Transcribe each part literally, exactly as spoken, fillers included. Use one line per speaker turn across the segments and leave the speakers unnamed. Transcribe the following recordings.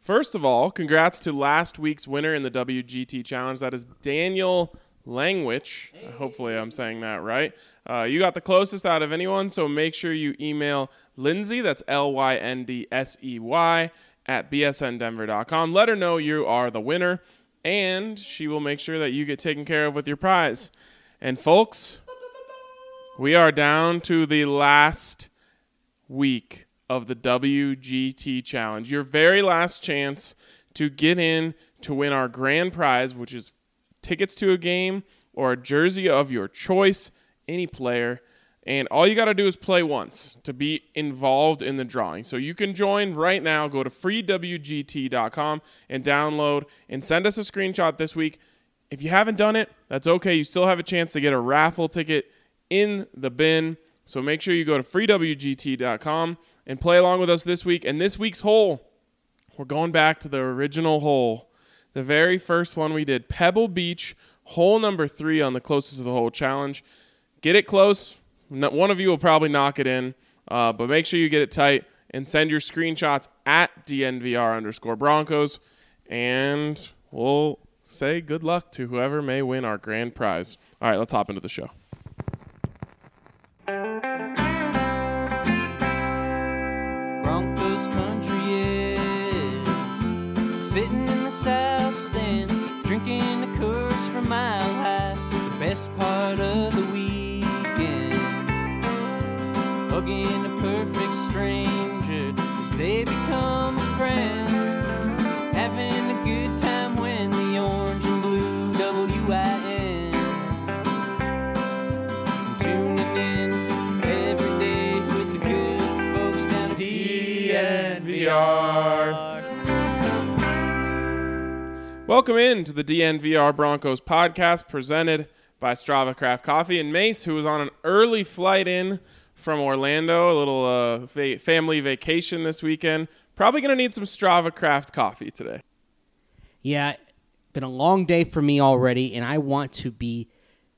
First of all, congrats to last week's winner in the W G T Challenge. That is Daniel Langwich. Hey. Hopefully I'm saying that right. Uh, you got the closest out of anyone, so make sure you email Lindsay, that's L Y N D S E Y, at b s n denver dot com. Let her know you are the winner, and she will make sure that you get taken care of with your prize. And folks, we are down to the last week of the W G T Challenge. Your very last chance to get in to win our grand prize, which is tickets to a game or a jersey of your choice, any player. And all you got to do is play once to be involved in the drawing. So you can join right now. Go to free w g t dot com and download and send us a screenshot this week. If you haven't done it, that's okay. You still have a chance to get a raffle ticket in the bin. So make sure you go to free w g t dot com and play along with us this week. And this week's hole, we're going back to the original hole. The very first one we did, Pebble Beach, hole number three on the closest to the hole challenge. Get it close. One of you will probably knock it in, uh, but make sure you get it tight and send your screenshots at D N V R underscore Broncos, and we'll say good luck to whoever may win our grand prize. All right, let's hop into the show.
Broncos country is sitting in the south stands, drinking the Coors from Mile High, the best part of the weekend. Hugging a perfect stranger as they become a friend, having a good time when the orange and blue W I N, tuning in every day with the good folks down at D N V R.
Welcome in to the D N V R Broncos podcast presented by Strava Craft Coffee. And Mace, who was on an early flight in from Orlando, a little uh, va- family vacation this weekend. Probably going to need some Strava Craft coffee today.
Yeah, been a long day for me already, and I want to be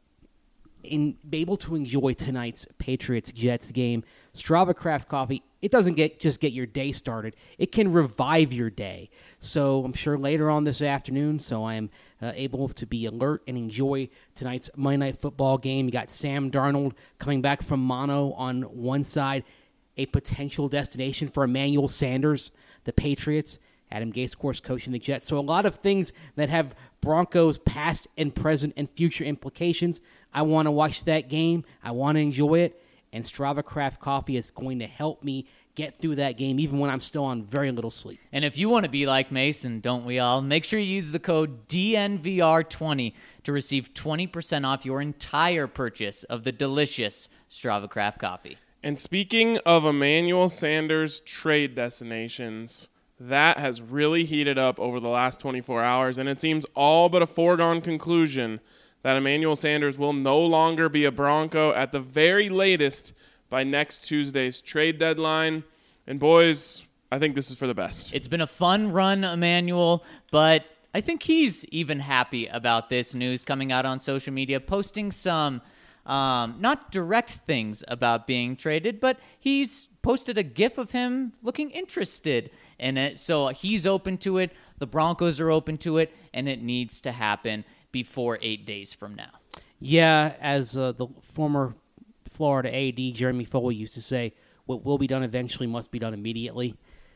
in, be able to enjoy tonight's Patriots-Jets game. Strava Craft coffee, it doesn't get just get your day started. It can revive your day. So I'm sure later on this afternoon, so I am uh, able to be alert and enjoy tonight's Monday Night Football game. You got Sam Darnold coming back from mono on one side, a potential destination for Emmanuel Sanders, the Patriots. Adam Gase, of course, coaching the Jets. So a lot of things that have Broncos past and present and future implications. I want to watch that game. I want to enjoy it. And Strava Craft Coffee is going to help me get through that game, even when I'm still on very little sleep.
And if you want to be like Mason, don't we all? Make sure you use the code D N V R twenty to receive twenty percent off your entire purchase of the delicious Strava Craft Coffee.
And speaking of Emmanuel Sanders trade destinations, that has really heated up over the last twenty-four hours, and it seems all but a foregone conclusion that Emmanuel Sanders will no longer be a Bronco at the very latest by next Tuesday's trade deadline. And boys, I think this is for the best.
It's been a fun run, Emmanuel, but I think he's even happy about this news coming out on social media, posting some um, not direct things about being traded, but he's posted a GIF of him looking interested in it. So he's open to it. The Broncos are open to it, and it needs to happen before eight days from now.
Yeah, as uh, the former Florida A D Jeremy Foley used to say, what will be done eventually must be done immediately.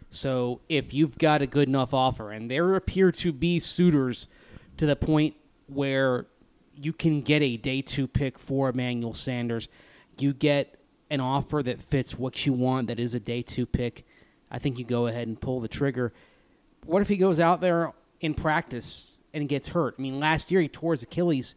So if you've got a good enough offer, and there appear to be suitors to the point where you can get a day two pick for Emmanuel Sanders, you get an offer that fits what you want, that is a day two pick, I think you go ahead and pull the trigger. What if he goes out there in practice and gets hurt? I mean, last year he tore his Achilles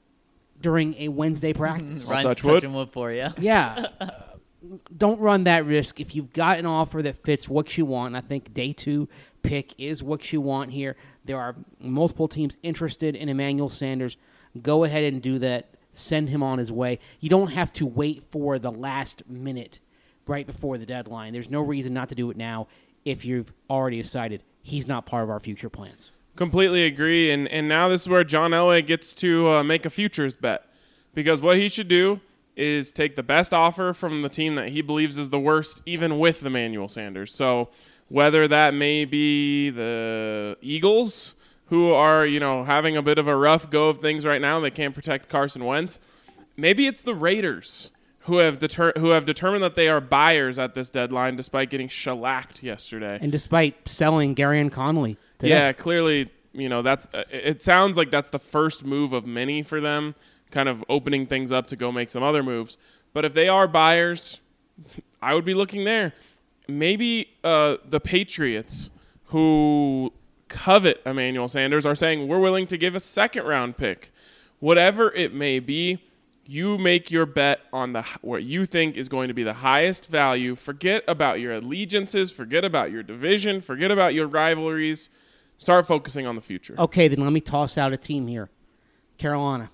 during a Wednesday practice.
Ryan's
touch
touching
wood.
wood for you.
Yeah. Uh, don't run that risk. If you've got an offer that fits what you want, and I think day two pick is what you want here. There are multiple teams interested in Emmanuel Sanders. Go ahead and do that. Send him on his way. You don't have to wait for the last minute right before the deadline. There's no reason not to do it now if you've already decided he's not part of our future plans.
Completely agree, and and now this is where John Elway gets to uh, make a futures bet, because what he should do is take the best offer from the team that he believes is the worst, even with Emmanuel Sanders. So whether that may be the Eagles, who are, you know, having a bit of a rough go of things right now. They can't protect Carson Wentz. Maybe it's the Raiders, who have deter- who have determined that they are buyers at this deadline despite getting shellacked yesterday.
And despite selling Garyon Conley today.
Yeah, clearly, you know, that's uh, it sounds like that's the first move of many for them, kind of opening things up to go make some other moves. But if they are buyers, I would be looking there. Maybe uh, the Patriots, who covet Emmanuel Sanders, are saying, we're willing to give a second-round pick. Whatever it may be, you make your bet on the what you think is going to be the highest value. Forget about your allegiances. Forget about your division. Forget about your rivalries. Start focusing on the future.
Okay, then let me toss out a team here. Carolina.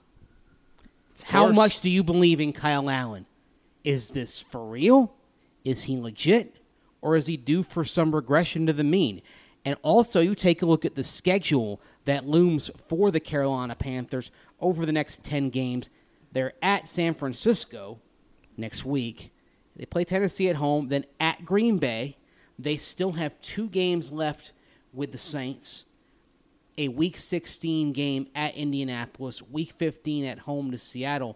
How
course.
much do you believe in Kyle Allen? Is this for real? Is he legit? Or is he due for some regression to the mean? And also, you take a look at the schedule that looms for the Carolina Panthers over the next ten games. They're at San Francisco next week. They play Tennessee at home, then at Green Bay. They still have two games left with the Saints. A Week sixteen game at Indianapolis, Week fifteen at home to Seattle.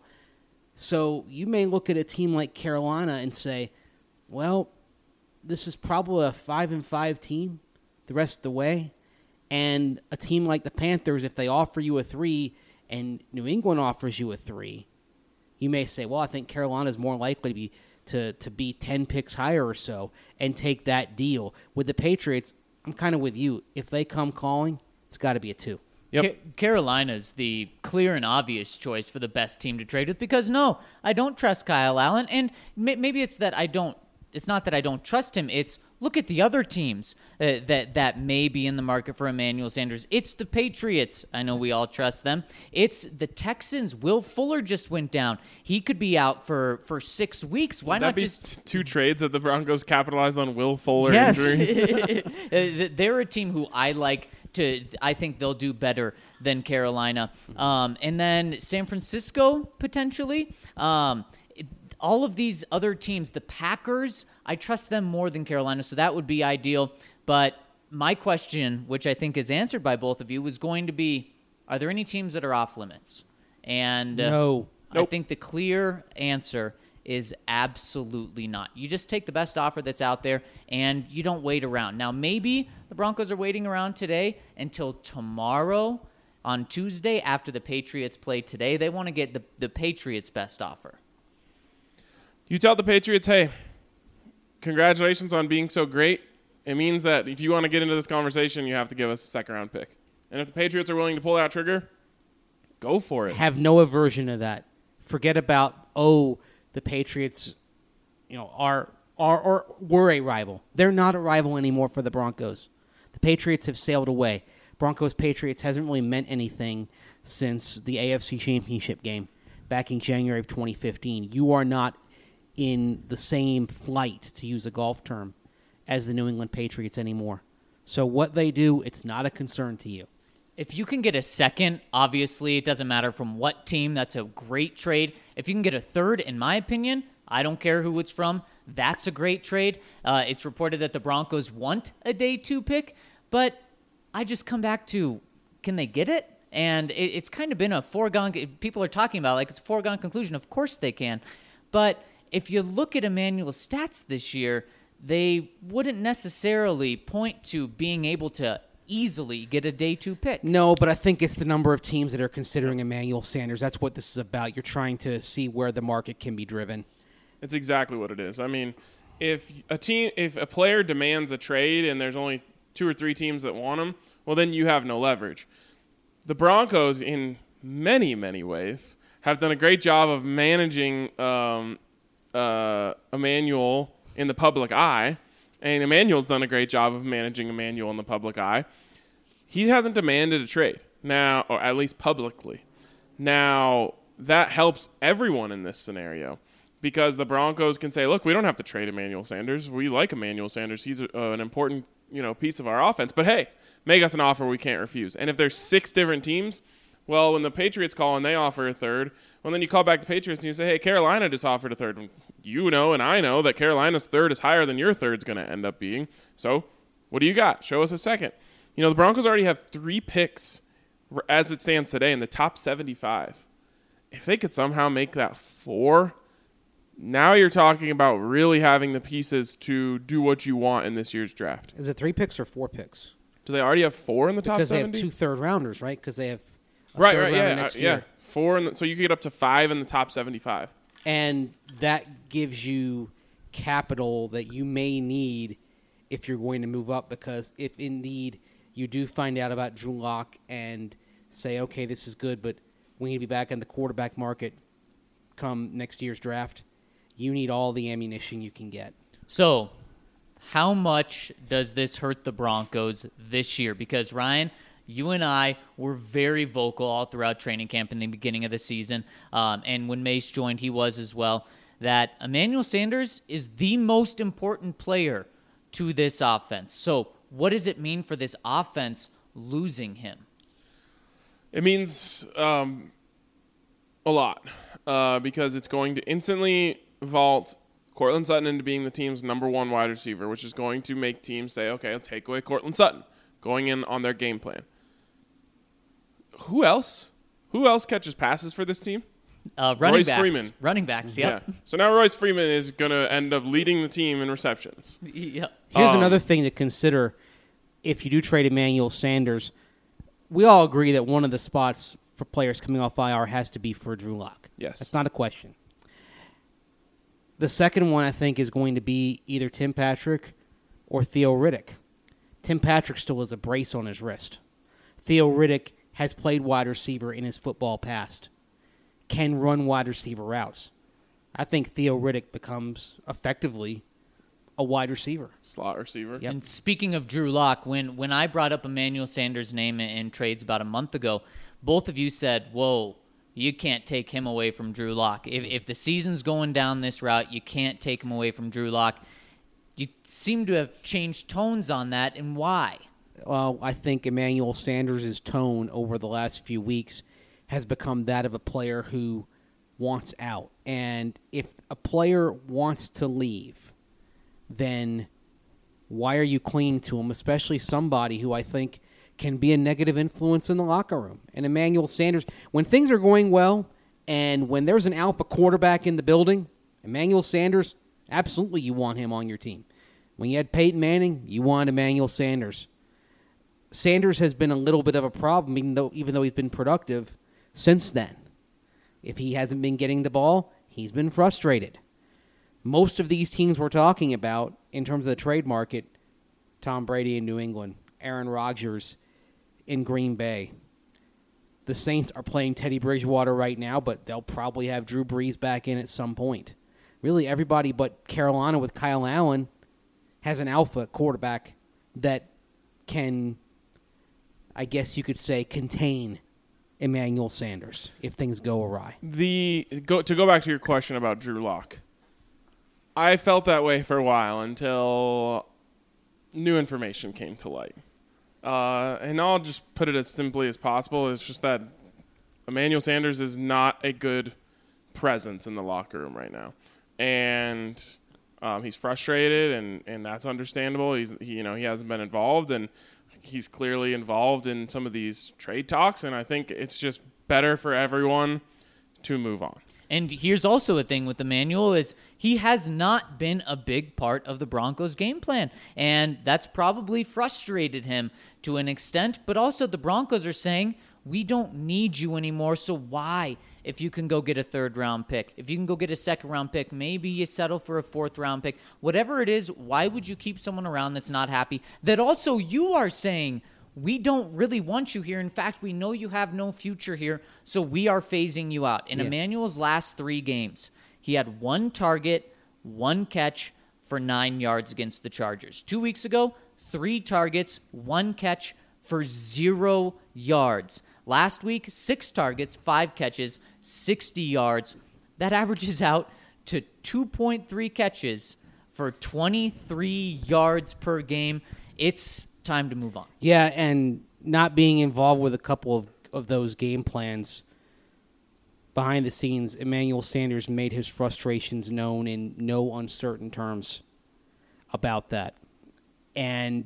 So you may look at a team like Carolina and say, well, this is probably a five and five team the rest of the way. And a team like the Panthers, if they offer you a three and New England offers you a three, you may say, well, I think Carolina is more likely to be to, to be ten picks higher or so and take that deal. With the Patriots, I'm kind of with you. If they come calling, it's got to be a two.
Yep.
Ca- Carolina's the clear and obvious choice for the best team to trade with because, no, I don't trust Kyle Allen. And may- maybe it's that I don't – it's not that I don't trust him. It's look at the other teams uh, that, that may be in the market for Emmanuel Sanders. It's the Patriots. I know we all trust them. It's the Texans. Will Fuller just went down. He could be out for, for six weeks. Why
Would that
not
be
just –
two trades that the Broncos capitalized on Will Fuller
Yes.
injuries?
Uh, They're a team who I like to. I think they'll do better than Carolina, um, and then San Francisco potentially. Um, it- all of these other teams, the Packers, I trust them more than Carolina, so that would be ideal. But my question, which I think is answered by both of you, was going to be: are there any teams that are off limits? And uh,
No.
I
Nope.
think the clear answer is absolutely not. You just take the best offer that's out there, and you don't wait around. Now, maybe the Broncos are waiting around today until tomorrow on Tuesday after the Patriots play today. They want to get the, the Patriots' best offer.
You tell the Patriots, hey, congratulations on being so great. It means that if you want to get into this conversation, you have to give us a second-round pick. And if the Patriots are willing to pull that trigger, go for it.
Have no aversion to that. Forget about, oh, the Patriots, you know, are are or were a rival. They're not a rival anymore for the Broncos. The Patriots have sailed away. Broncos Patriots hasn't really meant anything since the A F C Championship game back in January of twenty fifteen. You are not in the same flight, to use a golf term, as the New England Patriots anymore. So what they do, it's not a concern to you.
If you can get a second, obviously, it doesn't matter from what team. That's a great trade. If you can get a third, in my opinion, I don't care who it's from. That's a great trade. Uh, it's reported that the Broncos want a day two pick, but I just come back to, can they get it? And it, it's kind of been a foregone, people are talking about it like it's a foregone conclusion. Of course they can. But if you look at Emmanuel's stats this year, they wouldn't necessarily point to being able to easily get a day two pick.
No, but I think it's the number of teams that are considering Emmanuel Sanders. That's what this is about. You're trying to see where the market can be driven.
It's exactly what it is. I mean, if a team, if a player demands a trade and there's only two or three teams that want him, well, then you have no leverage. The Broncos, in many, many ways, have done a great job of managing um, uh, Emmanuel in the public eye, and Emmanuel's done a great job of managing Emmanuel in the public eye. He hasn't demanded a trade now, or at least publicly. Now, that helps everyone in this scenario because the Broncos can say, look, we don't have to trade Emmanuel Sanders. We like Emmanuel Sanders. He's a, uh, an important you know, piece of our offense. But, hey, make us an offer we can't refuse. And if there's six different teams, well, when the Patriots call and they offer a third, well, then you call back the Patriots and you say, hey, Carolina just offered a third. You know and I know that Carolina's third is higher than your third's going to end up being. So What do you got? Show us a second. You know, the Broncos already have three picks as it stands today in the top seventy-five. If they could somehow make that four, now you're talking about really having the pieces to do what you want in this year's draft.
Is it three picks or four picks?
Do they already have four in the top
Because
seventy?
they have two third rounders, right? Because they have a
right,
third
right,
rounder
yeah,
next
uh,
year.
yeah, four. In the, so you could get up to five in the top seventy-five.
And that gives you capital that you may need if you're going to move up, because if indeed you do find out about Drew Lock and say, okay, this is good, but we need to be back in the quarterback market come next year's draft, you need all the ammunition you can get.
So, how much does this hurt the Broncos this year? Because, Ryan, you and I were very vocal all throughout training camp in the beginning of the season, um, and when Mace joined, he was as well, that Emmanuel Sanders is the most important player to this offense. So, what does it mean for this offense losing him?
It means um, a lot uh, because it's going to instantly vault Courtland Sutton into being the team's number one wide receiver, which is going to make teams say, okay, I'll take away Courtland Sutton, going in on their game plan. Who else? Who else catches passes for this team?
Uh, running
Royce
backs.
Freeman.
Running backs, yep.
Yeah. So now Royce Freeman is going to end up leading the team in receptions.
Yep.
Here's
Um,
another thing to consider if you do trade Emmanuel Sanders. We all agree that one of the spots for players coming off I R has to be for Drew Lock.
Yes.
That's not a question. The second one, I think, is going to be either Tim Patrick or Theo Riddick. Tim Patrick still has a brace on his wrist. Theo Riddick has played wide receiver in his football past, can run wide receiver routes. I think Theo Riddick becomes effectively a wide receiver.
Slot receiver.
Yep.
And speaking of Drew Lock, when, when I brought up Emmanuel Sanders' name in, in trades about a month ago, both of you said, whoa, you can't take him away from Drew Lock. If, if the season's going down this route, you can't take him away from Drew Lock. You seem to have changed tones on that, and why?
Well, I think Emmanuel Sanders' tone over the last few weeks has become that of a player who wants out. And if a player wants to leave, then why are you clinging to him, especially somebody who I think can be a negative influence in the locker room? And Emmanuel Sanders, when things are going well and when there's an alpha quarterback in the building, Emmanuel Sanders, absolutely you want him on your team. When you had Peyton Manning, you want Emmanuel Sanders. Sanders has been a little bit of a problem, even though even though he's been productive since then. If he hasn't been getting the ball, he's been frustrated. Most of these teams we're talking about in terms of the trade market, Tom Brady in New England, Aaron Rodgers in Green Bay. The Saints are playing Teddy Bridgewater right now, but they'll probably have Drew Brees back in at some point. Really, everybody but Carolina with Kyle Allen has an alpha quarterback that can, I guess you could say, contain Emmanuel Sanders if things go awry.
The go to go back to your question about Drew Lock. I felt that way for a while until new information came to light. Uh, and I'll just put it as simply as possible. It's just that Emmanuel Sanders is not a good presence in the locker room right now. And um, he's frustrated, and, and that's understandable. He's he, you know he hasn't been involved, and he's clearly involved in some of these trade talks. And I think it's just better for everyone to move on.
And here's also a thing with Emmanuel is he has not been a big part of the Broncos' game plan, and that's probably frustrated him to an extent. But also the Broncos are saying, we don't need you anymore, so why? If you can go get a third-round pick, if you can go get a second-round pick, maybe you settle for a fourth-round pick. Whatever it is, why would you keep someone around that's not happy? That also you are saying, we don't really want you here. In fact, we know you have no future here, so we are phasing you out. In
Yeah.
Emmanuel's last three games, he had one target, one catch for nine yards against the Chargers. Two weeks ago, three targets, one catch for zero yards. Last week, six targets, five catches, sixty yards. That averages out to two point three catches for twenty-three yards per game. It's time to move on.
Yeah, and not being involved with a couple of, of those game plans behind the scenes, Emmanuel Sanders made his frustrations known in no uncertain terms about that. And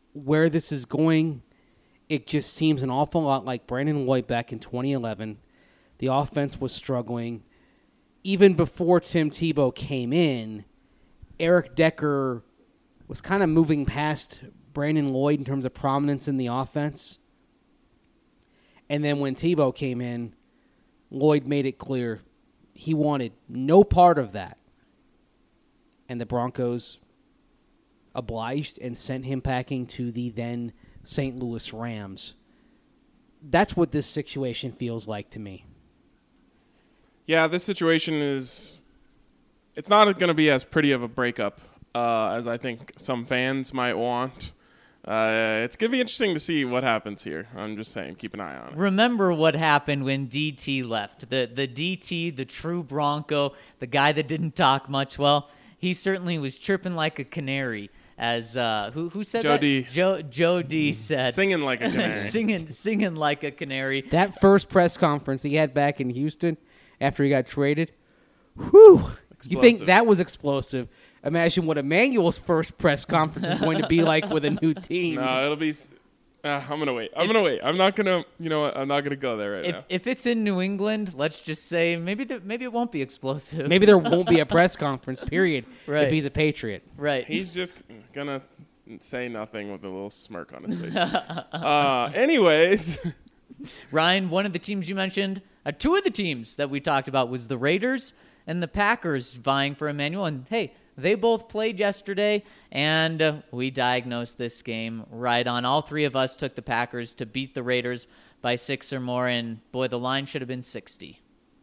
where this is going, it just seems an awful lot like Brandon Lloyd back in twenty eleven. The offense was struggling. Even before Tim Tebow came in, Eric Decker was kind of moving past Brandon Lloyd in terms of prominence in the offense. And then when Tebow came in, Lloyd made it clear he wanted no part of that. And the Broncos obliged and sent him packing to the then Saint Louis Rams. That's what this situation feels like to me.
Yeah, this situation is, it's not going to be as pretty of a breakup uh, as I think some fans might want. Uh, it's going to be interesting to see what happens here. I'm just saying, keep an eye on it.
Remember what happened when D T left. The the D T, the true Bronco, the guy that didn't talk much. Well, he certainly was chirping like a canary. As uh, who who said
Joe
that?
D.
Joe Joe D said,
Singing like a canary.
singing singing like a canary.
That first press conference he had back in Houston after he got traded, whew, you think that was explosive. Imagine what Emmanuel's first press conference is going to be like with a new team.
No, it'll be. Uh, I'm gonna wait. I'm gonna wait. I'm not gonna. You know what? I'm not gonna go there right
If
now.
if it's in New England, let's just say maybe the, maybe it won't be explosive.
Maybe there won't be a press conference, period,
Right.
if he's a Patriot.
Right.
He's just gonna say nothing with a little smirk on his face. uh, anyways,
Ryan, one of the teams you mentioned, uh, two of the teams that we talked about was the Raiders and the Packers vying for Emmanuel. And hey, they both played yesterday, and uh, we diagnosed this game right on. All three of us took the Packers to beat the Raiders by six or more, and boy, the line should have been sixty.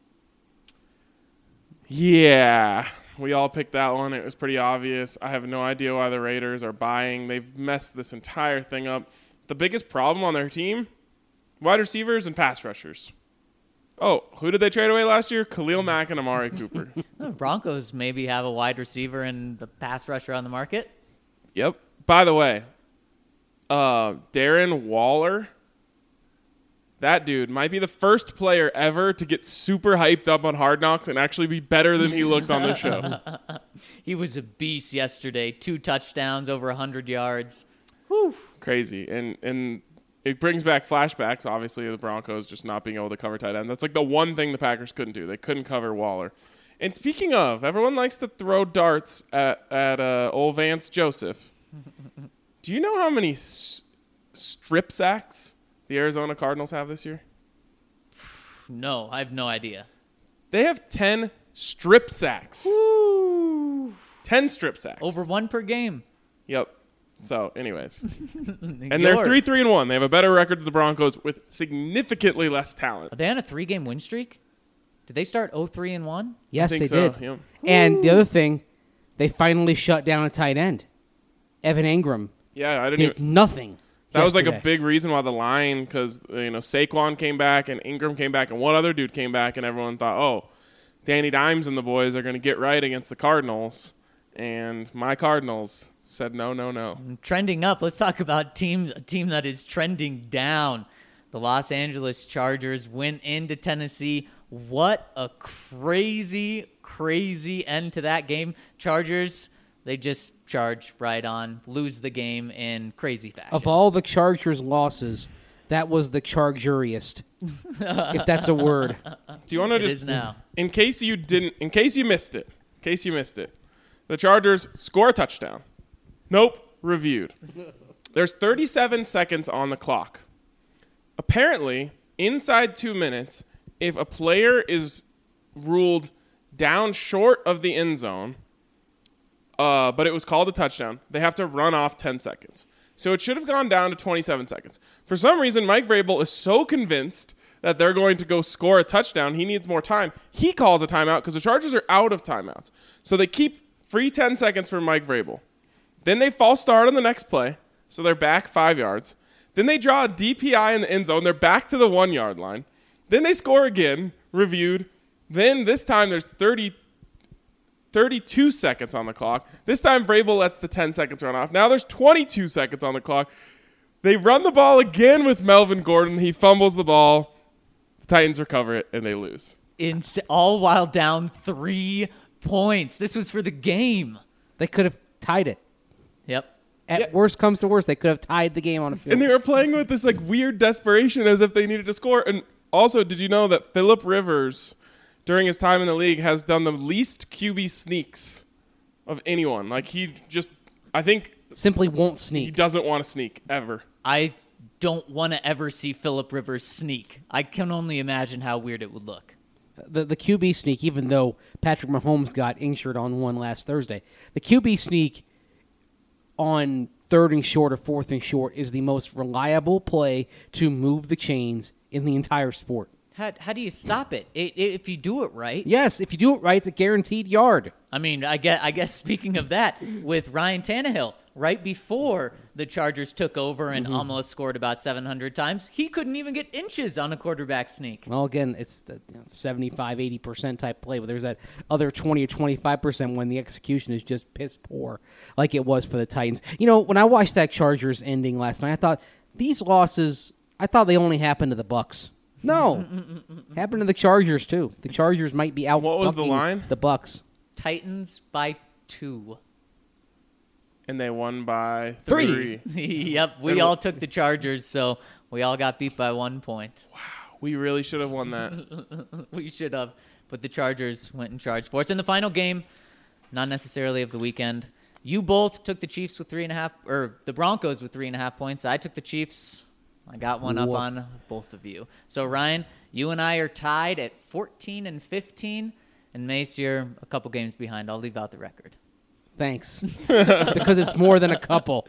yeah, we all picked that one. It was pretty obvious. I have no idea why the Raiders are buying. They've messed this entire thing up. The biggest problem on their team, wide receivers and pass rushers. Oh, who did they trade away last year? Khalil Mack and Amari Cooper.
The Broncos maybe have a wide receiver and the pass rusher on the market.
Yep. By the way, uh, Darren Waller, that dude might be the first player ever to get super hyped up on Hard Knocks and actually be better than he looked on the show.
He was a beast yesterday. Two touchdowns, over one hundred yards.
Crazy. And and it brings back flashbacks, obviously, of the Broncos just not being able to cover tight end. That's like the one thing the Packers couldn't do. They couldn't cover Waller. And speaking of, everyone likes to throw darts at, at uh, old Vance Joseph. Do you know how many s- strip sacks the Arizona Cardinals have this year?
No, I have no idea.
They have ten strip sacks. ten strip sacks.
Over one per game.
Yep. So, anyways. And they're three three and one. They have a better record than the Broncos with significantly less talent.
Are they on a three-game win streak? Did they start oh three and one?
Yes,
I
they
think so,
did.
yeah.
And the other thing, they finally shut down a tight end. Evan Ingram
Yeah, I didn't
did
even.
nothing.
That was like a
yesterday.
big reason why the line, because you know Saquon came back and Ingram came back and one other dude came back, and everyone thought, oh, Danny Dimes and the boys are going to get right against the Cardinals, and my Cardinals said no, no, no.
Trending up. Let's talk about team a team that is trending down. The Los Angeles Chargers went into Tennessee. What a crazy, crazy end to that game. Chargers, they just charge right on, lose the game in crazy fashion.
Of all the Chargers' losses, that was the Chargeriest, if that's a word.
Do you want to
It
just,
is now.
in case you didn't, in case you missed it, in case you missed it, the Chargers score a touchdown. Nope, reviewed. There's thirty-seven seconds on the clock. Apparently, inside two minutes, if a player is ruled down short of the end zone, uh, but it was called a touchdown, they have to run off ten seconds. So it should have gone down to twenty-seven seconds. For some reason, Mike Vrabel is so convinced that they're going to go score a touchdown, he needs more time. He calls a timeout because the Chargers are out of timeouts. So they keep free ten seconds for Mike Vrabel. Then they false start on the next play, so they're back five yards. Then they draw a D P I in the end zone. They're back to the one-yard line. Then they score again, reviewed. Then this time there's thirty, thirty-two seconds on the clock. This time Vrabel lets the ten seconds run off. Now there's twenty-two seconds on the clock. They run the ball again with Melvin Gordon. He fumbles the ball. The Titans recover it, and they lose.
In, all while down three points. This was for the game.
They could have tied it.
Yep.
At
Yeah.
worst comes to worst, they could have tied the game on a field.
And they were playing with this like weird desperation as if they needed to score. And also, did you know that Phillip Rivers, during his time in the league, has done the least Q B sneaks of anyone? Like he just, I think
Simply won't
he
sneak.
doesn't want to sneak ever.
I don't want to ever see Phillip Rivers sneak. I can only imagine how weird it would look.
The the Q B sneak, even though Patrick Mahomes got injured on one last Thursday, the Q B sneak on third and short or fourth and short is the most reliable play to move the chains in the entire sport.
How, how do you stop it? It, it? If you do it right.
Yes, if you do it right, it's a guaranteed yard.
I mean, I guess, I guess speaking of that, with Ryan Tannehill, right before the Chargers took over and
Mm-hmm.
almost scored about seven hundred times, he couldn't even get inches on a quarterback sneak.
Well, again, it's the you know, seventy-five, eighty percent type play, but there's that other twenty or twenty-five percent when the execution is just piss poor, like it was for the Titans. You know, when I watched that Chargers ending last night, I thought, these losses, I thought they only happened to the Bucks. No, happened to the Chargers, too. The Chargers might be out.
What was the line?
The Bucks.
Titans by two.
And they won by
Three.
three.
Yep, we
And
all
wh-
took the Chargers, so we all got beat by one point.
We really should have won that.
We should have, but the Chargers went and charged for us. In the final game, not necessarily of the weekend, you both took the Chiefs with three and a half, or the Broncos with three and a half points. I took the Chiefs. I got one up
Woof.
on both of you. So, Ryan, you and I are tied at fourteen and fifteen, and Mace, you're a couple games behind. I'll leave out the record.
Thanks. Because it's more than a couple.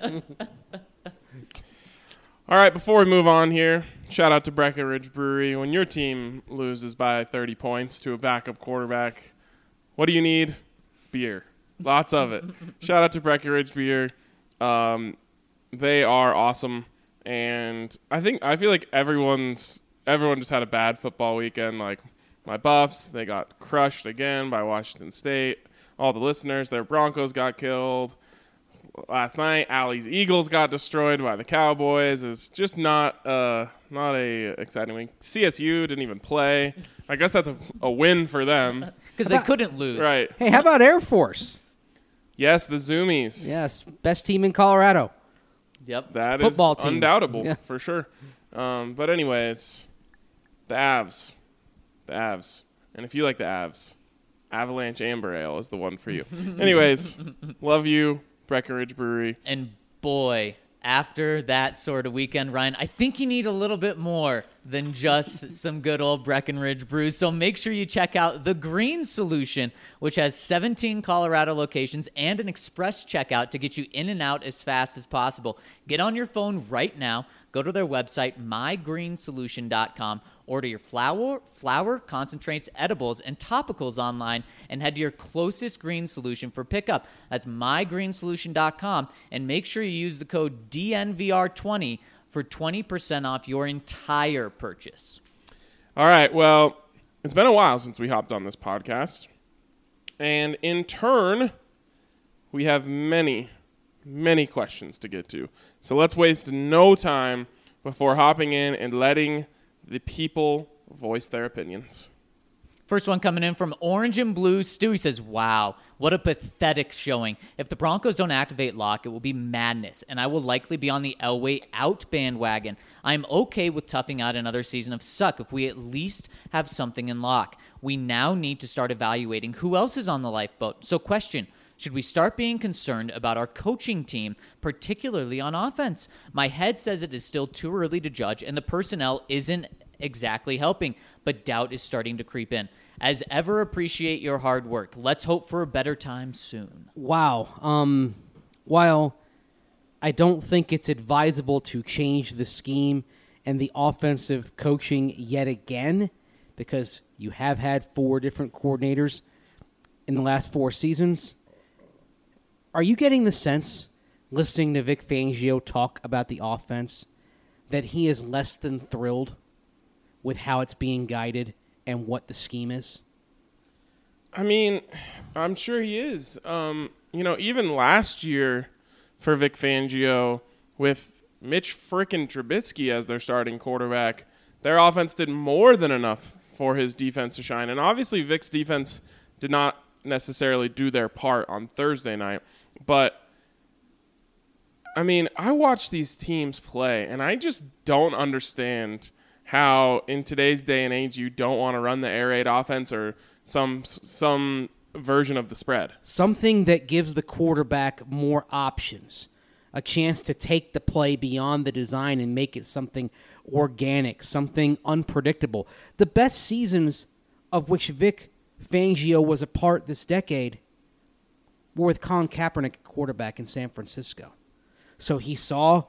All right, before we move on here, shout out to Breckenridge Brewery. When your team loses by thirty points to a backup quarterback, what do you need? Beer. Lots of it. Shout out to Breckenridge Beer. Um, they are awesome. And I think I feel like everyone's everyone just had a bad football weekend. Like my Buffs, they got crushed again by Washington State. All the listeners, their Broncos got killed last night. Allie's Eagles got destroyed by the Cowboys. It's just not uh, not a exciting week. C S U didn't even play. I guess that's a, a win for them.
Because they couldn't lose.
Right.
Hey, how about Air Force?
Yes, the Zoomies.
Yes, best team in Colorado.
Yep.
That is
Football team.
undoubtable,
Yeah.
for sure. Um, but anyways, the Avs. The Avs. And if you like the Avs, Avalanche Amber Ale is the one for you. Anyways, love you, Breckenridge Brewery.
And boy, after that sort of weekend, Ryan, I think you need a little bit more than just some good old Breckenridge brews. So make sure you check out The Green Solution, which has seventeen Colorado locations and an express checkout to get you in and out as fast as possible. Get on your phone right now. Go to their website, my green solution dot com. Order your flour, flour, concentrates, edibles, and topicals online and head to your closest Green Solution for pickup. That's my green solution dot com. And make sure you use the code D N V R twenty for twenty percent off your entire purchase.
All right, well, it's been a while since we hopped on this podcast. And in turn, we have many, many questions to get to. So let's waste no time before hopping in and letting the people voice their opinions.
First one coming in from Orange and Blue. Stewie says, wow, what a pathetic showing. If the Broncos don't activate Locke, it will be madness, and I will likely be on the Elway out bandwagon. I'm okay with toughing out another season of suck if we at least have something in Locke. We now need to start evaluating who else is on the lifeboat. So question, should we start being concerned about our coaching team, particularly on offense? My head says it is still too early to judge, and the personnel isn't exactly helping, but doubt is starting to creep in. As ever, appreciate your hard work. Let's hope for a better time soon.
Wow. Um, while I don't think it's advisable to change the scheme and the offensive coaching yet again, because you have had four different coordinators in the last four seasons, are you getting the sense, listening to Vic Fangio talk about the offense, that he is less than thrilled with how it's being guided and what the scheme is?
I mean, I'm sure he is. Um, you know, even last year for Vic Fangio with Mitch frickin' Trubisky as their starting quarterback, their offense did more than enough for his defense to shine. And obviously Vic's defense did not necessarily do their part on Thursday night. But I mean, I watch these teams play, and I just don't understand how in today's day and age you don't want to run the air raid offense or some some version of the spread.
Something that gives the quarterback more options, a chance to take the play beyond the design and make it something organic, something unpredictable. The best seasons of which Vic Fangio was a part this decade were with Colin Kaepernick at quarterback in San Francisco. So he saw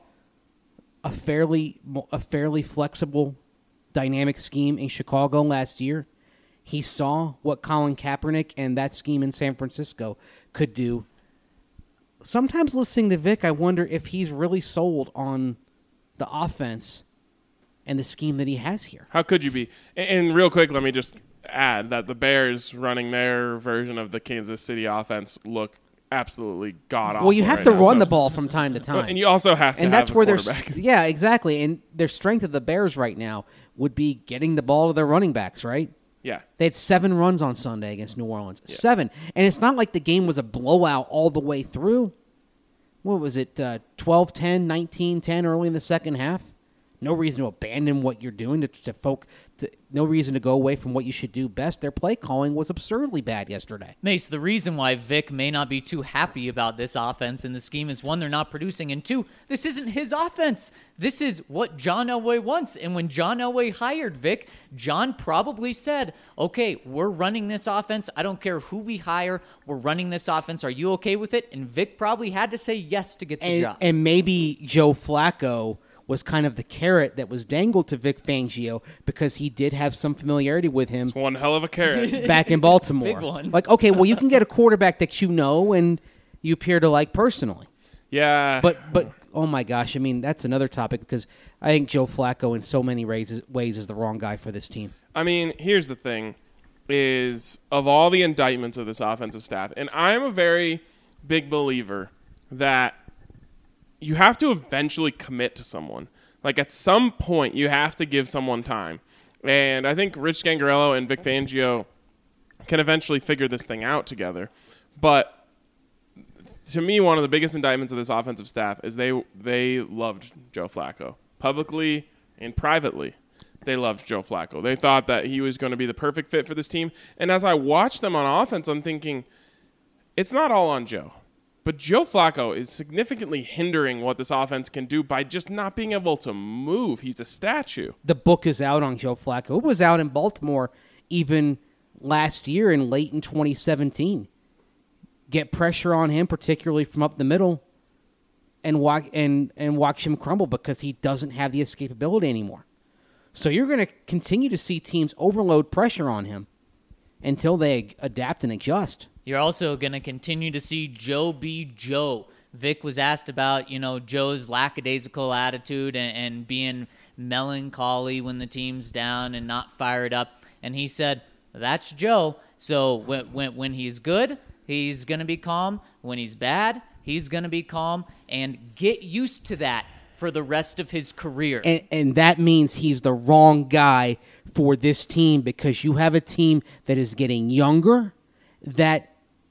a fairly a fairly flexible, dynamic scheme in Chicago last year. He saw what Colin Kaepernick and that scheme in San Francisco could do. Sometimes listening to Vic, I wonder if he's really sold on the offense and the scheme that he has here.
How could you be? And, and real quick, let me just add that the Bears running their version of the Kansas City offense look absolutely god-awful.
Well, you have
right
to
now,
run
so.
the ball from time to time.
And you also have to
and
have
that's
a
where their
quarterback.
yeah, exactly. And their strength of the Bears right now would be getting the ball to their running backs, right?
Yeah.
They had seven runs on Sunday against New Orleans. Yeah. Seven. And it's not like the game was a blowout all the way through. What was it, uh, twelve ten, nineteen ten early in the second half? No reason to abandon what you're doing, to, to folk. To, no reason to go away from what you should do best. Their play calling was absurdly bad yesterday.
Mace, the reason why Vic may not be too happy about this offense and the scheme is, one, they're not producing, and two, this isn't his offense. This is what John Elway wants. And when John Elway hired Vic, John probably said, okay, we're running this offense. I don't care who we hire. We're running this offense. Are you okay with it? And Vic probably had to say yes to get the
and,
job.
And maybe Joe Flacco was kind of the carrot that was dangled to Vic Fangio because he did have some familiarity with him.
It's one hell of a carrot.
Back in Baltimore.
Big one.
Like, okay, well, you can get a quarterback that you know and you appear to like personally.
Yeah.
But, but oh my gosh, I mean, that's another topic because I think Joe Flacco in so many ways, ways is the wrong guy for this team.
I mean, here's the thing, is of all the indictments of this offensive staff, and I'm a very big believer that you have to eventually commit to someone. Like, at some point, you have to give someone time. And I think Rich Scangarello and Vic Fangio can eventually figure this thing out together. But to me, one of the biggest indictments of this offensive staff is they they loved Joe Flacco. Publicly and privately, they loved Joe Flacco. They thought that he was going to be the perfect fit for this team. And as I watch them on offense, I'm thinking, it's not all on Joe. But Joe Flacco is significantly hindering what this offense can do by just not being able to move. He's a statue.
The book is out on Joe Flacco. It was out in Baltimore even last year and late in twenty seventeen. Get pressure on him, particularly from up the middle, and watch, and, and watch him crumble because he doesn't have the escapability anymore. So you're going to continue to see teams overload pressure on him until they adapt and adjust.
You're also going to continue to see Joe be Joe. Vic was asked about, you know, Joe's lackadaisical attitude and, and being melancholy when the team's down and not fired up. And he said, that's Joe. So when, when, when he's good, he's going to be calm. When he's bad, he's going to be calm. And get used to that for the rest of his career.
And, and that means he's the wrong guy for this team because you have a team that is getting younger, that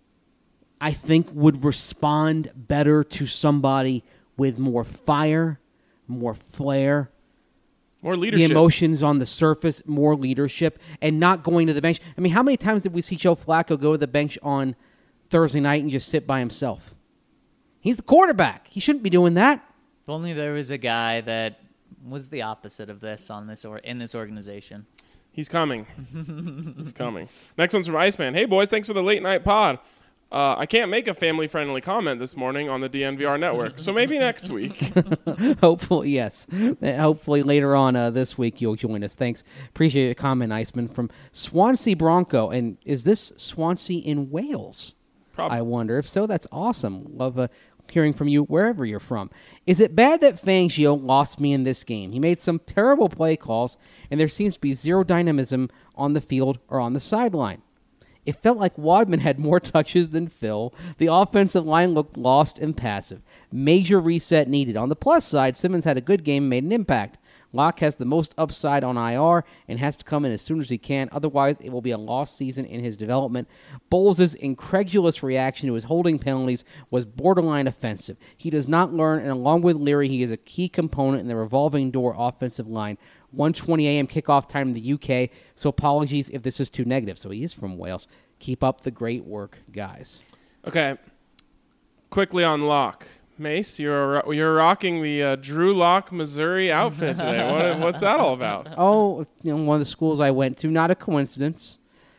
I think would respond better to somebody with more fire, more flair,
more leadership,
the emotions on the surface, more leadership, and not going to the bench. I mean, how many times did we see Joe Flacco go to the bench on Thursday night and just sit by himself? He's the quarterback. He shouldn't be doing that.
If only there was a guy that was the opposite of this on this or in this organization.
He's coming. He's coming. Next one's from Iceman. Hey, boys, thanks for the late night pod. Uh, I can't make a family-friendly comment this morning on the D N V R network, so maybe next week.
Hopefully, yes. Hopefully later on uh, this week you'll join us. Thanks. Appreciate your comment, Iceman, from Swansea Bronco. And is this Swansea in Wales?
Probably.
I wonder. If so, that's awesome. Love uh, hearing from you wherever you're from. Is it bad that Fangio lost me in this game? He made some terrible play calls, and there seems to be zero dynamism on the field or on the sideline. It felt like Wadman had more touches than Phil. The offensive line looked lost and passive. Major reset needed. On the plus side, Simmons had a good game and made an impact. Locke has the most upside on I R and has to come in as soon as he can. Otherwise, it will be a lost season in his development. Bowles' incredulous reaction to his holding penalties was borderline offensive. He does not learn, and along with Leary, he is a key component in the revolving door offensive line. one twenty a.m. kickoff time in the U K, so apologies if this is too negative. So he is from Wales. Keep up the great work, guys.
Okay. Quickly on Locke. Mace, you're you're rocking the uh, Drew Locke, Missouri outfit today. What, what's that all about?
Oh, you know, one of the schools I went to. Not a coincidence.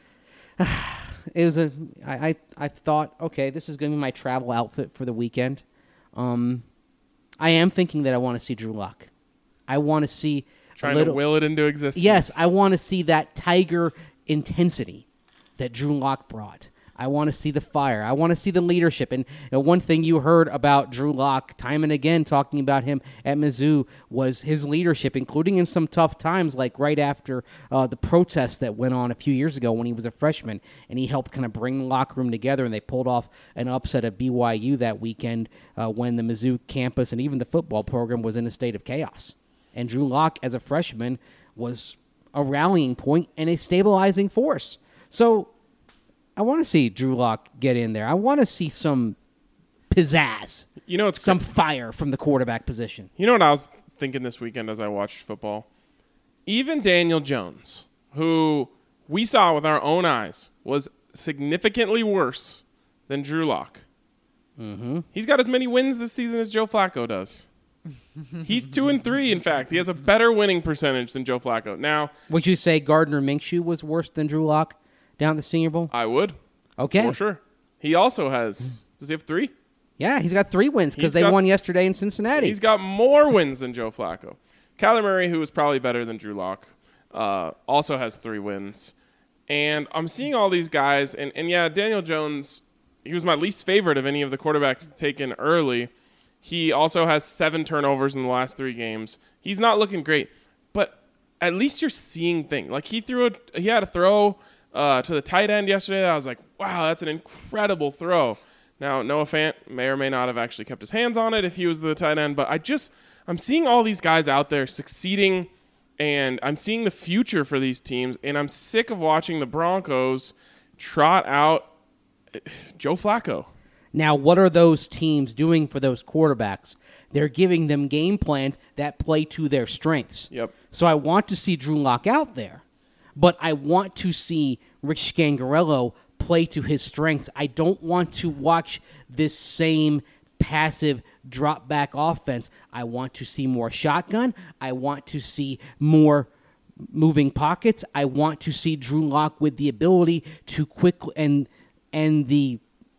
It was a. I, I I thought, okay, this is going to be my travel outfit for the weekend. Um, I am thinking that I want to see Drew Locke. I want to see
Trying
a little,
to will it into existence.
Yes, I want to see that Tiger intensity that Drew Locke brought. I want to see the fire. I want to see the leadership. And you know, one thing you heard about Drew Locke time and again talking about him at Mizzou was his leadership, including in some tough times, like right after uh, the protests that went on a few years ago when he was a freshman, and he helped kind of bring the locker room together, and they pulled off an upset at B Y U that weekend uh, when the Mizzou campus and even the football program was in a state of chaos. And Drew Locke, as a freshman, was a rallying point and a stabilizing force. So I want to see Drew Locke get in there. I want to see some pizzazz,
You know, it's
some fire from the quarterback position.
You know what I was thinking this weekend as I watched football? Even Daniel Jones, who we saw with our own eyes, was significantly worse than Drew Locke. Mm-hmm. He's got as many wins this season as Joe Flacco does. He's two and three, in fact. He has a better winning percentage than Joe Flacco. Now,
Would you say Gardner Minshew was worse than Drew Locke down at the Senior Bowl?
I would.
Okay.
For sure. He also has, does he have three?
Yeah, he's got three wins because
He's
they
got-
won yesterday in Cincinnati.
He's got more wins than Joe Flacco. Kyler Murray, who is probably better than Drew Locke, uh, also has three wins. And I'm seeing all these guys, and, and yeah, Daniel Jones, he was my least favorite of any of the quarterbacks taken early. He also has seven turnovers in the last three games. He's not looking great, but at least you're seeing things. Like he threw a, he had a throw uh, to the tight end yesterday that I was like, wow, that's an incredible throw. Now, Noah Fant may or may not have actually kept his hands on it if he was the tight end, but I just, I'm seeing all these guys out there succeeding, and I'm seeing the future for these teams, and I'm sick of watching the Broncos trot out Joe Flacco.
Now, what are those teams doing for those quarterbacks? They're giving them game plans that play to their strengths.
Yep.
So I want to see Drew Locke out there, but I want to see Rich Scangarello play to his strengths. I don't want to watch this same passive drop back offense. I want to see more shotgun. I want to see more moving pockets. I want to see Drew Locke with the ability to quickly and and the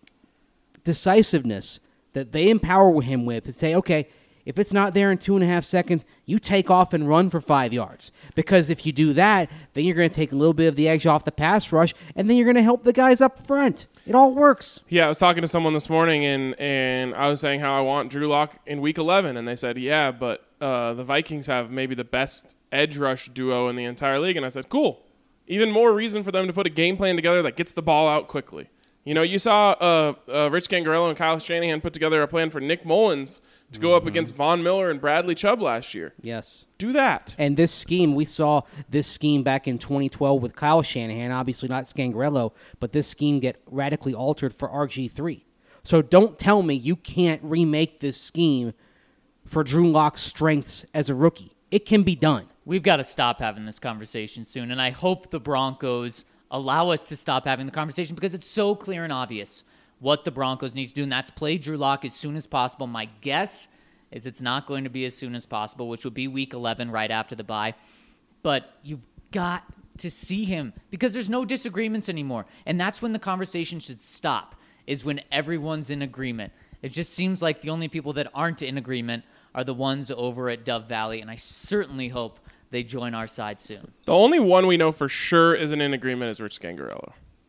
decisiveness that they empower him with to say, okay, if it's not there in two and a half seconds, you take off and run for five yards. Because if you do that, then you're going to take a little bit of the edge off the pass rush, and then you're going to help the guys up front. It all works.
Yeah, I was talking to someone this morning, and, and I was saying how I want Drew Locke in Week eleven, and they said, yeah, but uh, the Vikings have maybe the best edge rush duo in the entire league. And I said, cool. Even more reason for them to put a game plan together that gets the ball out quickly. You know, you saw uh, uh, Rich Scangarello and Kyle Shanahan put together a plan for Nick Mullins to go up against Von Miller and Bradley Chubb last year.
Yes.
Do that.
And this scheme, we saw this scheme back in twenty twelve with Kyle Shanahan, obviously not Scangarello, but this scheme get radically altered for R G three. So don't tell me you can't remake this scheme for Drew Locke's strengths as a rookie. It can be done.
We've got to stop having this conversation soon, and I hope the Broncos allow us to stop having the conversation because it's so clear and obvious what the Broncos need to do, and that's play Drew Locke as soon as possible. My guess is it's not going to be as soon as possible, which would be week eleven right after the bye. But you've got to see him because there's no disagreements anymore, and that's when the conversation should stop, is when everyone's in agreement. It just seems like the only people that aren't in agreement are the ones over at Dove Valley, and I certainly hope they join our side soon.
The only one we know for sure isn't in agreement is Rich Scangarello.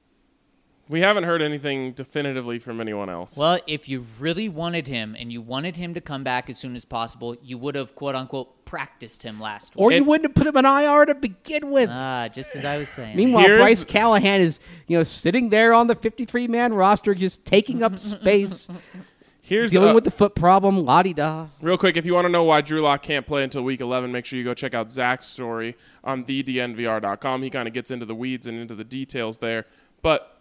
We haven't heard anything definitively from anyone else.
Well, if you really wanted him and you wanted him to come back as soon as possible, you would have, quote-unquote, practiced him last week.
Or you
It-
wouldn't have put him in I R to begin with.
Ah, just as I was saying.
Meanwhile,
Here's
Bryce
the-
Callahan is, you know, sitting there on the fifty-three man roster just taking up space.
Here's
Dealing
uh,
with the foot problem, la-di-da.
real quick, if you want to know why Drew Lock can't play until week eleven, make sure you go check out Zach's story on the d n v r dot com. He kind of gets into the weeds and into the details there. But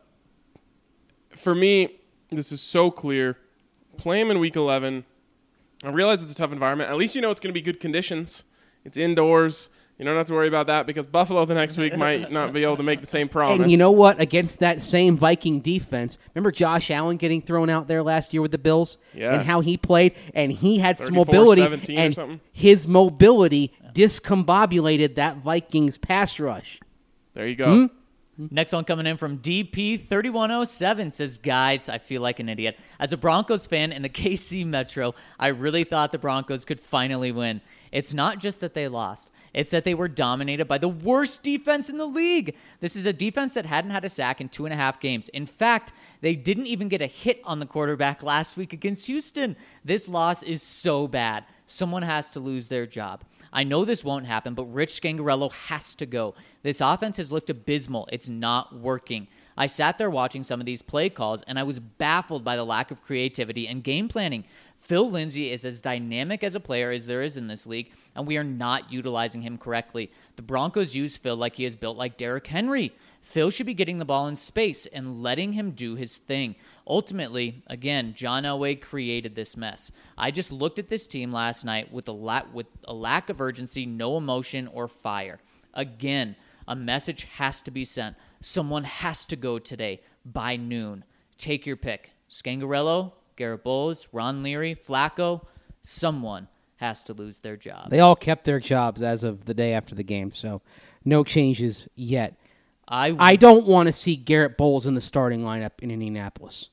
for me, this is so clear. Play him in week eleven. I realize it's a tough environment. At least you know it's going to be good conditions. It's indoors. You don't have to worry about that because Buffalo the next week might not be able to make the same promise.
And you know what? Against that same Viking defense, remember Josh Allen getting thrown out there last year with the Bills?
Yeah.
And how he played? And he had some
thirty-four
mobility.
seventeen or
And
something.
his mobility discombobulated that Vikings pass rush.
There you go.
Next one coming in from D P thirty-one oh seven says, guys, I feel like an idiot. As a Broncos fan in the K C Metro, I really thought the Broncos could finally win. It's not just that they lost. It's that they were dominated by the worst defense in the league. This is a defense that hadn't had a sack in two and a half games. In fact, they didn't even get a hit on the quarterback last week against Houston. This loss is so bad. Someone has to lose their job. I know this won't happen, but Rich Scangarello has to go. This offense has looked abysmal. It's not working. I sat there watching some of these play calls, and I was baffled by the lack of creativity and game planning. Phil Lindsay is as dynamic as a player as there is in this league, and we are not utilizing him correctly. The Broncos use Phil like he is built like Derrick Henry. Phil should be getting the ball in space and letting him do his thing. Ultimately, again, John Elway created this mess. I just looked at this team last night with a, la- with a lack of urgency, no emotion, or fire. Again, a message has to be sent. Someone has to go today by noon. Take your pick. Scangarello, Garrett Bowles, Ron Leary, Flacco. Someone has to lose their job.
They all kept their jobs as of the day after the game, so no changes yet.
I,
I don't want to see Garrett Bowles in the starting lineup in Indianapolis.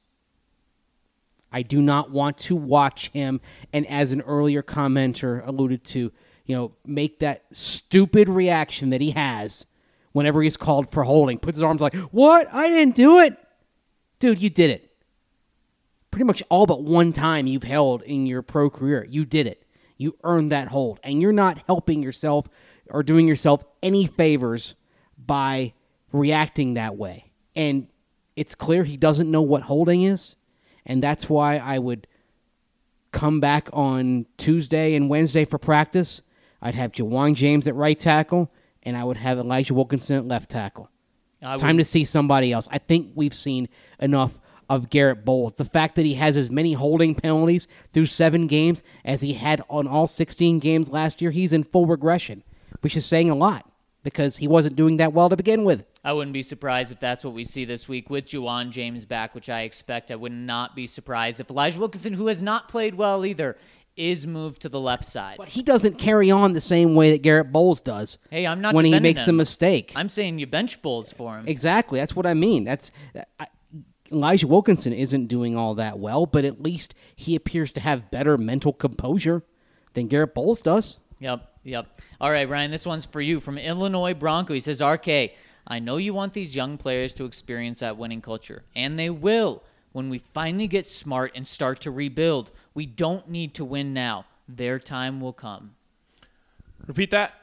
I do not want to watch him, and as an earlier commenter alluded to, you know, make that stupid reaction that he has whenever he's called for holding. Puts his arms like, what? I didn't do it. Dude, you did it. Pretty much all but one time you've held in your pro career. You did it. You earned that hold. And you're not helping yourself or doing yourself any favors by reacting that way. And it's clear he doesn't know what holding is. And that's why I would come back on Tuesday and Wednesday for practice. I'd have Jawan James at right tackle, and I would have Elijah Wilkinson at left tackle. It's
I
time
would-
to see somebody else. I think we've seen enough of Garrett Bowles. The fact that he has as many holding penalties through seven games as he had on all sixteen games last year, he's in full regression, which is saying a lot because he wasn't doing that well to begin with.
I wouldn't be surprised if that's what we see this week with Juwan James back, which I expect. I would not be surprised if Elijah Wilkinson, who has not played well either, is moved to the left side.
But he doesn't carry on the same way that Garrett Bowles does.
Hey, I'm not
when he
defending
makes
him.
a mistake.
I'm saying you bench Bulls for him.
Exactly. That's what I mean. That's I, Elijah Wilkinson isn't doing all that well, but at least he appears to have better mental composure than Garrett Bowles does.
Yep, yep. All right, Ryan, this one's for you from Illinois Bronco. He says, R K, I know you want these young players to experience that winning culture, and they will when we finally get smart and start to rebuild. We don't need to win now. Their time will come.
Repeat that.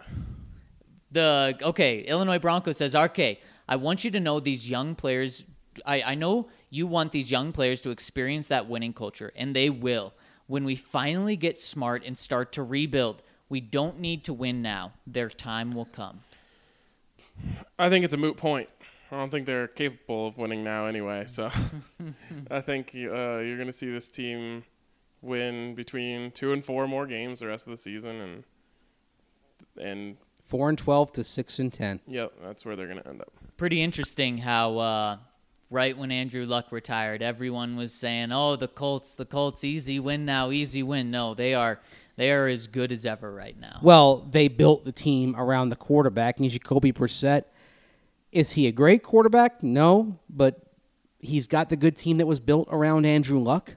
The okay, Illinois Bronco says, R K, I want you to know these young players. I, I know you want these young players to experience that winning culture, and they will. When we finally get smart and start to rebuild, we don't need to win now. Their time will come.
I think it's a moot point. I don't think they're capable of winning now anyway. So I think uh, you're going to see this team win between two and four more games the rest of the season, and and
Four and twelve to six and ten.
yep, that's where they're going to end up.
Pretty interesting how uh, right when Andrew Luck retired, everyone was saying, "Oh, the Colts, the Colts, easy win now, easy win." No, they are they are as good as ever right now.
Well, they built the team around the quarterback, and Jacoby Brissett. Is he a great quarterback? No, but he's got the good team that was built around Andrew Luck.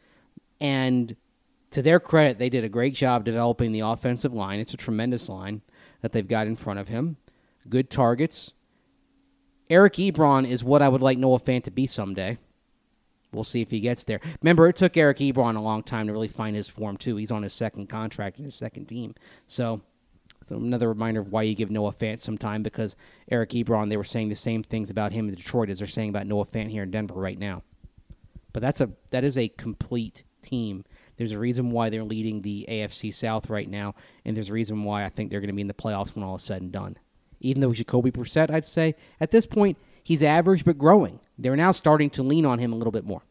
And to their credit, they did a great job developing the offensive line. It's a tremendous line that they've got in front of him. Good targets. Eric Ebron is what I would like Noah Fant to be someday. We'll see if he gets there. Remember, it took Eric Ebron a long time to really find his form, too. He's on his second contract in his second team. So, so another reminder of why you give Noah Fant some time, because Eric Ebron, they were saying the same things about him in Detroit as they're saying about Noah Fant here in Denver right now. But that's a that is a complete team. There's a reason why they're leading the A F C South right now, and there's a reason why I think they're going to be in the playoffs when all is said and done. Even though Jacoby Brissett, I'd say, at this point, he's average but growing. They're now starting to lean on him a little bit more.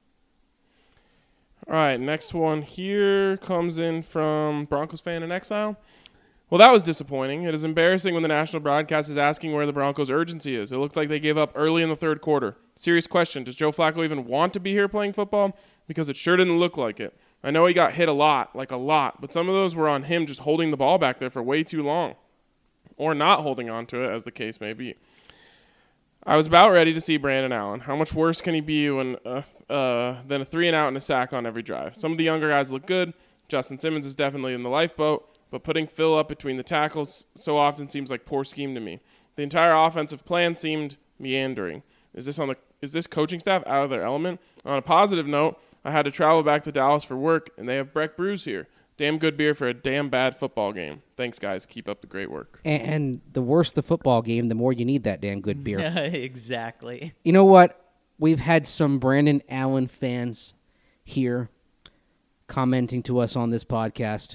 All right, next one here comes in from Broncos fan in exile. Well, that was disappointing. It is embarrassing when the national broadcast is asking where the Broncos' urgency is. It looked like they gave up early in the third quarter. Serious question. Does Joe Flacco even want to be here playing football? Because it sure didn't look like it. I know he got hit a lot, like a lot, but some of those were on him just holding the ball back there for way too long. Or not holding on to it, as the case may be. I was about ready to see Brandon Allen. How much worse can he be when uh, uh, than a three and out and a sack on every drive? Some of the younger guys look good. Justin Simmons is definitely in the lifeboat. But putting Phil up between the tackles so often seems like poor scheme to me. The entire offensive plan seemed meandering. Is this on the is this coaching staff out of their element? On a positive note, I had to travel back to Dallas for work, and they have Breck Brews here. Damn good beer for a damn bad football game. Thanks, guys. Keep up the great work.
And, and the worse the football game, the more you need that damn good beer.
Exactly.
You know what? We've had some Brandon Allen fans here commenting to us on this podcast.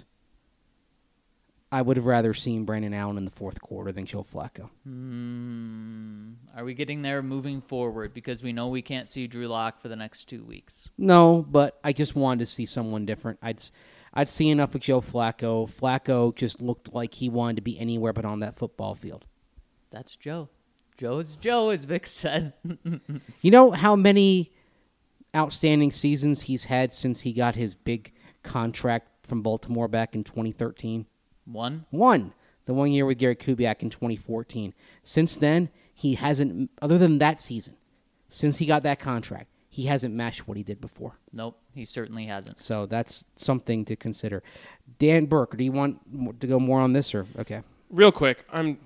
I would have rather seen Brandon Allen in the fourth quarter than Joe Flacco.
Hmm. Are we getting there moving forward? Because we know we can't see Drew Lock for the next two weeks.
No, but I just wanted to see someone different. I'd I'd see enough of Joe Flacco. Flacco just looked like he wanted to be anywhere but on that football field.
That's Joe. Joe's Joe, as Vic said.
You know how many outstanding seasons he's had since he got his big contract from Baltimore back in twenty thirteen?
One?
One. The one year with Gary Kubiak in twenty fourteen. Since then, he hasn't, other than that season, since he got that contract, he hasn't matched what he did before.
Nope, he certainly hasn't.
So that's something to consider. Dan Burke, do you want to go more on this? or Okay.
Real quick, I'm.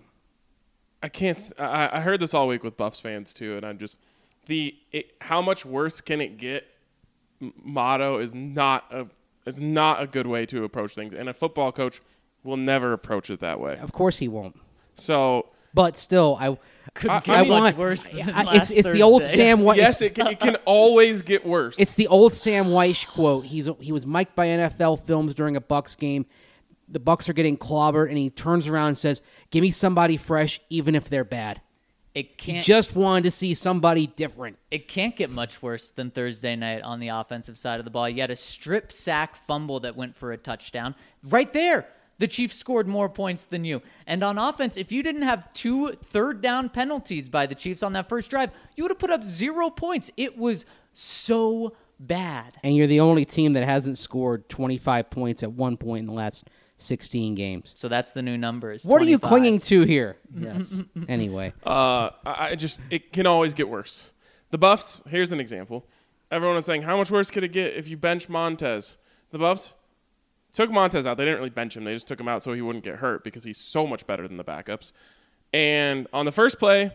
I can't. I, I heard this all week with Buffs fans too, and I'm just the it, how much worse can it get? Motto is not a is not a good way to approach things, and a football coach will never approach it that way.
Of course he won't.
So,
but still, I
Could
I,
get
I
much
want,
worse than
I,
last
it's it's the old
Thursday.
Sam White.
yes, it can, it can always get worse.
It's the old Sam Weish quote. He's he was mic'd by N F L Films during a Bucks game. The Bucks are getting clobbered, and he turns around and says, "Give me somebody fresh, even if they're bad."
It
He
can't.
just wanted to see somebody different.
It can't get much worse than Thursday night on the offensive side of the ball. You had a strip sack fumble that went for a touchdown. Right there, the Chiefs scored more points than you. And on offense, if you didn't have two third down penalties by the Chiefs on that first drive, you would have put up zero points. It was so bad.
And you're the only team that hasn't scored twenty-five points at one point in the last sixteen games.
So that's the new numbers.
What are you
twenty-five.
clinging to here? Yes. Anyway.
Uh, I I just it can always get worse. The Buffs. Here's an example. Everyone was saying, how much worse could it get if you bench Montez? The Buffs took Montez out. They didn't really bench him. They just took him out so he wouldn't get hurt because he's so much better than the backups. And on the first play,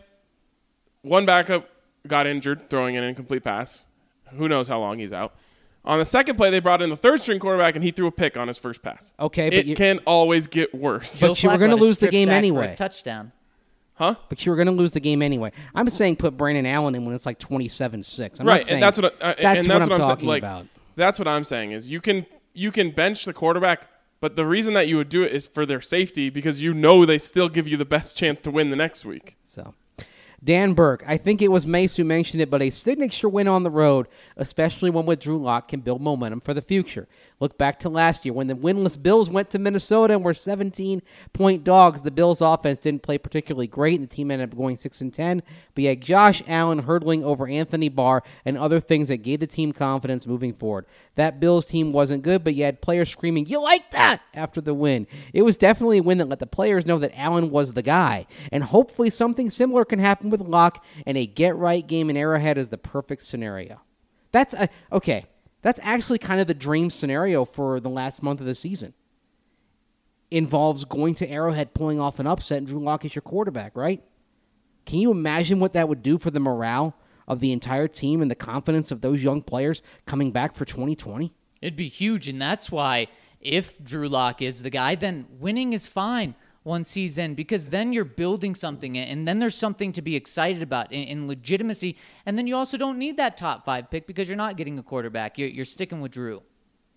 one backup got injured throwing an incomplete pass. Who knows how long he's out. On the second play, they brought in the third-string quarterback, and he threw a pick on his first pass.
Okay, but
it
you-
can always get worse.
But you were
Flacco
gonna
had a
lose the
strip
game
sack for a
anyway.
touchdown.
Huh?
But you were going to lose the game anyway. I'm saying put Brandon Allen in when it's like twenty-seven six. I'm
right,
not saying
and that's what I, uh,
that's
and
what
that's
I'm
what I'm
talking
saying. Like,
about.
that's what I'm saying is you can you can bench the quarterback, but the reason that you would do it is for their safety because you know they still give you the best chance to win the next week.
So, Dan Burke, I think it was Mace who mentioned it, but a signature win on the road, especially one with Drew Lock, can build momentum for the future. Look back to last year when the winless Bills went to Minnesota and were seventeen-point dogs. The Bills' offense didn't play particularly great, and the team ended up going six and ten. But you had Josh Allen hurdling over Anthony Barr and other things that gave the team confidence moving forward. That Bills team wasn't good, but you had players screaming, "You like that?" after the win. It was definitely a win that let the players know that Allen was the guy. And hopefully something similar can happen with Locke, and a get-right game in Arrowhead is the perfect scenario. That's a, okay. That's actually kind of the dream scenario for the last month of the season. Involves going to Arrowhead, pulling off an upset, and Drew Lock is your quarterback, right? Can you imagine what that would do for the morale of the entire team and the confidence of those young players coming back for twenty twenty?
It'd be huge, and that's why if Drew Lock is the guy, then winning is fine once he's in, because then you're building something, and then there's something to be excited about in, in legitimacy, and then you also don't need that top five pick because you're not getting a quarterback. You're, you're sticking with Drew.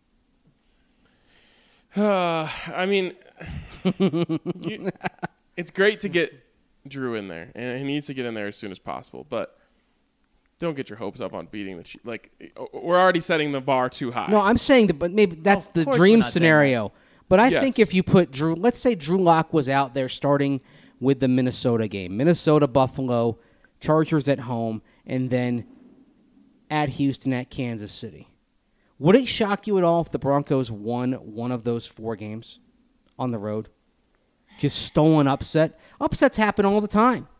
Uh, I mean, you, it's great to get Drew in there, and he needs to get in there as soon as possible. But don't get your hopes up on beating the Chiefs. Like, we're already setting the bar too high.
No, I'm saying that, but maybe that's
Of
the
course
dream
we're not saying
scenario. But I
Yes.
think if you put Drew, let's say Drew Lock was out there starting with the Minnesota game, Minnesota, Buffalo, Chargers at home, and then at Houston, at Kansas City. Would it shock you at all if the Broncos won one of those four games on the road? Just stolen upset. Upsets happen all the time.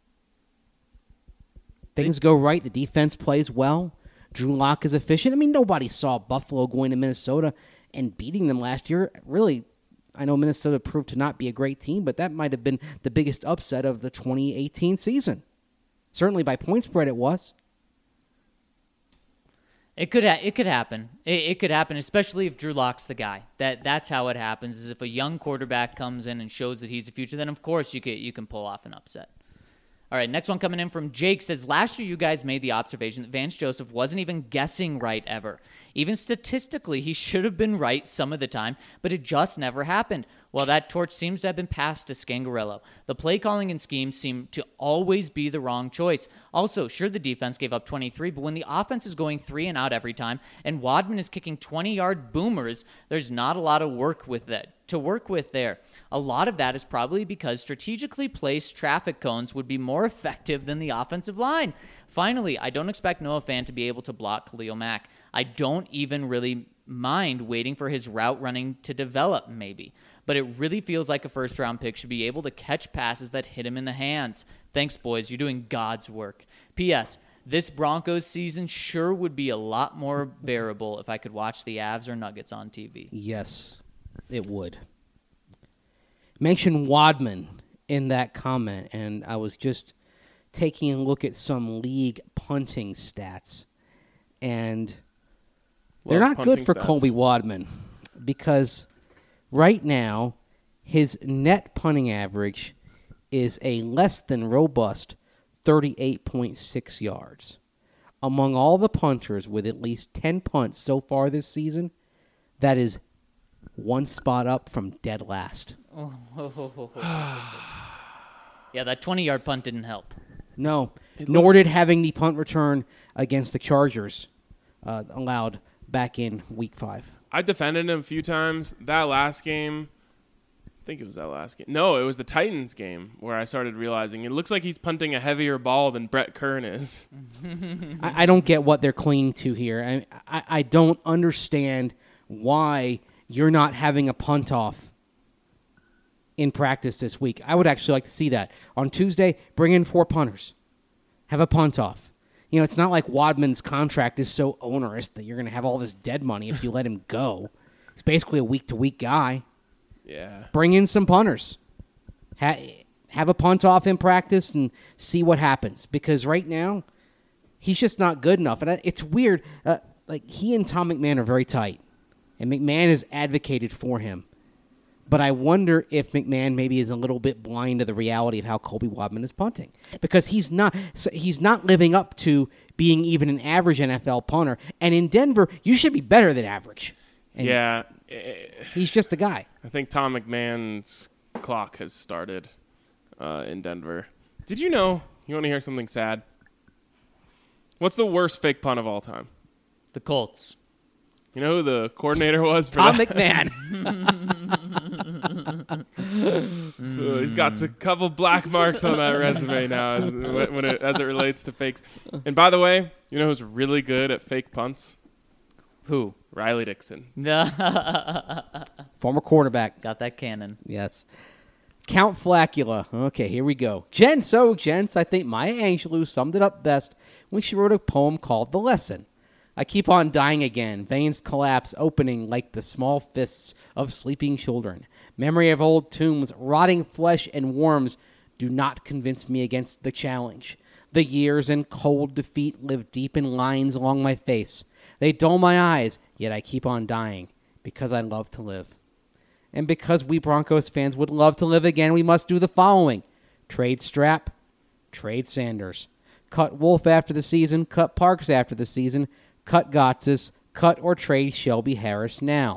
Things go right. The defense plays well. Drew Lock is efficient. I mean, nobody saw Buffalo going to Minnesota and beating them last year. Really, I know Minnesota proved to not be a great team, but that might have been the biggest upset of the twenty eighteen season. Certainly by point spread it was.
It could ha- it could happen. It, it could happen, especially if Drew Lock's the guy. That that's how it happens. Is if a young quarterback comes in and shows that he's the future, then of course you can you can pull off an upset. All right, next one coming in from Jake says, last year you guys made the observation that Vance Joseph wasn't even guessing right ever. Even statistically, he should have been right some of the time, but it just never happened. Well, that torch seems to have been passed to Scangarello. The play calling and schemes seem to always be the wrong choice. Also, sure, the defense gave up twenty-three, but when the offense is going three and out every time, and Wadman is kicking twenty-yard boomers, there's not a lot of work with that to work with there. A lot of that is probably because strategically placed traffic cones would be more effective than the offensive line. Finally, I don't expect Noah Fant to be able to block Khalil Mack. I don't even really mind waiting for his route running to develop, maybe. But it really feels like a first-round pick should be able to catch passes that hit him in the hands. Thanks, boys. You're doing God's work. P S. This Broncos season sure would be a lot more bearable if I could watch the Avs or Nuggets on T V.
Yes, it would. Mention Wadman in that comment, and I was just taking a look at some league punting stats, and they're
Love
not good
punting
for
stats.
Colby Wadman because right now his net punting average is a less than robust thirty-eight point six yards. Among all the punters with at least ten punts so far this season, that is one spot up from dead last.
Yeah, that twenty-yard punt didn't help.
No,
It
nor
looks-
did having the punt return against the Chargers uh, allowed back in week five.
I defended him a few times. That last game, I think it was that last game. No, it was the Titans game where I started realizing it looks like he's punting a heavier ball than Brett Kern is.
I, I don't get what they're clinging to here. I, I, I don't understand why you're not having a punt off in practice this week. I would actually like to see that. On Tuesday, bring in four punters. Have a punt off. You know, it's not like Wadman's contract is so onerous that you're going to have all this dead money if you let him go. He's basically a week-to-week guy.
Yeah.
Bring in some punters. Ha- have a punt off in practice and see what happens. Because right now, he's just not good enough. And it's weird. Uh, like, he and Tom McMahon are very tight. And McMahon has advocated for him. But I wonder if McMahon maybe is a little bit blind to the reality of how Colby Wadman is punting. Because he's not so he's not living up to being even an average N F L punter. And in Denver, you should be better than average. And
Yeah. eh,
he's just a guy.
I think Tom McMahon's clock has started uh, in Denver. Did you know? You want to hear something sad? What's the worst fake punt of all time?
The Colts.
You know who the coordinator was for
Tom
that?
McMahon.
Uh, he's got a couple black marks on that resume now as, when it, as it relates to fakes. And by the way, you know who's really good at fake punts?
Who?
Riley Dixon.
Former quarterback.
Got that cannon.
Yes. Count Flacula. Okay, here we go. Jen, so, gents, I think Maya Angelou summed it up best when she wrote a poem called The Lesson. I keep on dying again, veins collapse, opening like the small fists of sleeping children. Memory of old tombs, rotting flesh and worms do not convince me against the challenge. The years and cold defeat live deep in lines along my face. They dull my eyes, yet I keep on dying because I love to live. And because we Broncos fans would love to live again, we must do the following. Trade Strap, trade Sanders. Cut Wolf after the season, cut Parks after the season, cut Gotsis, cut or trade Shelby Harris now.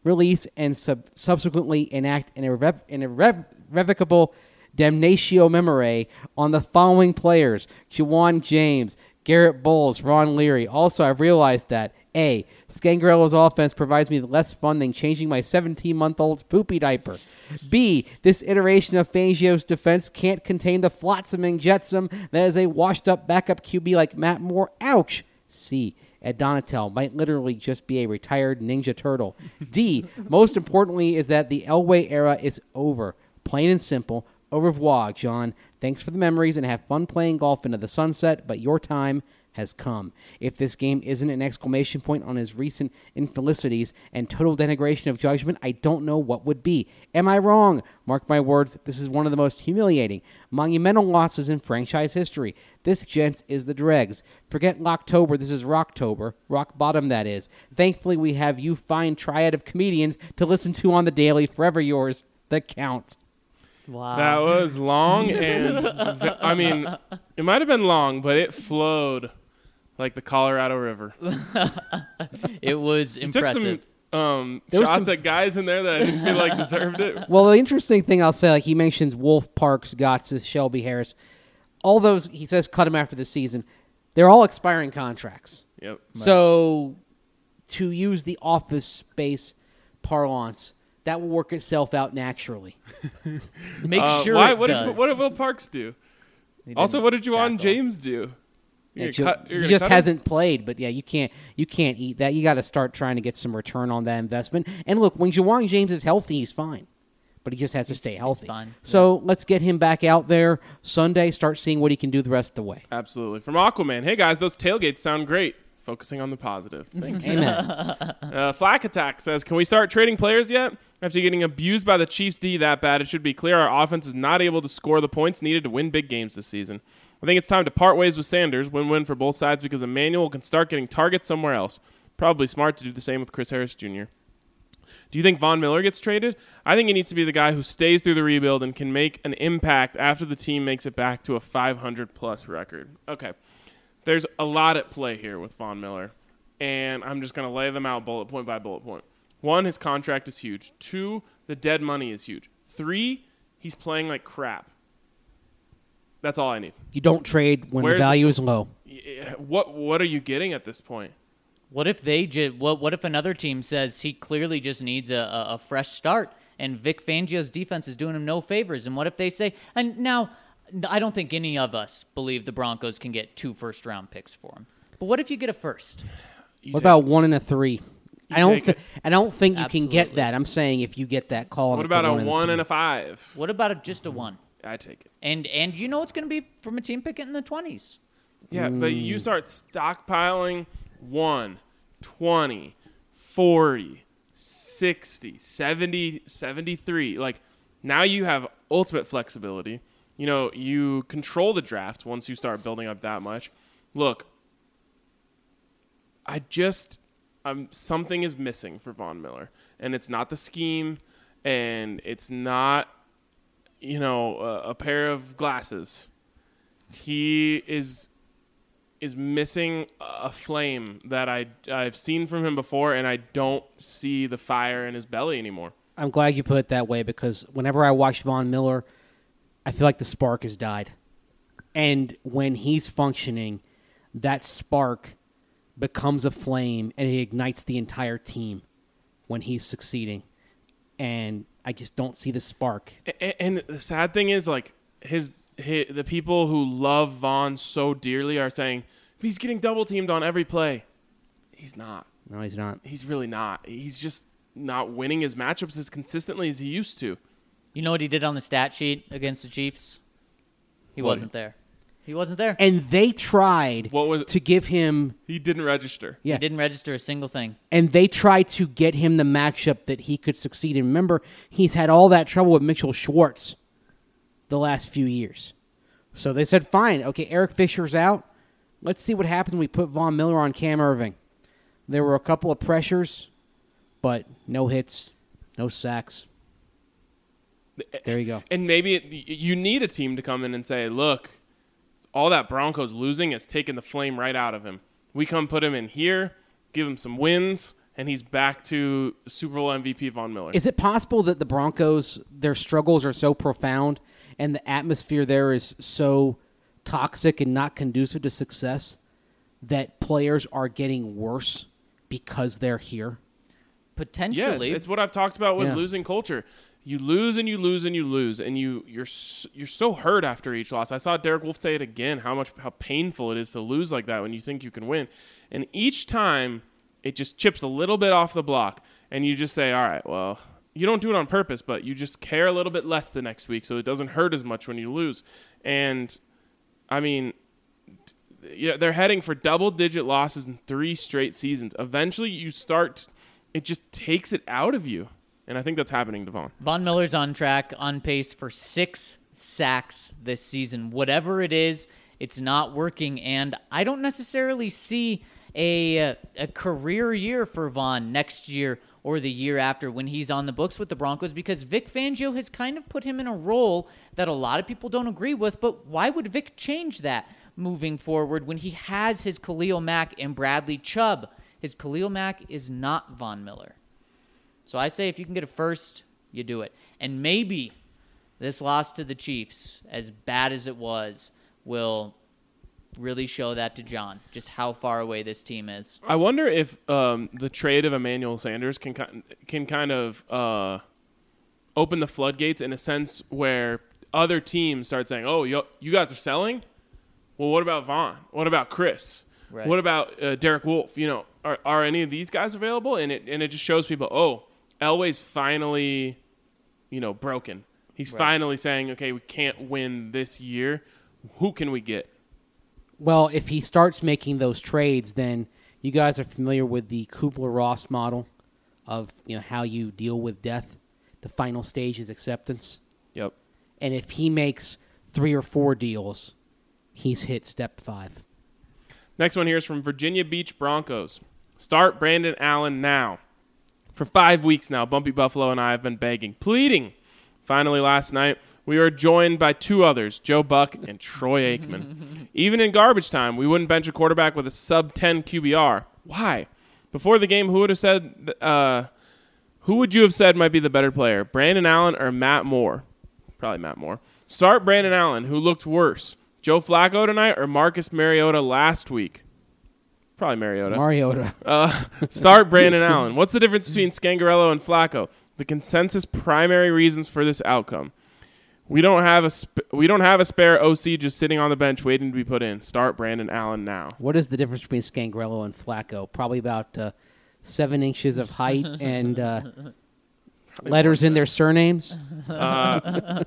release and sub- subsequently enact an, irrev- an irrev- irrevocable damnatio memoriae on the following players: Juwan James, Garrett Bowles, Ron Leary. Also, I've realized that A, Scangarello's offense provides me less fun than changing my seventeen-month-old's poopy diaper. B, this iteration of Fangio's defense can't contain the flotsam and jetsam that is a washed-up backup Q B like Matt Moore. Ouch. C, Ed Donatel might literally just be a retired Ninja Turtle. D, most importantly is that the Elway era is over. Plain and simple. Au revoir, John. Thanks for the memories and have fun playing golf into the sunset, but your time has come. If this game isn't an exclamation point on his recent infelicities and total denigration of judgment, I don't know what would be. Am I wrong? Mark my words, this is one of the most humiliating, monumental losses in franchise history. This, gents, is the dregs. Forget Locktober, this is Rocktober. Rock bottom, that is. Thankfully, we have you fine triad of comedians to listen to on the daily. Forever yours, The Count.
Wow.
That was long, and v- I mean, it might have been long, but it flowed like the Colorado River.
It was
You took
impressive.
some um,
There was
shots
some-
at guys in there that I didn't feel like deserved it.
Well, the interesting thing I'll say, like he mentions Wolf, Parks, Gotts, Shelby Harris. All those, he says, cut them after the season. They're all expiring contracts.
Yep.
So, to use the office space parlance, that will work itself out naturally.
Make
Uh,
sure
why?
it
What
does.
did, what did Will Parks do?
He didn't
Also, what did Juwan
tackle.
James do? You're
Yeah,
gonna
Joe-
cut- you're
he
gonna
just
cut him?
hasn't played, but yeah, you can't you can't eat that. You got to start trying to get some return on that investment. And look, when Juwan James is healthy, he's fine, but he just has to stay healthy.
fine.
So let's get him back out there Sunday. Start seeing what he can do the rest of the way.
Absolutely. From Aquaman. Hey, guys, those tailgates sound great. Focusing on the positive. Thank you.
Amen.
Uh, Flack Attack says, can we start trading players yet? After getting abused by the Chiefs D that bad, it should be clear our offense is not able to score the points needed to win big games this season. I think it's time to part ways with Sanders, win-win for both sides, because Emmanuel can start getting targets somewhere else. Probably smart to do the same with Chris Harris Junior Do you think Von Miller gets traded? I think he needs to be the guy who stays through the rebuild and can make an impact after the team makes it back to a five hundred plus record. Okay. There's a lot at play here with Von Miller, and I'm just going to lay them out bullet point by bullet point. One, his contract is huge. Two, the dead money is huge. Three, he's playing like crap. That's all I need.
You don't trade when
Where's
the value is low.
Yeah, What What are you getting at this point?
What if they ju- what What if another team says he clearly just needs a, a, a fresh start, and Vic Fangio's defense is doing him no favors? And what if they say, and now I don't think any of us believe the Broncos can get two first round picks for him. But what if you get a first?
You
What
take-
about one and a three? I don't.
take
Th-
it.
I don't think you can get
Absolutely.
that. I'm saying if you get that call. and
What
it's
about a
one and
one
three.
and a five?
What about a, just a one?
I take it.
And and you know it's going to be from a team picking in the twenties.
Yeah, but you start stockpiling one, twenty, forty, sixty, seventy, seventy-three. Like, now you have ultimate flexibility. You know, you control the draft once you start building up that much. Look, I just, um, something is missing for Von Miller. And it's not the scheme, and it's not, you know, a, a pair of glasses. He is is missing a flame that I, I've seen from him before, and I don't see the fire in his belly anymore.
I'm glad you put it that way because whenever I watch Von Miller, I feel like the spark has died. And when he's functioning, that spark becomes a flame and it ignites the entire team when he's succeeding. And I just don't see the spark.
A- And the sad thing is, like, his, his the people who love Vaughn so dearly are saying, he's getting double teamed on every play. He's not.
No, he's not.
He's really not. He's just not winning his matchups as consistently as he used to.
You know what he did on the stat sheet against the Chiefs? He
What?
wasn't there. He wasn't there.
And they tried
What was-
to give him,
He didn't register.
yeah,
He didn't register a single thing.
and they tried to get him the matchup that he could succeed in. Remember, he's had all that trouble with Mitchell Schwartz the last few years. So they said, fine, okay, Eric Fisher's out. Let's see what happens when we put Von Miller on Cam Irving. There were a couple of pressures, but no hits, no sacks. There you go.
And maybe it, you need a team to come in and say, look, all that Broncos losing has taken the flame right out of him. We come put him in here, give him some wins, and he's back to Super Bowl M V P Von Miller.
Is it possible that the Broncos, their struggles are so profound and the atmosphere there is so toxic and not conducive to success that players are getting worse because they're here?
Potentially.
Yes, it's what I've talked about with
Yeah.
losing culture. You lose and you lose and you lose, and you you're s- you're so hurt after each loss. I saw Derek Wolfe say it again, how much how painful it is to lose like that when you think you can win, and each time it just chips a little bit off the block, and you just say, all right, well, you don't do it on purpose, but you just care a little bit less the next week, so it doesn't hurt as much when you lose. And I mean, yeah, they're heading for double-digit losses in three straight seasons. Eventually, you start. It just takes it out of you. And I think that's happening to Von.
Von Miller's on track, on pace for six sacks this season. Whatever it is, it's not working. And I don't necessarily see a, a career year for Von next year or the year after when he's on the books with the Broncos, because Vic Fangio has kind of put him in a role that a lot of people don't agree with. But why would Vic change that moving forward when he has his Khalil Mack and Bradley Chubb? His Khalil Mack is not Von Miller. So I say if you can get a first, you do it. And maybe this loss to the Chiefs, as bad as it was, will really show that to John, just how far away this team is.
I wonder if um, the trade of Emmanuel Sanders can ki- can kind of uh, open the floodgates in a sense where other teams start saying, oh, you, you guys are selling? Well, what about Von? What about Chris?
Right.
What about uh, Derek Wolfe? You know, are, are any of these guys available? And it and it just shows people, oh, Elway's finally, you know, broken. He's
Right.
finally saying, okay, we can't win this year. Who can we get?
Well, if he starts making those trades, then you guys are familiar with the Kubler-Ross model of, you know, how you deal with death. The final stage is acceptance.
Yep.
And if he makes three or four deals, he's hit step five.
Next one here is from Virginia Beach Broncos. Start Brandon Allen now. For five weeks now, Bumpy Buffalo and I have been begging, pleading. Finally, last night, we were joined by two others, Joe Buck and Troy Aikman. Even in garbage time, we wouldn't bench a quarterback with a sub ten Q B R. Why? Before the game, who would have said? Uh, who would you have said might be the better player, Brandon Allen or Matt Moore? Probably Matt Moore. Start Brandon Allen, who looked worse, Joe Flacco tonight or Marcus Mariota last week? Probably Mariota.
Mariota.
Uh, start Brandon Allen. What's the difference between Scangarello and Flacco? The consensus primary reasons for this outcome. We don't have a sp- we don't have a spare O C just sitting on the bench waiting to be put in. Start Brandon Allen now.
What is the difference between Scangarello and Flacco? Probably about uh, seven inches of height and uh, letters in their surnames.
Uh,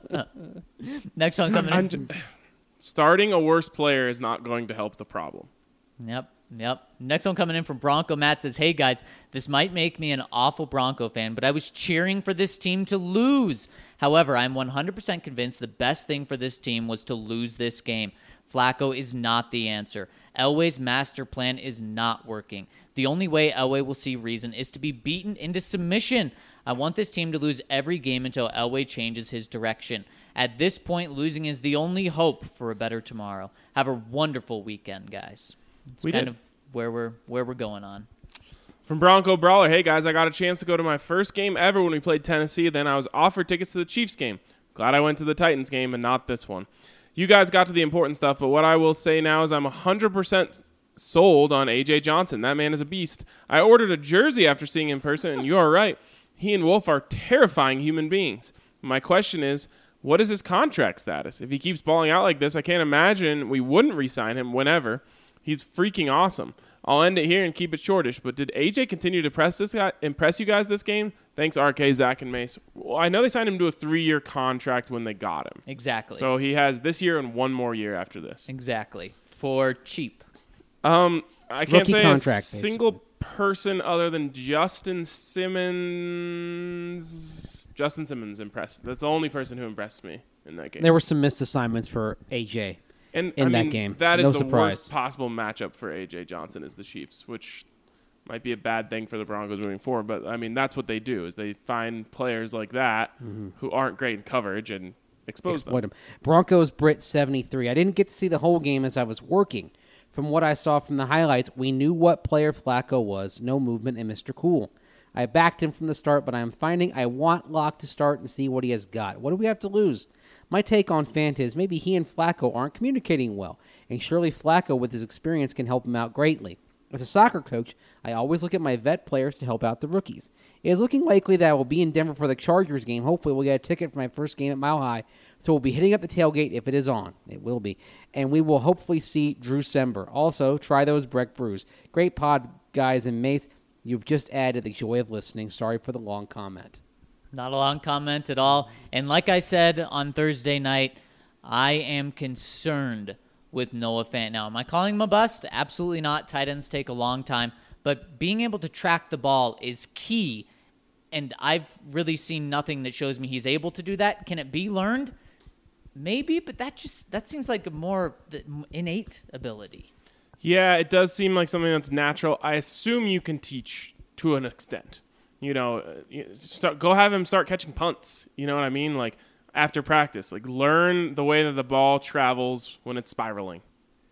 Next one coming
I'm
in.
j- starting a worse player is not going to help the problem.
Yep, yep. Next one coming in from Bronco Matt says, hey guys, this might make me an awful Bronco fan, but I was cheering for this team to lose. However, I'm one hundred percent convinced the best thing for this team was to lose this game. Flacco is not the answer. Elway's master plan is not working. The only way Elway will see reason is to be beaten into submission. I want this team to lose every game until Elway changes his direction. At this point, losing is the only hope for a better tomorrow. Have a wonderful weekend, guys. It's
We
kind
did.
of where we're where we're going on.
From Bronco Brawler, hey guys, I got a chance to go to my first game ever when we played Tennessee. Then I was offered tickets to the Chiefs game. Glad I went to the Titans game and not this one. You guys got to the important stuff, but what I will say now is I'm one hundred percent sold on A J Johnson. That man is a beast. I ordered a jersey after seeing him in person, and you are right. He and Wolf are terrifying human beings. My question is, what is his contract status? If he keeps balling out like this, I can't imagine we wouldn't re-sign him whenever. He's freaking awesome. I'll end it here and keep it shortish, but did A J continue to press this guy, impress you guys this game? Thanks, R K, Zach, and Mace. Well, I know they signed him to a three-year contract when they got him.
Exactly.
So he has this year and one more year after this.
exactly. For cheap.
Um, I can't
Rookie
say
contract,
a single person other than Justin Simmons. Justin Simmons impressed. That's the only person who impressed me in that game.
There were some missed assignments for A J.
And
in
I
that
mean,
game.
That is
No
the
surprise.
worst possible matchup for A J Johnson is the Chiefs, which might be a bad thing for the Broncos moving forward. But I mean, that's what they do: is they find players like that who aren't great in coverage and expose
Exploit
them.
him. Broncos Brit seventy-three. I didn't get to see the whole game as I was working From what I saw from the highlights, we knew what player Flacco was. No movement in Mister Cool. I backed him from the start, but I'm finding I want Locke to start and see what he has got. What do we have to lose? My take on Fant is maybe he and Flacco aren't communicating well, and surely Flacco with his experience can help him out greatly. As a soccer coach, I always look at my vet players to help out the rookies. It is looking likely that I will be in Denver for the Chargers game. Hopefully we'll get a ticket for my first game at Mile High, so we'll be hitting up the tailgate if it is on. It will be. And we will hopefully see Drew Sember. Also, try those Breck brews. Great pods, guys, and Mace. You've just added the joy of listening. Sorry for the long comment.
Not a long comment at all. And like I said on Thursday night, I am concerned with Noah Fant. Now, am I calling him a bust? Absolutely not. Tight ends take a long time. But being able to track the ball is key. And I've really seen nothing that shows me he's able to do that. Can it be learned? Maybe, but that just that seems like a more innate ability.
Yeah, it does seem like something that's natural. I assume you can teach to an extent. You know, start, go have him start catching punts. You know what I mean? Like, after practice. Like, learn the way that the ball travels when it's spiraling.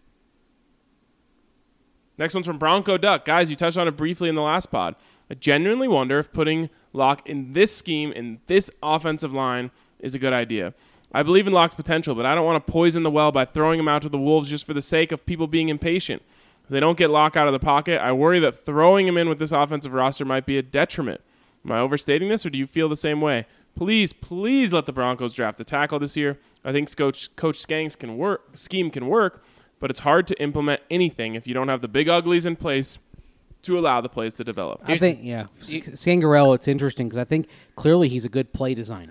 Next one's from Bronco Duck. Guys, you touched on it briefly in the last pod. I genuinely wonder if putting Locke in this scheme, in this offensive line, is a good idea. I believe in Locke's potential, but I don't want to poison the well by throwing him out to the wolves just for the sake of people being impatient. If they don't get Locke out of the pocket, I worry that throwing him in with this offensive roster might be a detriment. Am I overstating this, or do you feel the same way? Please, please let the Broncos draft a tackle this year. I think Coach, Coach Skanks can work, scheme can work, but it's hard to implement anything if you don't have the big uglies in place to allow the plays to develop.
I think, yeah, Scangarello, it's interesting because I think clearly he's a good play designer.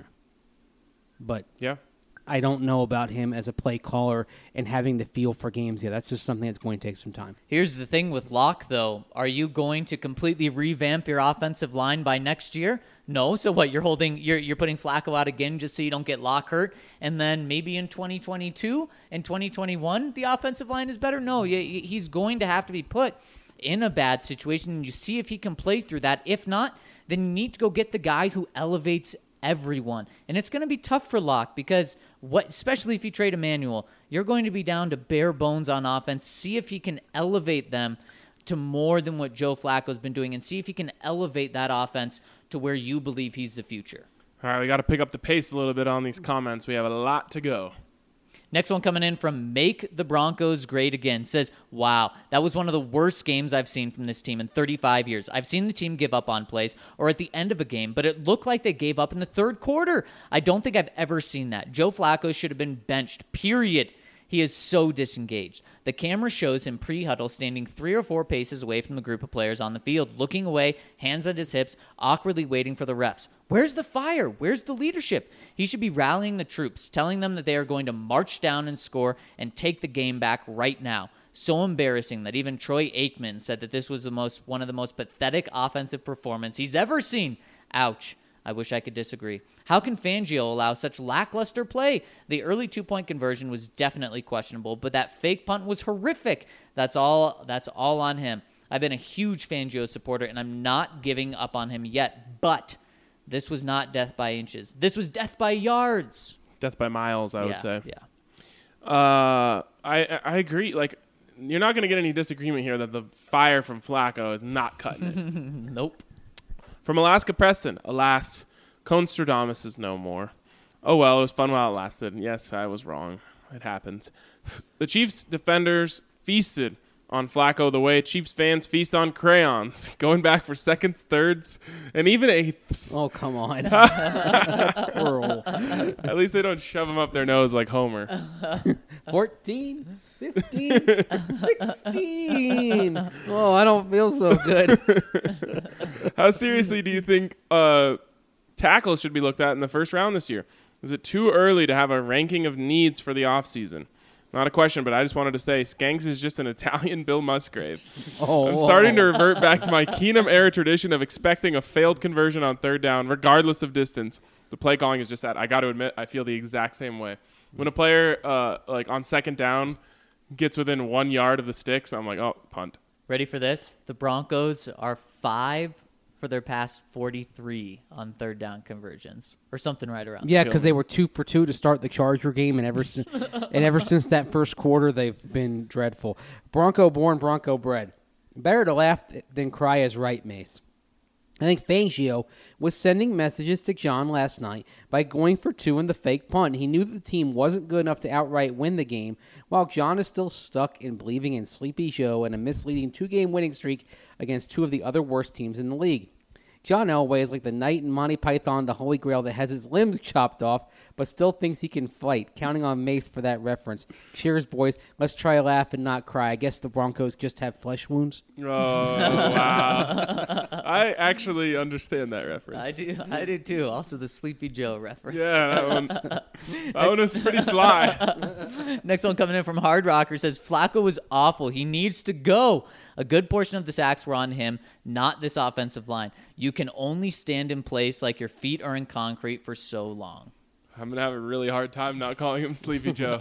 But
yeah.
I don't know about him as a play caller and having the feel for games. Yeah, that's just something that's going to take some time.
Here's the thing with Locke, though. Are you going to completely revamp your offensive line by next year? No. So what? You're holding, you're you're putting Flacco out again just so you don't get Locke hurt, and then maybe in twenty twenty-two and twenty twenty-one the offensive line is better. No, he's going to have to be put in a bad situation, and you see if he can play through that. If not, then you need to go get the guy who elevates everyone. And it's going to be tough for Locke because, what, especially if you trade Emmanuel, you're going to be down to bare bones on offense. See if he can elevate them to more than what Joe Flacco's been doing and see if he can elevate that offense to where you believe he's the future.
All right, we got to pick up the pace a little bit on these comments. We have a lot to go.
Next one coming in from Make the Broncos Great Again. Says, wow, that was one of the worst games I've seen from this team in thirty-five years. I've seen the team give up on plays or at the end of a game, but it looked like they gave up in the third quarter. I don't think I've ever seen that. Joe Flacco should have been benched, period. He is so disengaged. The camera shows him pre-huddle standing three or four paces away from the group of players on the field, looking away, hands at his hips, awkwardly waiting for the refs. Where's the fire? Where's the leadership? He should be rallying the troops, telling them that they are going to march down and score and take the game back right now. So embarrassing that even Troy Aikman said that this was the most one of the most pathetic offensive performances he's ever seen. Ouch. I wish I could disagree. How can Fangio allow such lackluster play? The early two-point conversion was definitely questionable, but that fake punt was horrific. That's all that's all on him. I've been a huge Fangio supporter, and I'm not giving up on him yet, but this was not death by inches. This was death by yards.
Death by miles, I
yeah,
would say.
Yeah.
Uh, I I agree. Like, you're not going to get any disagreement here that the fire from Flacco is not cutting it.
Nope.
From Alaska Preston, alas, Constradamus is no more. Oh well, it was fun while it lasted. Yes, I was wrong. It happens. The Chiefs defenders feasted on Flacco the way Chiefs fans feast on crayons, going back for seconds, thirds, and even eighths.
Oh, come on. That's cruel.
At least they don't shove them up their nose like Homer.
fourteen, fifteen, sixteen. Oh, I don't feel so good.
How seriously do you think uh, tackles should be looked at in the first round this year? Is it too early to have a ranking of needs for the offseason? Not a question, but I just wanted to say Skanks is just an Italian Bill Musgrave.
Oh,
I'm starting to revert back to my Keenum era tradition of expecting a failed conversion on third down, regardless of distance. The play calling is just that. I got to admit, I feel the exact same way. When a player, uh, like on second down, gets within one yard of the sticks, I'm like, oh, punt.
Ready for this? The Broncos are five for for their past forty-three on third down conversions, or something right around.
Yeah,
there.
because they were two for two to start the Charger game, and ever since and ever since that first quarter, they've been dreadful. Bronco born, Bronco bred. Better to laugh than cry is right, Mace. I think Fangio was sending messages to John last night by going for two in the fake punt. He knew that the team wasn't good enough to outright win the game, while John is still stuck in believing in Sleepy Joe and a misleading two-game winning streak against two of the other worst teams in the league. John Elway is like the knight in Monty Python, the Holy Grail that has his limbs chopped off, but still thinks he can fight, counting on Mace for that reference. Cheers, boys. Let's try laugh and not cry. I guess the Broncos just have flesh wounds.
Oh, wow. I actually understand that reference.
I do, I do too. Also, the Sleepy Joe reference.
Yeah, that one's that one was pretty sly.
Next one coming in from Hard Rocker says Flacco was awful. He needs to go. A good portion of the sacks were on him, not this offensive line. You can only stand in place like your feet are in concrete for so long.
I'm going to have a really hard time not calling him Sleepy Joe.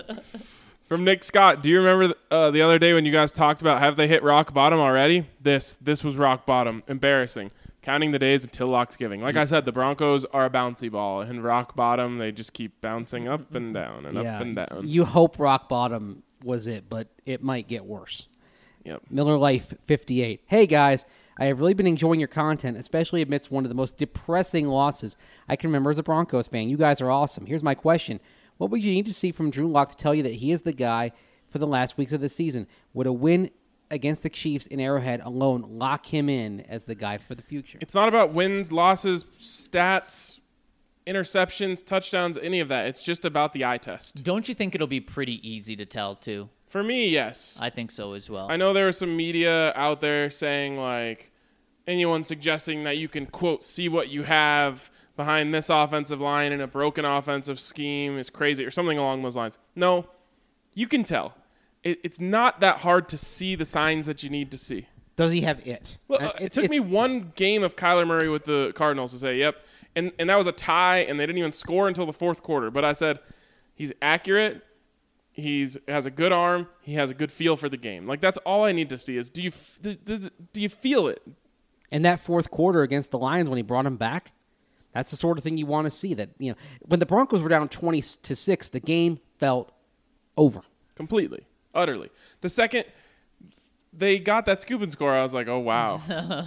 From Nick Scott, do you remember uh, the other day when you guys talked about have they hit rock bottom already? This this was rock bottom. Embarrassing. Counting the days until Locks giving. Like I said, the Broncos are a bouncy ball. And rock bottom, they just keep bouncing up and down and
yeah,
up and down.
You hope rock bottom was it, but it might get worse.
Yep.
Miller Life fifty-eight. Hey, guys. I have really been enjoying your content, especially amidst one of the most depressing losses I can remember as a Broncos fan. You guys are awesome. Here's my question. What would you need to see from Drew Lock to tell you that he is the guy for the last weeks of the season? Would a win against the Chiefs in Arrowhead alone lock him in as the guy for the future?
It's not about wins, losses, stats, interceptions, touchdowns, any of that. It's just about the eye test.
Don't you think it'll be pretty easy to tell, too?
For me, yes.
I think so as well.
I know there was some media out there saying, like, anyone suggesting that you can, quote, see what you have behind this offensive line in a broken offensive scheme is crazy or something along those lines. No, you can tell. It, it's not that hard to see the signs that you need to see.
Does he have it?
Well,
Uh,
uh, it
it's-
took
it's-
me one game of Kyler Murray with the Cardinals to say, yep. And, and that was a tie, and they didn't even score until the fourth quarter. But I said, he's accurate. He's has a good arm. He has a good feel for the game. Like, that's all I need to see is, do you f- does, does, do you feel it?
And that fourth quarter against the Lions when he brought him back, that's the sort of thing you want to see. That, you know, when the Broncos were down twenty to six, the game felt over.
Completely. Utterly. The second they got that scoop and score, I was like, oh, wow.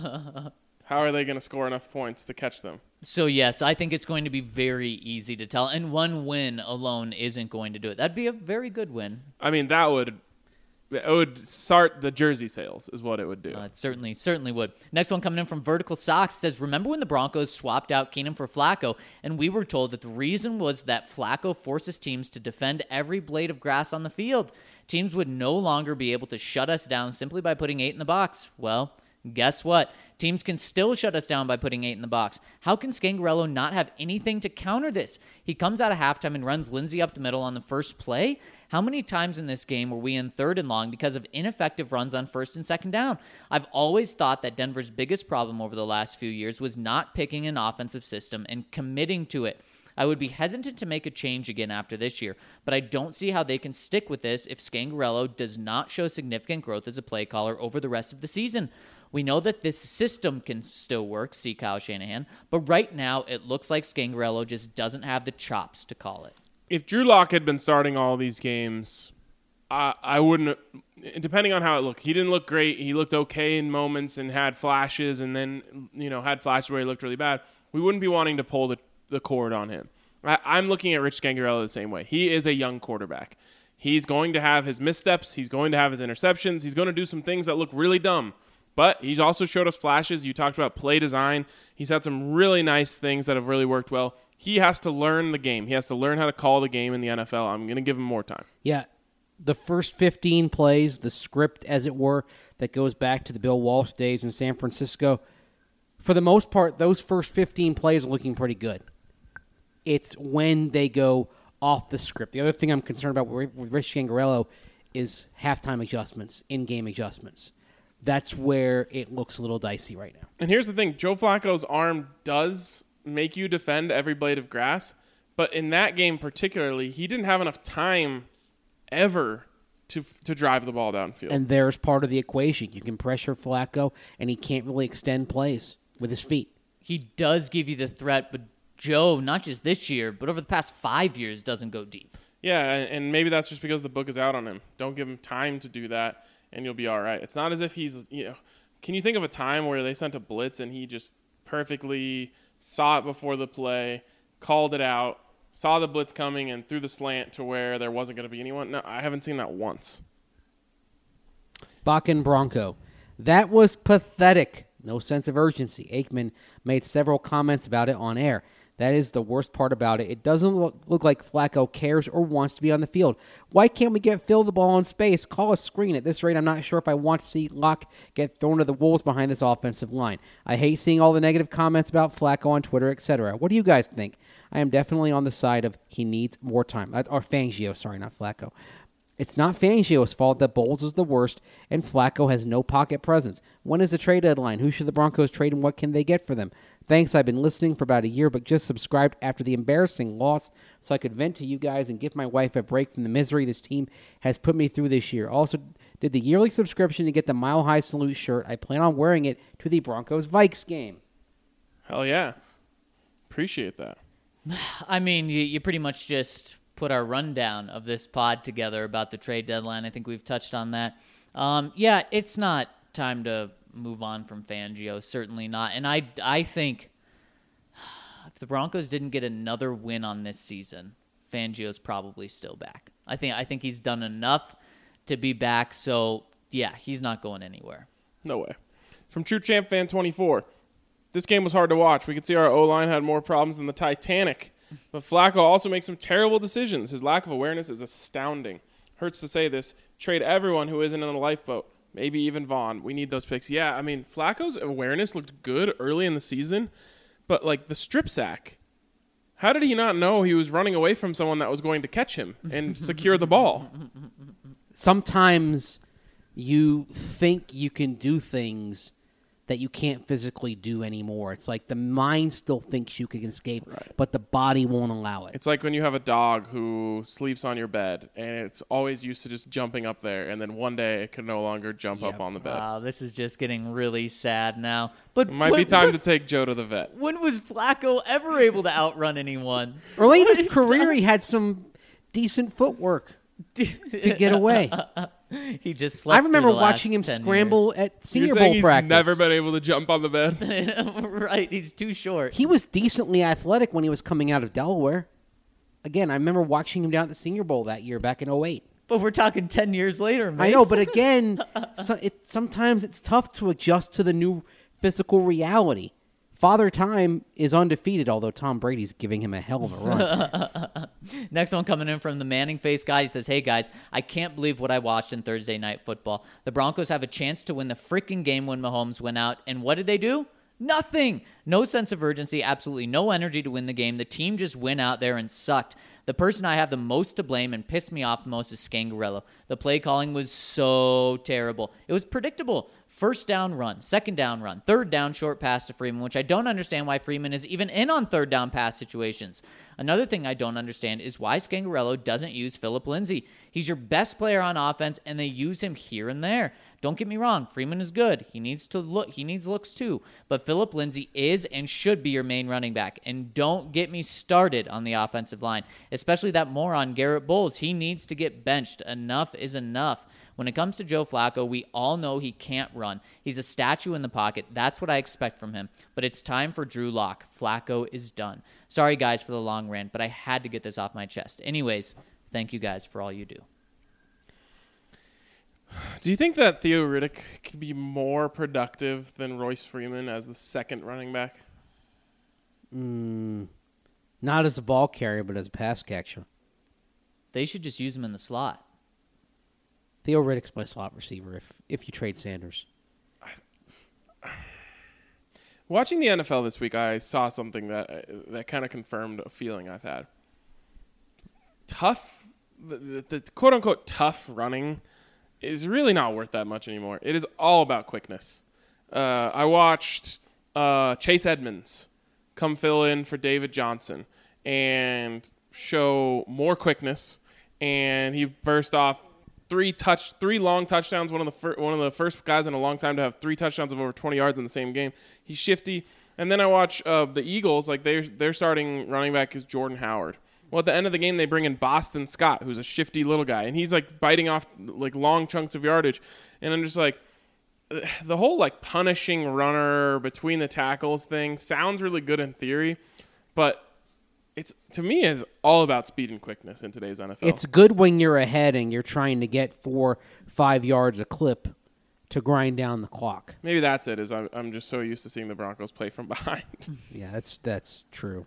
How are they going to score enough points to catch them?
So, yes, I think it's going to be very easy to tell. And one win alone isn't going to do it. That'd be a very good win.
I mean, that would it would start the jersey sales is what it would do.
Uh, it certainly, certainly would. Next one coming in from Vertical Socks says, remember when the Broncos swapped out Keenum for Flacco, and we were told that the reason was that Flacco forces teams to defend every blade of grass on the field. Teams would no longer be able to shut us down simply by putting eight in the box. Well, guess what? Teams can still shut us down by putting eight in the box. How can Scangarello not have anything to counter this? He comes out of halftime and runs Lindsey up the middle on the first play. How many times in this game were we in third and long because of ineffective runs on first and second down? I've always thought that Denver's biggest problem over the last few years was not picking an offensive system and committing to it. I would be hesitant to make a change again after this year, but I don't see how they can stick with this if Scangarello does not show significant growth as a play caller over the rest of the season. We know that this system can still work, see Kyle Shanahan, but right now it looks like Scangarello just doesn't have the chops to call it.
If Drew Lock had been starting all these games, I, I wouldn't, depending on how it looked, he didn't look great. He looked okay in moments and had flashes and then, you know, had flashes where he looked really bad. We wouldn't be wanting to pull the, the cord on him. I, I'm looking at Rich Scangarello the same way. He is a young quarterback. He's going to have his missteps. He's going to have his interceptions. He's going to do some things that look really dumb. But he's also showed us flashes. You talked about play design. He's had some really nice things that have really worked well. He has to learn the game. He has to learn how to call the game in the N F L. I'm going to give him more time.
Yeah, the first fifteen plays, the script, as it were, that goes back to the Bill Walsh days in San Francisco, for the most part, those first fifteen plays are looking pretty good. It's when they go off the script. The other thing I'm concerned about with Rich Scangarello is halftime adjustments, in-game adjustments. That's where it looks a little dicey right now.
And here's the thing. Joe Flacco's arm does make you defend every blade of grass. But in that game particularly, he didn't have enough time ever to to drive the ball downfield.
And there's part of the equation. You can pressure Flacco, and he can't really extend plays. with his feet.
He does give you the threat, but Joe, not just this year, but over the past five years, doesn't go deep.
Yeah, and and maybe that's just because the book is out on him. Don't give him time to do that, and you'll be all right. It's not as if he's, you know, can you think of a time where they sent a blitz and he just perfectly saw it before the play, called it out, saw the blitz coming, and threw the slant to where there wasn't going to be anyone? No, I haven't seen that once.
Bakken Bronco. That was pathetic. No sense of urgency. Aikman made several comments about it on air. That is the worst part about it. It doesn't look, look like Flacco cares or wants to be on the field. Why can't we get Phil the ball in space? Call a screen. At this rate, I'm not sure if I want to see Locke get thrown to the wolves behind this offensive line. I hate seeing all the negative comments about Flacco on Twitter, et cetera. What do you guys think? I am definitely on the side of he needs more time. That's, or Fangio, sorry, not Flacco. It's not Fangio's fault that Bowles is the worst and Flacco has no pocket presence. When is the trade deadline? Who should the Broncos trade and what can they get for them? Thanks, I've been listening for about a year, but just subscribed after the embarrassing loss so I could vent to you guys and give my wife a break from the misery this team has put me through this year. Also, did the yearly subscription to get the Mile High Salute shirt. I plan on wearing it to the Broncos-Vikes game.
Hell yeah. Appreciate that.
I mean, you, you pretty much just put our rundown of this pod together about the trade deadline. I think we've touched on that. Um, yeah, it's not time to move on from Fangio. Certainly not. And I, I think if the Broncos didn't get another win on this season, Fangio's probably still back. I think I think he's done enough to be back. So, yeah, he's not going anywhere.
No way. From True Champ Fan twenty-four, this game was hard to watch. We could see our O-line had more problems than the Titanic. But Flacco also makes some terrible decisions. His lack of awareness is astounding. Hurts to say this. Trade everyone who isn't in a lifeboat. Maybe even Vaughn. We need those picks. Yeah, I mean, Flacco's awareness looked good early in the season. But, like, the strip sack. How did he not know he was running away from someone that was going to catch him and secure the ball?
Sometimes you think you can do things that you can't physically do anymore. It's like the mind still thinks you can escape, right, but the body won't allow it.
It's like when you have a dog who sleeps on your bed, and it's always used to just jumping up there, and then one day it can no longer jump yep. up on the bed.
Wow, this is just getting really sad now. But
it might
when,
be time
when,
to take Joe to the vet.
When was Flacco ever able to outrun anyone?
Early in his career, he had some decent footwork. Could get away.
He just slept.
I remember
through the
watching him
last
scramble
years.
at Senior
You're
Bowl
he's
practice.
Never been able to jump on the bed.
Right, he's too short.
He was decently athletic when he was coming out of Delaware. Again, I remember watching him down at the Senior Bowl that year back in oh eight.
But we're talking ten years later, Mace.
I know, but again, so it, sometimes it's tough to adjust to the new physical reality. Father Time is undefeated, although Tom Brady's giving him a hell of a run.
Next one coming in from the Manning face guy. He says, hey, guys, I can't believe what I watched in Thursday Night Football. The Broncos have a chance to win the freaking game when Mahomes went out. And what did they do? Nothing. No sense of urgency, absolutely no energy to win the game. The team just went out there and sucked. The person I have the most to blame and pissed me off the most is Scangarello. The play calling was so terrible. It was predictable. First down run, second down run, third down short pass to Freeman, which I don't understand why Freeman is even in on third down pass situations. Another thing I don't understand is why Scangarello doesn't use Phillip Lindsay. He's your best player on offense, and they use him here and there. Don't get me wrong, Freeman is good. He needs to look. He needs looks too. But Phillip Lindsay is and should be your main running back. And don't get me started on the offensive line, especially that moron Garrett Bowles. He needs to get benched. Enough is enough. When it comes to Joe Flacco, we all know he can't run. He's a statue in the pocket. That's what I expect from him. But it's time for Drew Lock. Flacco is done. Sorry, guys, for the long rant, but I had to get this off my chest. Anyways, thank you guys for all you do.
Do you think that Theo Riddick could be more productive than Royce Freeman as the second running back?
Mm, not as a ball carrier, but as a pass catcher.
They should just use him in the slot.
Theo Riddick's my slot receiver if, if you trade Sanders.
Watching the N F L this week, I saw something that that kind of confirmed a feeling I've had. Tough, the, the, the quote-unquote tough running is really not worth that much anymore. It is all about quickness. Uh, I watched uh, Chase Edmonds come fill in for David Johnson and show more quickness, and he burst off three touch, three long touchdowns. One of the fir- one of the first guys in a long time to have three touchdowns of over twenty yards in the same game. He's shifty. And then I watch uh, the Eagles. Like they their starting running back is Jordan Howard. Well, at the end of the game, they bring in Boston Scott, who's a shifty little guy, and he's like biting off like long chunks of yardage. And I'm just like, the whole like punishing runner between the tackles thing sounds really good in theory, but it's to me is all about speed and quickness in today's N F L.
It's good when you're ahead and you're trying to get four, five yards a clip to grind down the clock.
Maybe that's it. Is I'm I'm just so used to seeing the Broncos play from behind.
Yeah, that's that's true.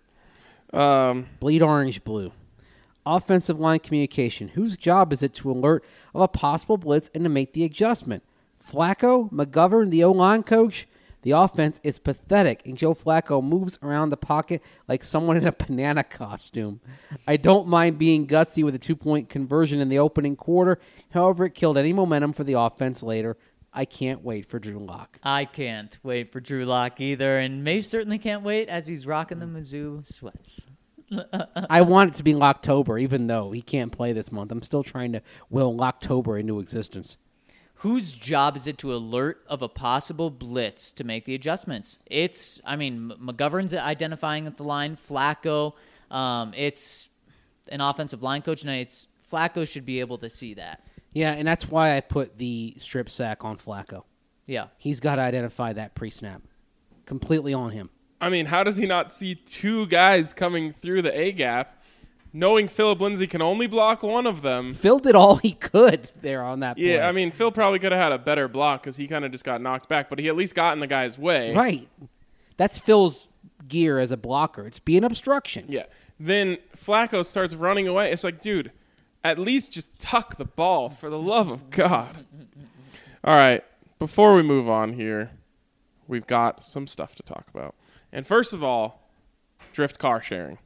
Um,
Bleed orange, blue. Offensive line communication. Whose job is it to alert of a possible blitz and to make the adjustment? Flacco, McGovern, the O-line coach. The offense is pathetic, and Joe Flacco moves around the pocket like someone in a banana costume. I don't mind being gutsy with a two-point conversion in the opening quarter. However, it killed any momentum for the offense later. I can't wait for Drew Lock.
I can't wait for Drew Lock either, and May certainly can't wait as he's rocking the Mizzou sweats.
I want it to be Locktober, even though he can't play this month. I'm still trying to will Locktober into existence.
Whose job is it to alert of a possible blitz to make the adjustments? It's, I mean, McGovern's identifying at the line, Flacco. Um, it's an offensive line coach, and it's Flacco should be able to see that.
Yeah, and that's why I put the strip sack on Flacco.
Yeah.
He's got to identify that pre-snap. Completely on him.
I mean, how does he not see two guys coming through the A gap, knowing Philip Lindsay can only block one of them?
Phil did all he could there on that play.
Yeah, I mean, Phil probably could have had a better block because he kind of just got knocked back, but he at least got in the guy's way.
Right. That's Phil's gear as a blocker. It's being obstruction.
Yeah. Then Flacco starts running away. It's like, dude, at least just tuck the ball for the love of God. All right. Before we move on here, we've got some stuff to talk about. And first of all, Drift car sharing.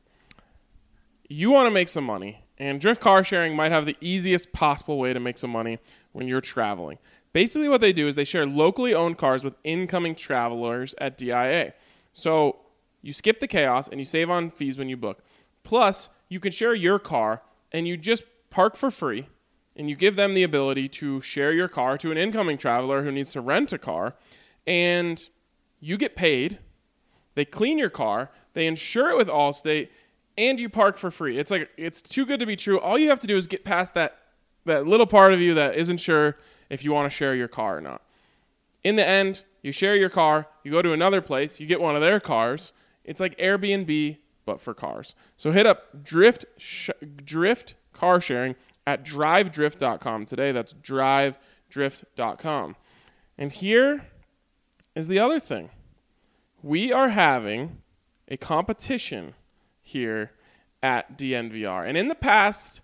You want to make some money, and Drift car sharing might have the easiest possible way to make some money when you're traveling. Basically what they do is they share locally owned cars with incoming travelers at D I A. So you skip the chaos and you save on fees when you book. Plus, you can share your car and you just park for free, and you give them the ability to share your car to an incoming traveler who needs to rent a car, and you get paid. They clean your car, they insure it with Allstate, and you park for free. It's like it's too good to be true. All you have to do is get past that that little part of you that isn't sure if you want to share your car or not. In the end, you share your car, you go to another place, you get one of their cars. It's like Airbnb, but for cars. So hit up Drift sh- Drift car sharing at drive drift dot com today. That's drive drift dot com. And here is the other thing. We are having a competition here at D N V R. And in the past,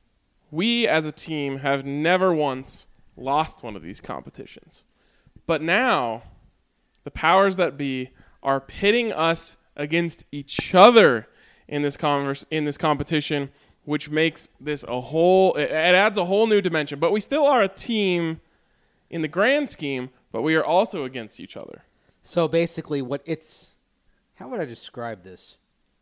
we as a team have never once lost one of these competitions. But now, the powers that be are pitting us against each other in this converse, in this competition, which makes this a whole, it adds a whole new dimension. But we still are a team in the grand scheme, but we are also against each other.
So basically what it's, how would I describe this?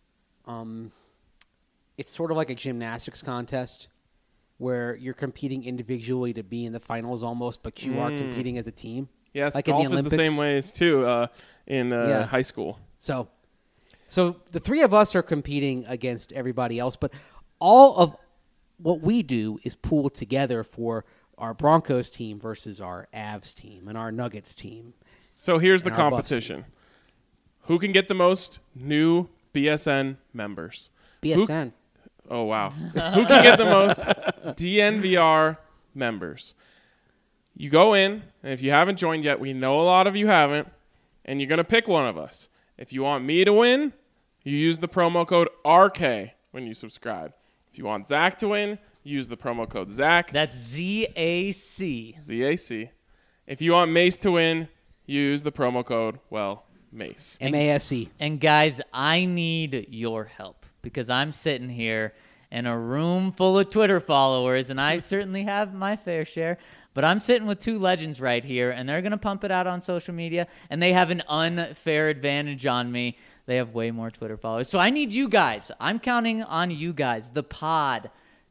Um, it's sort of like a gymnastics contest where you're competing individually to be in the finals almost, but you mm. are competing as a team.
Yes,
like
golf
in the
is
Olympics.
the same way too uh, in uh,
yeah.
high school.
So, so the three of us are competing against everybody else, but all of what we do is pool together for our Broncos team versus our Avs team and our Nuggets team.
So here's the
and our Bucs
competition. Who can get the most new B S N members?
B S N.
Who, oh, wow. Who can get the most D N V R members? You go in, and if you haven't joined yet, we know a lot of you haven't, and you're going to pick one of us. If you want me to win, you use the promo code R K when you subscribe. If you want Zach to win, use the promo code Zach.
That's Z A C.
Z A C. If you want Mace to win, use the promo code, well, Mace.
M A S E.
And guys, I need your help because I'm sitting here in a room full of Twitter followers, and I certainly have my fair share. But I'm sitting with two legends right here, and they're going to pump it out on social media, and they have an unfair advantage on me. They have way more Twitter followers. So I need you guys. I'm counting on you guys, the pod,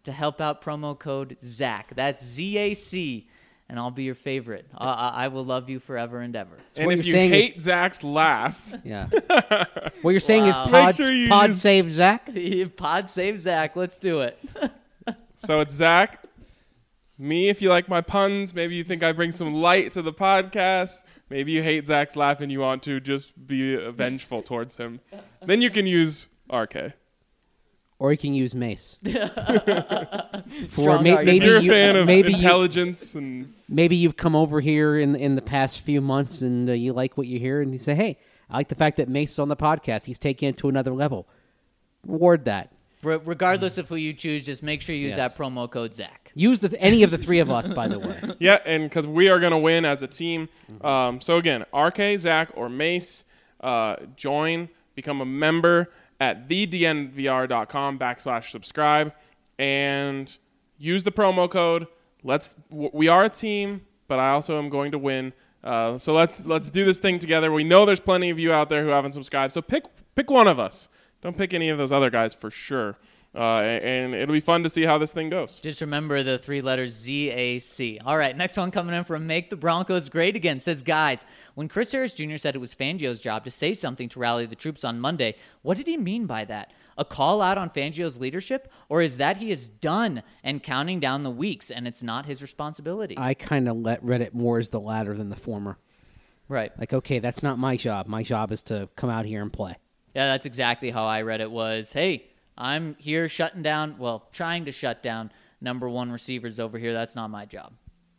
to help out promo code Zach. That's Z A C, and I'll be your favorite. I, I, I will love you forever and ever.
So
and
what
if
you're
you
saying is-
hate Zach's laugh,
Yeah. What you're saying
Wow.
is pod,
Make sure you
pod
use-
save Zach?
Pod save Zach. Let's do it.
so it's Zach. Me, if you like my puns, maybe you think I bring some light to the podcast. Maybe you hate Zach's laugh and you want to just be vengeful towards him. Then you can use R K.
Or you can use Mace.
Strong
may-
argument.
If
maybe
you're a
you-
fan of
maybe you-
intelligence and
Maybe you've come over here in in the past few months and uh, you like what you hear, and you say, "Hey, I like the fact that Mace is on the podcast. He's taking it to another level." Reward that.
Re- regardless of who you choose, just make sure you use
Yes.
that promo code Zach.
Use the, any of the three of us, by the way.
yeah, and because we are going to win as a team. Um, so again, R K, Zach, or Mace, uh, join, become a member at thednvr.com backslash subscribe, and use the promo code. Let's. W- we are a team, but I also am going to win. Uh, so let's let's do this thing together. We know there's plenty of you out there who haven't subscribed, so pick pick one of us. Don't pick any of those other guys for sure. Uh, and it'll be fun to see how this thing goes.
Just remember the three letters Z A C. All right, next one coming in from Make the Broncos Great Again. Says, guys, when Chris Harris Junior said it was Fangio's job to say something to rally the troops on Monday, what did he mean by that? A call out on Fangio's leadership? Or is that he is done and counting down the weeks and it's not his responsibility?
I kind of let read it more as the latter than the former.
Right.
Like, okay, that's not my job. My job is to come out here and play.
Yeah, that's exactly how I read it was, hey, I'm here shutting down, well, trying to shut down number one receivers over here. That's not my job.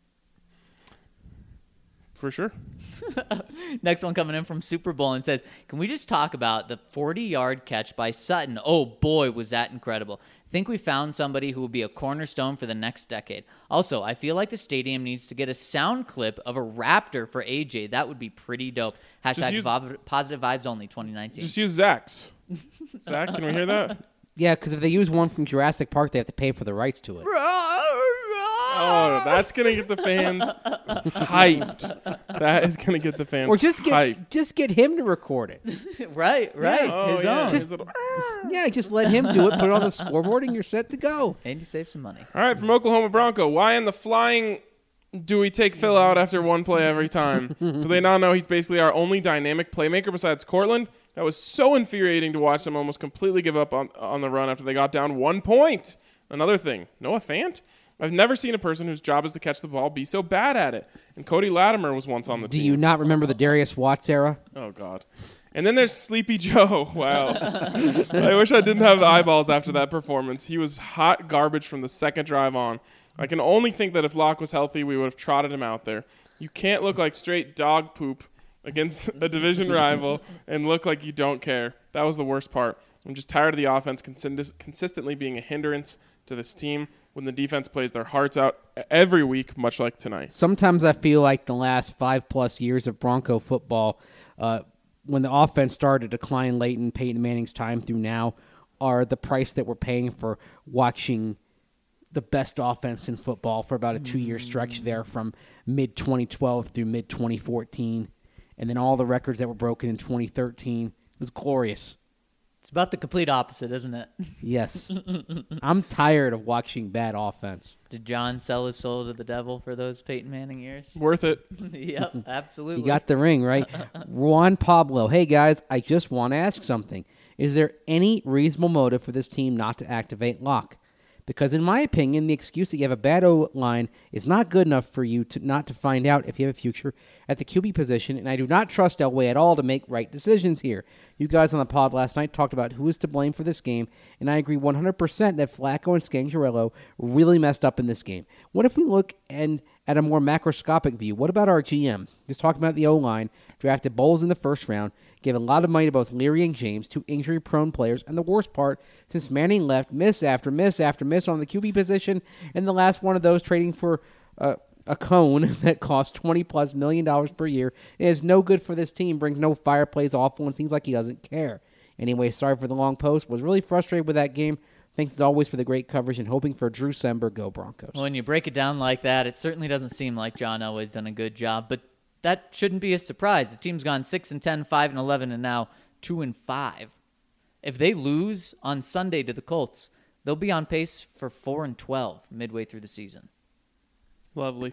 For sure.
Next one coming in from Super Bowl and says, can we just talk about the forty-yard catch by Sutton? Oh, boy, was that incredible. Think we found somebody who will be a cornerstone for the next decade. Also, I feel like the stadium needs to get a sound clip of a Raptor for A J. That would be pretty dope. Hashtag
use-
vo- positive vibes only twenty nineteen.
Just use Zach's. Zach, can we hear that?
Yeah, because if they use one from Jurassic Park, they have to pay for the rights to it.
Oh, that's gonna get the fans hyped. That is gonna get the fans
Or just get
hyped.
just get him to record it.
right, right.
Oh,
His
yeah,
own.
his little-
Yeah, just let him do it. Put it on the scoreboard, and you're set to go.
And you save some money.
All right, from Oklahoma Bronco. Why in the flying do we take Phil out after one play every time? Do they not know he's basically our only dynamic playmaker besides Cortland? That was so infuriating to watch them almost completely give up on, on the run after they got down one point. Another thing, Noah Fant? I've never seen a person whose job is to catch the ball be so bad at it. And Cody Latimer was once on the
Do
team.
you not remember the Darius Watts era?
Oh, God. And then there's Sleepy Joe. Wow. I wish I didn't have the eyeballs after that performance. He was hot garbage from the second drive on. I can only think that if Locke was healthy, we would have trotted him out there. You can't look like straight dog poop against a division rival and look like you don't care. That was the worst part. I'm just tired of the offense consist- consistently being a hindrance to this team when the defense plays their hearts out every week, much like tonight.
Sometimes I feel like the last five-plus years of Bronco football, uh, when the offense started to decline late in Peyton Manning's time through now, are the price that we're paying for watching the best offense in football for about a two-year stretch there from mid twenty twelve through mid twenty fourteen. And then all the records that were broken in twenty thirteen. It was glorious.
It's about the complete opposite, isn't it?
Yes. I'm tired of watching bad offense.
Did John sell his soul to the devil for those Peyton Manning years?
Worth it.
Yep, absolutely.
You got the ring, right? Juan Pablo. Hey, guys, I just want to ask something. Is there any reasonable motive for this team not to activate Locke? Because in my opinion, the excuse that you have a bad O-line is not good enough for you to not to find out if you have a future at the Q B position, and I do not trust Elway at all to make right decisions here. You guys on the pod last night talked about who is to blame for this game, and I agree one hundred percent that Flacco and Scangarello really messed up in this game. What if we look and at a more macroscopic view? What about our G M? Just talking about the O-line, drafted Bowles in the first round, gave a lot of money to both Leary and James, two injury-prone players, and the worst part, since Manning left, miss after miss after miss on the Q B position, and the last one of those trading for uh, a cone that costs twenty plus million dollars per year. It is no good for this team, brings no fire, plays awful, and seems like he doesn't care. Anyway, sorry for the long post. Was really frustrated with that game. Thanks as always for the great coverage and hoping for Drew Sember. Go Broncos.
When you break it down like that, it certainly doesn't seem like John Elway's done a good job, but that shouldn't be a surprise. The team's gone six and ten, five and eleven, and now two and five. If they lose on Sunday to the Colts, they'll be on pace for four and twelve midway through the season.
Lovely.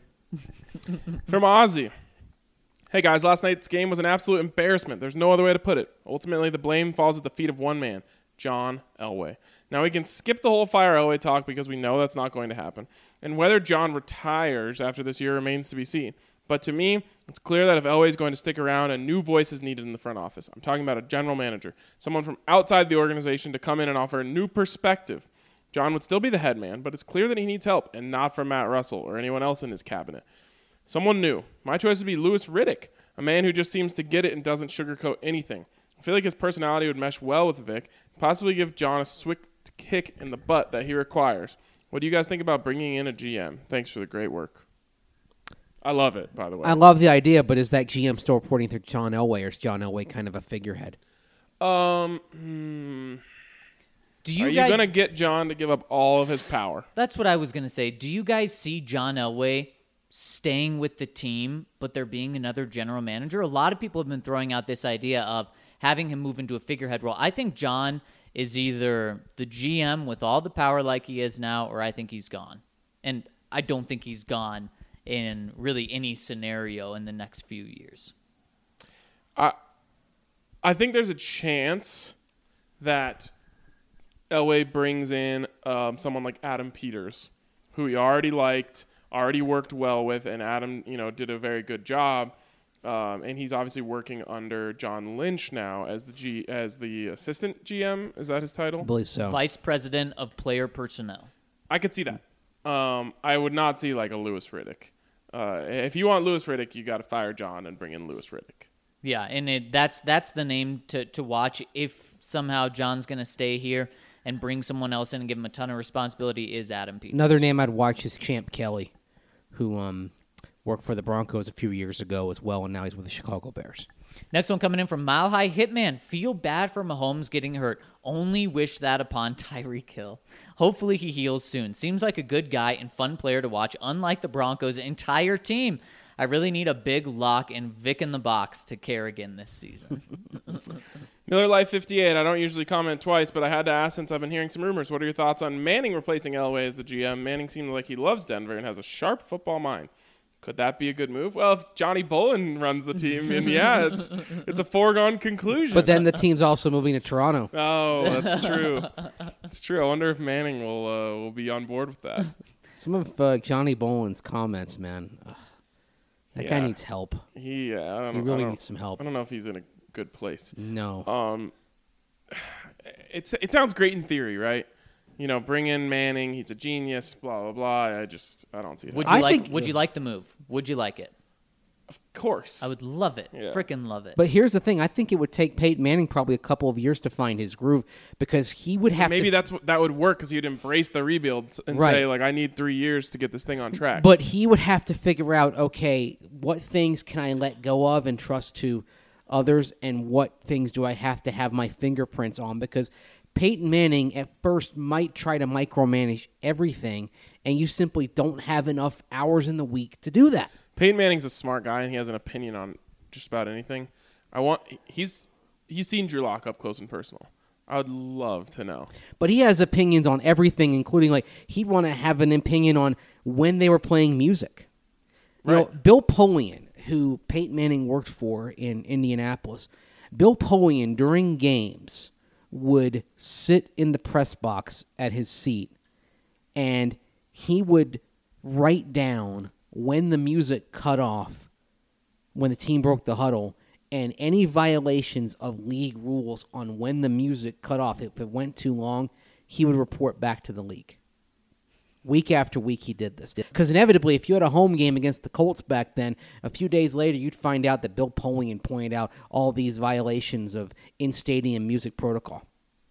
From Ozzy. Hey guys, last night's game was an absolute embarrassment. There's no other way to put it. Ultimately, the blame falls at the feet of one man, John Elway. Now we can skip the whole fire Elway talk because we know that's not going to happen. And whether John retires after this year remains to be seen. But to me, it's clear that if Elway is going to stick around, a new voice is needed in the front office. I'm talking about a general manager, someone from outside the organization to come in and offer a new perspective. John would still be the head man, but it's clear that he needs help, and not from Matt Russell or anyone else in his cabinet. Someone new. My choice would be Louis Riddick, a man who just seems to get it and doesn't sugarcoat anything. I feel like his personality would mesh well with Vic, possibly give John a swift kick in the butt that he requires. What do you guys think about bringing in a G M? Thanks for the great work. I love it, by the way.
I love the idea, but is that G M still reporting through John Elway, or is John Elway kind of a figurehead?
Um, hmm.
Do you
Are you
guys,
going to get John to give up all of his power?
That's what I was going to say. Do you guys see John Elway staying with the team, but there being another general manager? A lot of people have been throwing out this idea of having him move into a figurehead role. I think John is either the G M with all the power like he is now, or I think he's gone. And I don't think he's gone in really any scenario in the next few years.
I I think there's a chance that Elway brings in um, someone like Adam Peters, who he already liked, already worked well with, and Adam, you know, did a very good job. Um, and he's obviously working under John Lynch now as the G as the assistant G M. Is that his title?
I believe so.
Vice President of Player Personnel.
I could see that. Um, I would not see like a Louis Riddick. Uh, if you want Louis Riddick, you got to fire John and bring in Louis Riddick.
Yeah, and it, that's that's the name to, to watch if somehow John's going to stay here and bring someone else in and give him a ton of responsibility is Adam Peters.
Another name I'd watch is Champ Kelly, who um, worked for the Broncos a few years ago as well, and now he's with the Chicago Bears.
Next one coming in from Mile High Hitman. Feel bad for Mahomes getting hurt. Only wish that upon Tyreek Hill. Hopefully he heals soon. Seems like a good guy and fun player to watch, unlike the Broncos' entire team. I really need a big lock and Vic in the box to Kerrigan this season.
Miller Life fifty-eight. I don't usually comment twice, but I had to ask since I've been hearing some rumors. What are your thoughts on Manning replacing Elway as the G M? Manning seemed like he loves Denver and has a sharp football mind. Could that be a good move? Well, if Johnny Bolin runs the team, and yeah, it's it's a foregone conclusion.
But then the team's also moving to Toronto.
Oh, that's true. It's true. I wonder if Manning will uh, will be on board with that.
Some of uh, Johnny Bolin's comments, man. Ugh, that
Yeah.
guy needs help.
He, uh, I don't,
He
I
really
don't-
needs some help.
I don't know if he's in a good place.
No.
Um, it's it sounds great in theory, right? You know, bring in Manning. He's a genius. Blah blah blah. I just I don't see it.
Would
happening.
you
I
like
think-
would you like the move? Would you like it?
Of course.
I would love it.
Yeah.
Frickin' love it.
But here's the thing. I think it would take Peyton Manning probably a couple of years to find his groove because he would have
Maybe
to...
that's what, that would work because he'd embrace the rebuild and
Right.
say like, I need three years to get this thing on track.
But he would have to figure out, okay, what things can I let go of and trust to others, and what things do I have to have my fingerprints on? Because Peyton Manning at first might try to micromanage everything, and you simply don't have enough hours in the week to do that.
Peyton Manning's a smart guy and he has an opinion on just about anything. I want he's he's seen Drew Lock up close and personal. I would love to know.
But he has opinions on everything, including, like, he'd want to have an opinion on when they were playing music. You know,
Right.
Bill Polian, who Peyton Manning worked for in Indianapolis, Bill Polian, during games, would sit in the press box at his seat, and he would write down when the music cut off, when the team broke the huddle, and any violations of league rules on when the music cut off. If it went too long, he would report back to the league. Week after week, he did this. Because inevitably, if you had a home game against the Colts back then, a few days later, you'd find out that Bill Polian pointed out all these violations of in-stadium music protocol.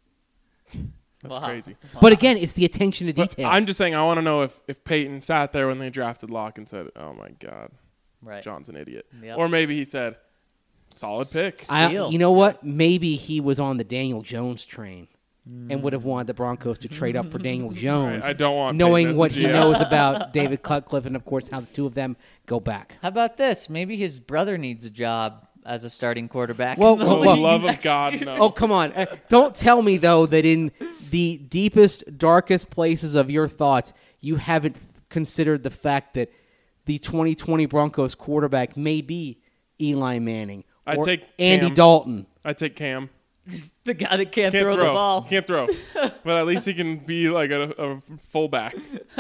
That's
Wow.
crazy.
But again, it's the attention to
But
detail.
I'm just saying I want to know if, if Peyton sat there when they drafted Locke and said, oh, my God,
Right.
John's an idiot.
Yep.
Or maybe he said, solid pick.
I,
Steal.
you know what? Maybe he was on the Daniel Jones train and would have wanted the Broncos to trade up for Daniel Jones.
I don't want Peyton
knowing
as
what
the
he
G M.
knows about David Cutcliffe and, of course, how the two of them go back.
How about this? Maybe his brother needs a job as a starting quarterback.
Well,
in the
well,
For the
well,
league
love of
next
God,
year.
no.
Oh, come on. Uh, don't tell me, though, that in the deepest, darkest places of your thoughts, you haven't considered the fact that the twenty twenty Broncos quarterback may be Eli Manning
I'd
or
take
Andy
Cam.
Dalton.
I take Cam.
The guy that can't,
Can't
throw,
throw.
the ball.
Can't throw. But at least he can be like a, a fullback.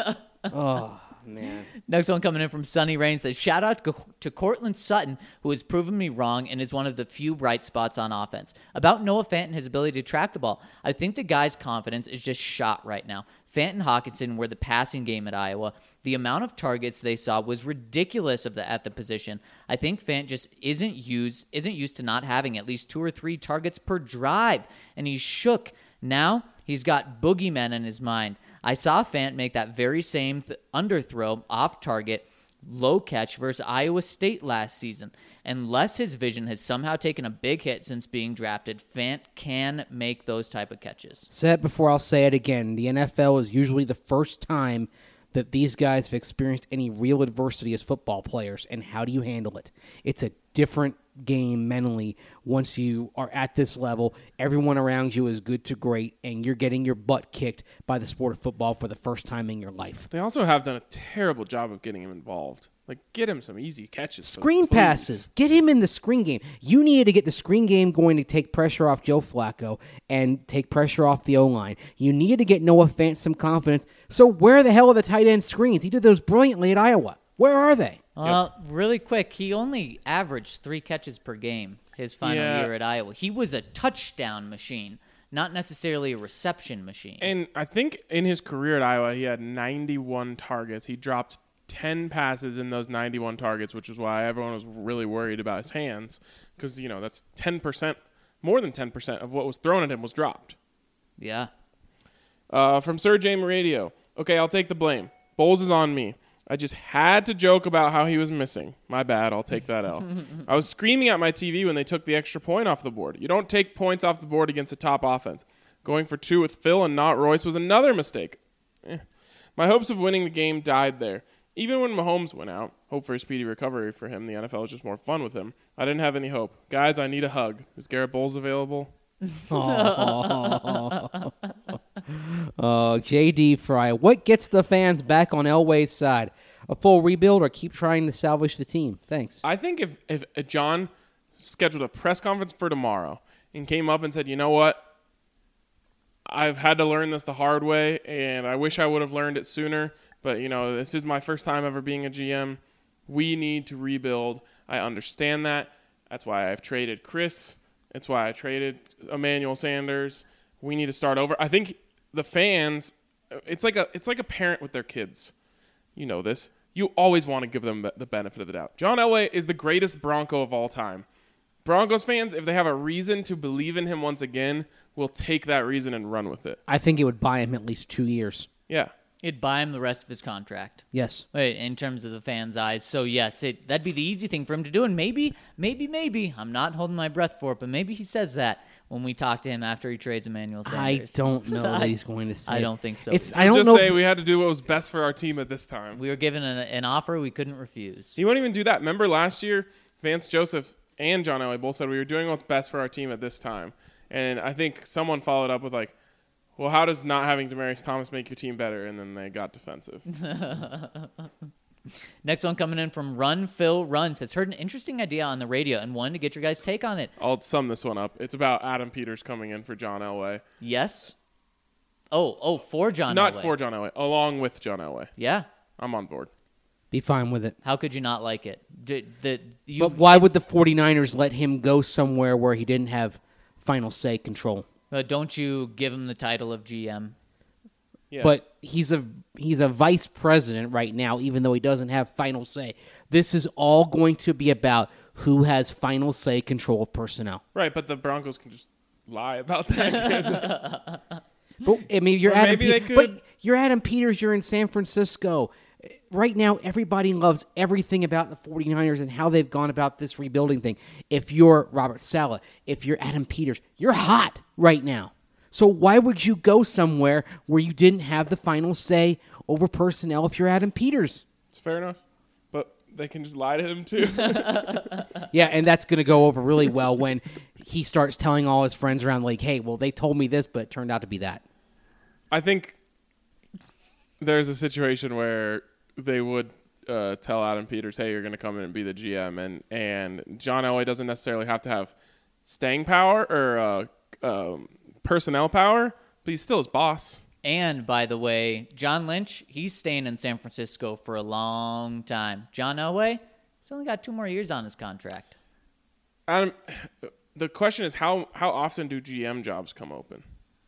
Oh, man.
Next one coming in from Sunny Rain says, shout out to- to Cortland Sutton, who has proven me wrong and is one of the few bright spots on offense. About Noah Fant and his ability to track the ball, I think the guy's confidence is just shot right now. Fant and Hawkinson were the passing game at Iowa. The amount of targets they saw was ridiculous of the, at the position. I think Fant just isn't used, isn't used to not having at least two or three targets per drive, and he's shook. Now he's got boogeymen in his mind. I saw Fant make that very same th- underthrow off target low catch versus Iowa State last season. Unless his vision has somehow taken a big hit since being drafted, Fant can make those type of catches.
Said it before, I'll say it again. The N F L is usually the first time that these guys have experienced any real adversity as football players, and how do you handle it? It's a different game mentally once you are at this level. Everyone around you is good to great, and you're getting your butt kicked by the sport of football for the first time in your life.
They also have done a terrible job of getting him involved. Like, get him some easy catches.
Screen
please.
passes. Get him in the screen game. You needed to get the screen game going to take pressure off Joe Flacco and take pressure off the O-line. You needed to get Noah Fant some confidence. So where the hell are the tight end screens? He did those brilliantly at Iowa. Where are they?
Well, really quick, he only averaged three catches per game his final
Yeah.
year at Iowa. He was a touchdown machine, not necessarily a reception machine.
And I think in his career at Iowa, he had ninety-one targets. He dropped ten passes in those ninety-one targets, which is why everyone was really worried about his hands. Because, you know, that's ten percent, more than ten percent of what was thrown at him was dropped.
yeah.
Uh, from Sir James Radio. Okay, I'll take the blame. Bowles is on me. I just had to joke about how he was missing. My bad, I'll take that L. I was screaming at my T V when they took the extra point off the board. You don't take points off the board against a top offense. Going for two with Phil and not Royce was another mistake. Eh. My hopes of winning the game died there. Even when Mahomes went out, hope for a speedy recovery for him, the N F L was just more fun with him. I didn't have any hope. Guys, I need a hug. Is Garrett Bowles available?
Uh, J D Fry, what gets the fans back on Elway's side? A full rebuild or keep trying to salvage the team? Thanks.
I think if, if uh, John scheduled a press conference for tomorrow and came up and said, you know what, I've had to learn this the hard way, and I wish I would have learned it sooner, but, you know, this is my first time ever being a G M. We need to rebuild. I understand that. That's why I've traded Chris. That's why I traded Emmanuel Sanders. We need to start over. I think the fans, it's like a it's like a parent with their kids. You know this. You always want to give them the benefit of the doubt. John Elway is the greatest Bronco of all time. Broncos fans, if they have a reason to believe in him once again, will take that reason and run with it.
I think it would buy him at least two years.
Yeah.
It'd buy him the rest of his contract.
Yes.
Wait, in terms of the fans' eyes. So, yes, it, that'd be the easy thing for him to do. And maybe, maybe, maybe, I'm not holding my breath for it, but maybe he says that when we talk to him after he trades Emmanuel
I
Sanders.
don't know
I-
that he's going to say.
I don't think so.
It's.
either.
I don't
Just
know.
say we had to do what was best for our team at this time.
We were given an, an offer we couldn't refuse.
He won't even do that. Remember last year, Vance Joseph and John Elway both said we were doing what's best for our team at this time. And I think someone followed up with like, well, how does not having Demaryius Thomas make your team better? And then they got defensive.
Next one coming in from Run Phil Runs has heard an interesting idea on the radio and wanted to get your guys' take on it.
I'll sum this one up. It's about Adam Peters coming in for John Elway.
Yes? Oh, oh, for John
Not
Elway.
for John Elway, along with John Elway.
Yeah.
I'm on board.
Be fine with it.
How could you not like it? D- the, you,
But why would the 49ers let him go somewhere where he didn't have final say control?
uh, don't you give him the title of G M?
Yeah.
But he's a he's a vice president right now, even though he doesn't have final say. This is all going to be about who has final say control of personnel.
Right, but the Broncos can just lie about that.
But I mean, you're
Or
Adam.
maybe
Pe-
they could-
But you're Adam Peters. You're in San Francisco. Right now, everybody loves everything about the 49ers and how they've gone about this rebuilding thing. If you're Robert Saleh, if you're Adam Peters, you're hot right now. So why would you go somewhere where you didn't have the final say over personnel if you're Adam Peters?
It's fair enough. But they can just lie to him too.
Yeah, and that's going to go over really well when he starts telling all his friends around, like, hey, well, they told me this, but it turned out to be that.
I think there's a situation where they would uh, tell Adam Peters, hey, you're going to come in and be the G M. And, and John Elway doesn't necessarily have to have staying power or uh, um, personnel power, but he's still his boss.
And, by the way, John Lynch, he's staying in San Francisco for a long time. John Elway, he's only got two more years on his contract.
Adam, the question is, how, how often do G M jobs come open?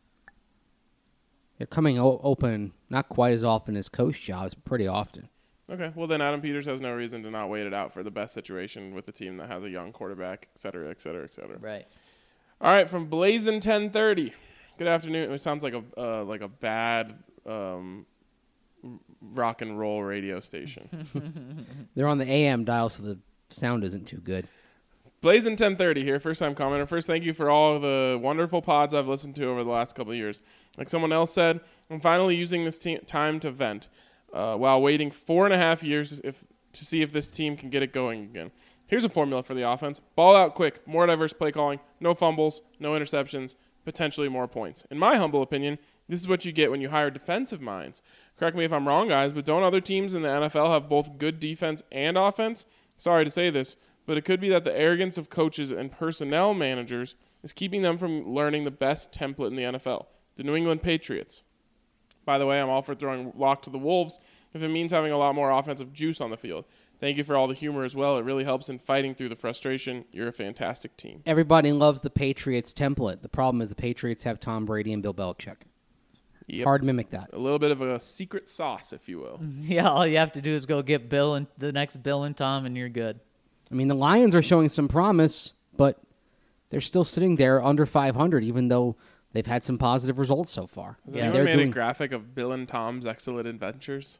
They're coming o- open not quite as often as coach jobs, but pretty often.
Okay, well then Adam Peters has no reason to not wait it out for the best situation with a team that has a young quarterback, et cetera, et cetera, et cetera.
Right.
All right, from Blazin' ten thirty. Good afternoon. It sounds like a uh, like a bad um, rock and roll radio station.
They're on the A M dial, so the sound isn't too good.
Blazin' ten thirty here, first time commenter. First, thank you for all the wonderful pods I've listened to over the last couple of years. Like someone else said, I'm finally using this te- time to vent uh, while waiting four and a half years if to see if this team can get it going again. Here's a formula for the offense. Ball out quick, more diverse play calling, no fumbles, no interceptions, potentially more points. In my humble opinion, this is what you get when you hire defensive minds. Correct me if I'm wrong, guys, but don't other teams in the N F L have both good defense and offense? Sorry to say this, but it could be that the arrogance of coaches and personnel managers is keeping them from learning the best template in the N F L, the New England Patriots. By the way, I'm all for throwing Lock to the Wolves if it means having a lot more offensive juice on the field. Thank you for all the humor as well. It really helps in fighting through the frustration. You're a fantastic team.
Everybody loves the Patriots template. The problem is the Patriots have Tom Brady and Bill Belichick.
Yep.
Hard to mimic that.
A little bit of a secret sauce, if you will.
Yeah, all you have to do is go get Bill and the next Bill and Tom, and you're good.
I mean, the Lions are showing some promise, but they're still sitting there under five hundred, even though they've had some positive results so far.
Has
Yeah,
anyone
they're
made
doing
a graphic of Bill and Tom's excellent adventures?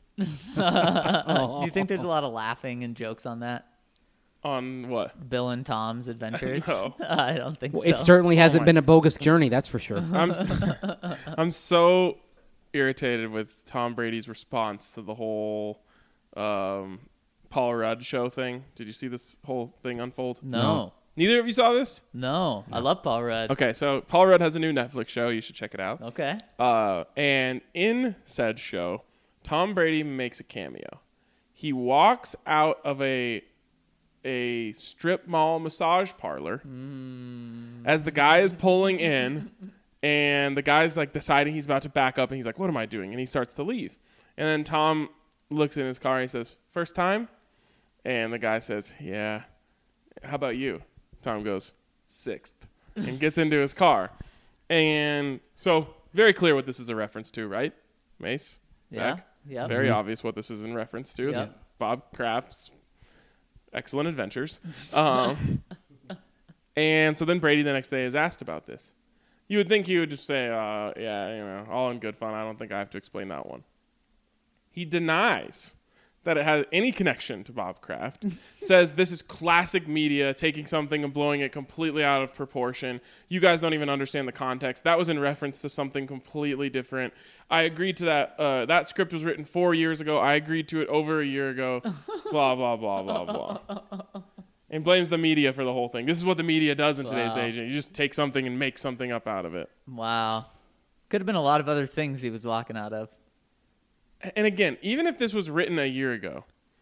Do you think there's a lot of laughing and jokes on that?
On what?
Bill and Tom's adventures?
No.
I don't think
Well,
so.
it certainly hasn't
my-
been a bogus journey, that's for sure.
I'm I'm so irritated with Tom Brady's response to the whole um, Paul Rudd show thing. Did you see this whole thing unfold?
no.
No.
Neither of you saw this?
No. I love Paul Rudd.
Okay, so Paul Rudd has a new Netflix show. You should check it out.
Okay.
Uh, and in said show, Tom Brady makes a cameo. He walks out of a a strip mall massage parlor
Mm.
as the guy is pulling in, and the guy's like deciding he's about to back up, and he's like, "What am I doing?" And he starts to leave. And then Tom looks in his car and he says, "First time?" And the guy says, "Yeah. How about you?" Tom goes, "Sixth," and gets into his car. And so very clear what this is a reference to, right? Mace? Zach?
Yeah. Yep.
Very obvious what this is in reference to. Is
Yep.
Bob Kraft's excellent adventures. Um, and so then Brady the next day is asked about this. You would think he would just say, uh, yeah, you know, all in good fun. I don't think I have to explain that one. He denies that it has any connection to Bob Kraft, says this is classic media, taking something and blowing it completely out of proportion. You guys don't even understand the context. That was in reference to something completely different. I agreed to that. Uh, that script was written four years ago. I agreed to it over a year ago. Blah, blah, blah, blah, blah. And blames the media for the whole thing. This is what the media does in today's
Wow.
day. You just take something and make something up out of it.
Wow. Could have been a lot of other things he was walking out of.
And again, even if this was written a year ago,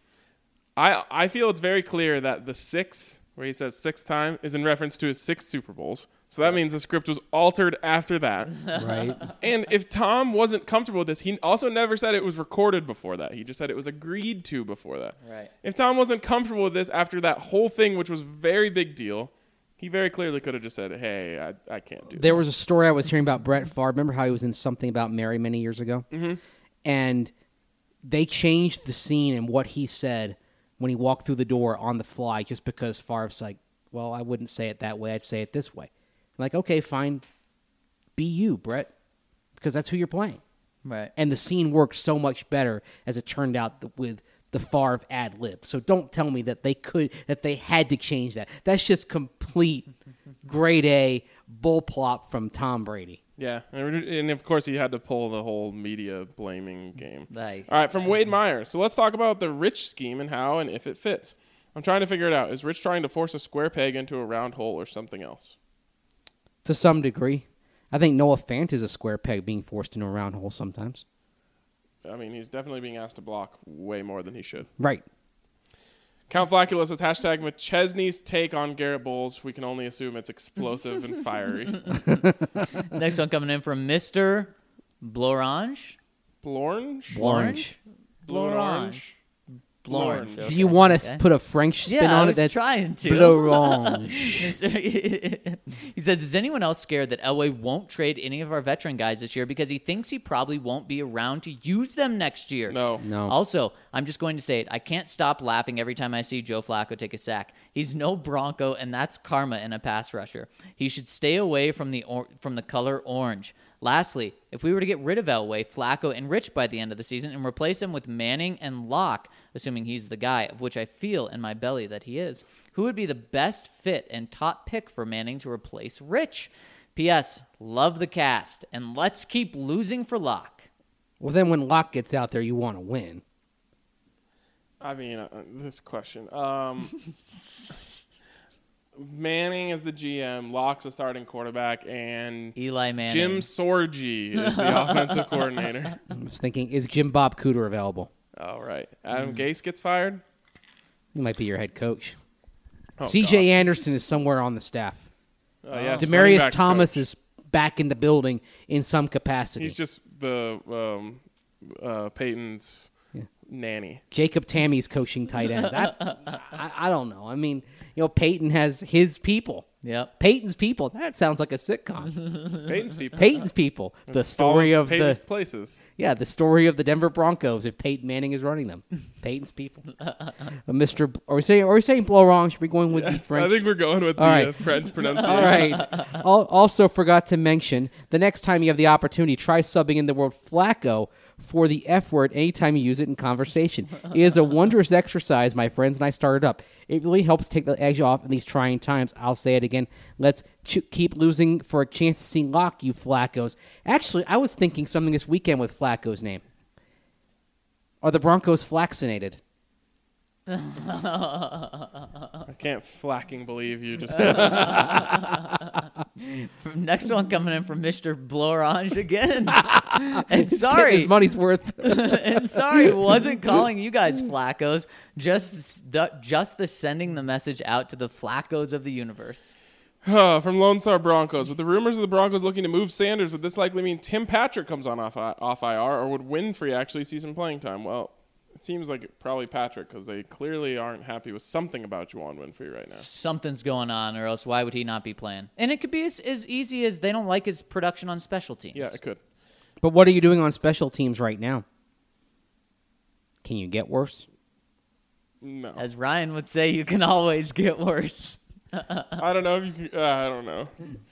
I I feel it's very clear that the six, where he says sixth time, is in reference to his six Super Bowls. So that means the script was altered after that.
Right?
And if Tom wasn't comfortable with this, he also never said it was recorded before that. He just said it was agreed to before that.
Right.
If Tom wasn't comfortable with this after that whole thing, which was a very big deal, he very clearly could have just said, hey, I, I can't do that.
There was a story I was hearing about Brett Favre. Remember how he was in Something About Mary many years ago? Mm-hmm. And they changed the scene and what he said when he walked through the door on the fly just because Favre's like, well, I wouldn't say it that way. I'd say it this way. I'm like, okay, fine. Be you, Brett, because that's who you're playing.
Right.
And the scene worked so much better as it turned out th- with the Favre ad lib. So don't tell me that they could, that they had to change that. That's just complete grade A bull plop from Tom Brady.
Yeah, and and of course he had to pull the whole media blaming game.
Like,
All right, from Wade Meyer. So let's talk about the Rich scheme and how and if it fits. I'm trying to figure it out. Is Rich trying to force a square peg into a round hole or something else?
To some degree. I think Noah Fant is a square peg being forced into a round hole sometimes.
I mean, he's definitely being asked to block way more than he should.
Right.
Count Flacula says, hashtag McChesney's take on Garrett Bowles. We can only assume it's explosive and fiery.
Next one coming in from Mister Blorange.
Blornge?
Orange.
Blue and
Blorange.
orange?
Blorange.
Blornge.
Okay.
Do you want to
okay.
put a French spin
Yeah, I
on
was
it? That's
trying to.
Blorange.
Mister He says, is anyone else scared that Elway won't trade any of our veteran guys this year because he thinks he probably won't be around to use them next year?
No.
No.
Also, I'm just going to say it. I can't stop laughing every time I see Joe Flacco take a sack. He's no Bronco, and that's karma in a pass rusher. He should stay away from the or- from the color orange. Lastly, if we were to get rid of Elway, Flacco, and Rich by the end of the season and replace him with Manning and Locke, assuming he's the guy, of which I feel in my belly that he is, who would be the best fit and top pick for Manning to replace Rich? P S. Love the cast, and let's keep losing for Locke.
Well, then when Locke gets out there, you want to win.
I mean, uh, this question. Um, Manning is the G M, Locke's the starting quarterback, and
Eli Manning.
Jim Sorgi is the offensive coordinator.
I was thinking, is Jim Bob Cooter available?
All right. Adam Gase gets fired?
He might be your head coach.
Oh,
C J
God.
Anderson is somewhere on the staff.
Oh, yes, running
Demarius
backs
Thomas
coach.
is back in the building in some capacity.
He's just the um, uh, Peyton's
Yeah.
nanny.
Jacob Tammy's coaching tight ends. I, I, I don't know. I mean, you know, Peyton has his people.
Yep.
Peyton's people. That sounds like a sitcom.
Peyton's people.
Peyton's people. The
It
story
follows
of
Peyton's
the
places.
yeah, the story of the Denver Broncos if Peyton Manning is running them. Peyton's people. Uh, Mister B- Are we saying are we saying Blorong? Should we be going with the
Yes,
French?
I think we're going with
All
the
right.
uh, French pronunciation.
All right. Al- Also forgot to mention, the next time you have the opportunity, try subbing in the word Flacco for the F word anytime you use it in conversation. It is a wondrous exercise, my friends, and I started up. It really helps take the edge off in these trying times. I'll say it again. Let's ch- keep losing for a chance to see Locke, you Flaccos. Actually, I was thinking something this weekend with Flacco's name. Are the Broncos flaccinated?
I can't flacking believe you just said that.
Next one coming in from Mister Blorange again. and
Getting his
sorry,
money's worth.
and sorry, wasn't calling you guys Flaccos. Just the just the sending the message out to the Flaccos of the universe.
Uh, from Lone Star Broncos. With the rumors of the Broncos looking to move Sanders, would this likely mean Tim Patrick comes on off, off I R, or would Winfrey actually see some playing time? Well, it seems like probably Patrick, because they clearly aren't happy with something about Juwan Winfrey right now.
Something's going on, or else why would he not be playing? And it could be as, as easy as they don't like his production on special teams.
Yeah, it could.
But what are you doing on special teams right now? Can you get worse?
No.
As Ryan would say, you can always get worse.
I don't know if you can, uh, I don't know.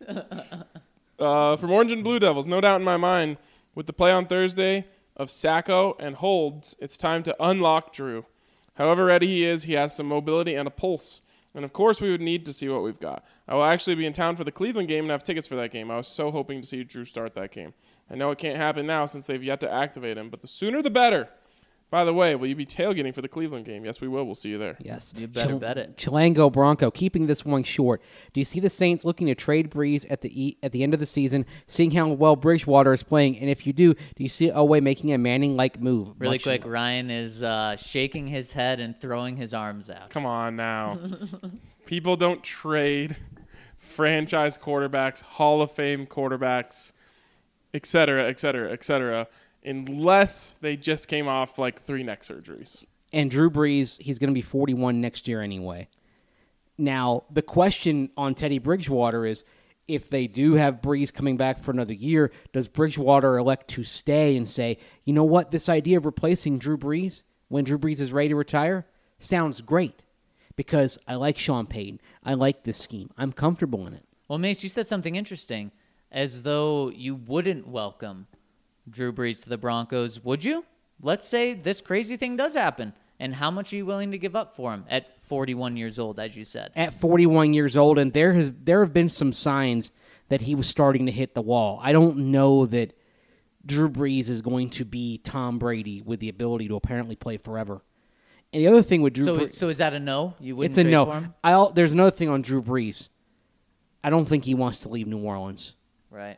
uh, from Orange and Blue Devils, no doubt in my mind, with the play on Thursday of Sacco and holds, it's time to unlock Drew. However ready he is, he has some mobility and a pulse. And of course, we would need to see what we've got. I will actually be in town for the Cleveland game and have tickets for that game. I was so hoping to see Drew start that game. I know it can't happen now since they've yet to activate him, but the sooner the better. By the way, will you be tailgating for the Cleveland game? Yes, we will. We'll see you there.
Yes.
You better bet it.
Chilango Bronco, keeping this one short. Do you see the Saints looking to trade Breeze at the e- at the end of the season, seeing how well Bridgewater is playing? And if you do, do you see Elway making a Manning-like move?
Really
Much-
quick, Ryan is uh, shaking his head and throwing his arms out.
Come on now. People don't trade franchise quarterbacks, Hall of Fame quarterbacks, et cetera, et cetera, et cetera, unless they just came off like three neck surgeries.
And Drew Brees, he's going to be forty-one next year anyway. Now, the question on Teddy Bridgewater is, if they do have Brees coming back for another year, does Bridgewater elect to stay and say, you know what, this idea of replacing Drew Brees when Drew Brees is ready to retire sounds great because I like Sean Payton. I like this scheme. I'm comfortable in it.
Well, Mace, you said something interesting, as though you wouldn't welcome Drew Brees to the Broncos, would you? Let's say this crazy thing does happen, and how much are you willing to give up for him? At forty-one years old, as you said.
At forty-one years old, and there has there have been some signs that he was starting to hit the wall. I don't know that Drew Brees is going to be Tom Brady with the ability to apparently play forever. And the other thing with Drew
So,
Brees,
is- so is that a no? You wouldn't
it's a
trade
no.
for him?
I'll, there's another thing on Drew Brees. I don't think he wants to leave New Orleans.
Right.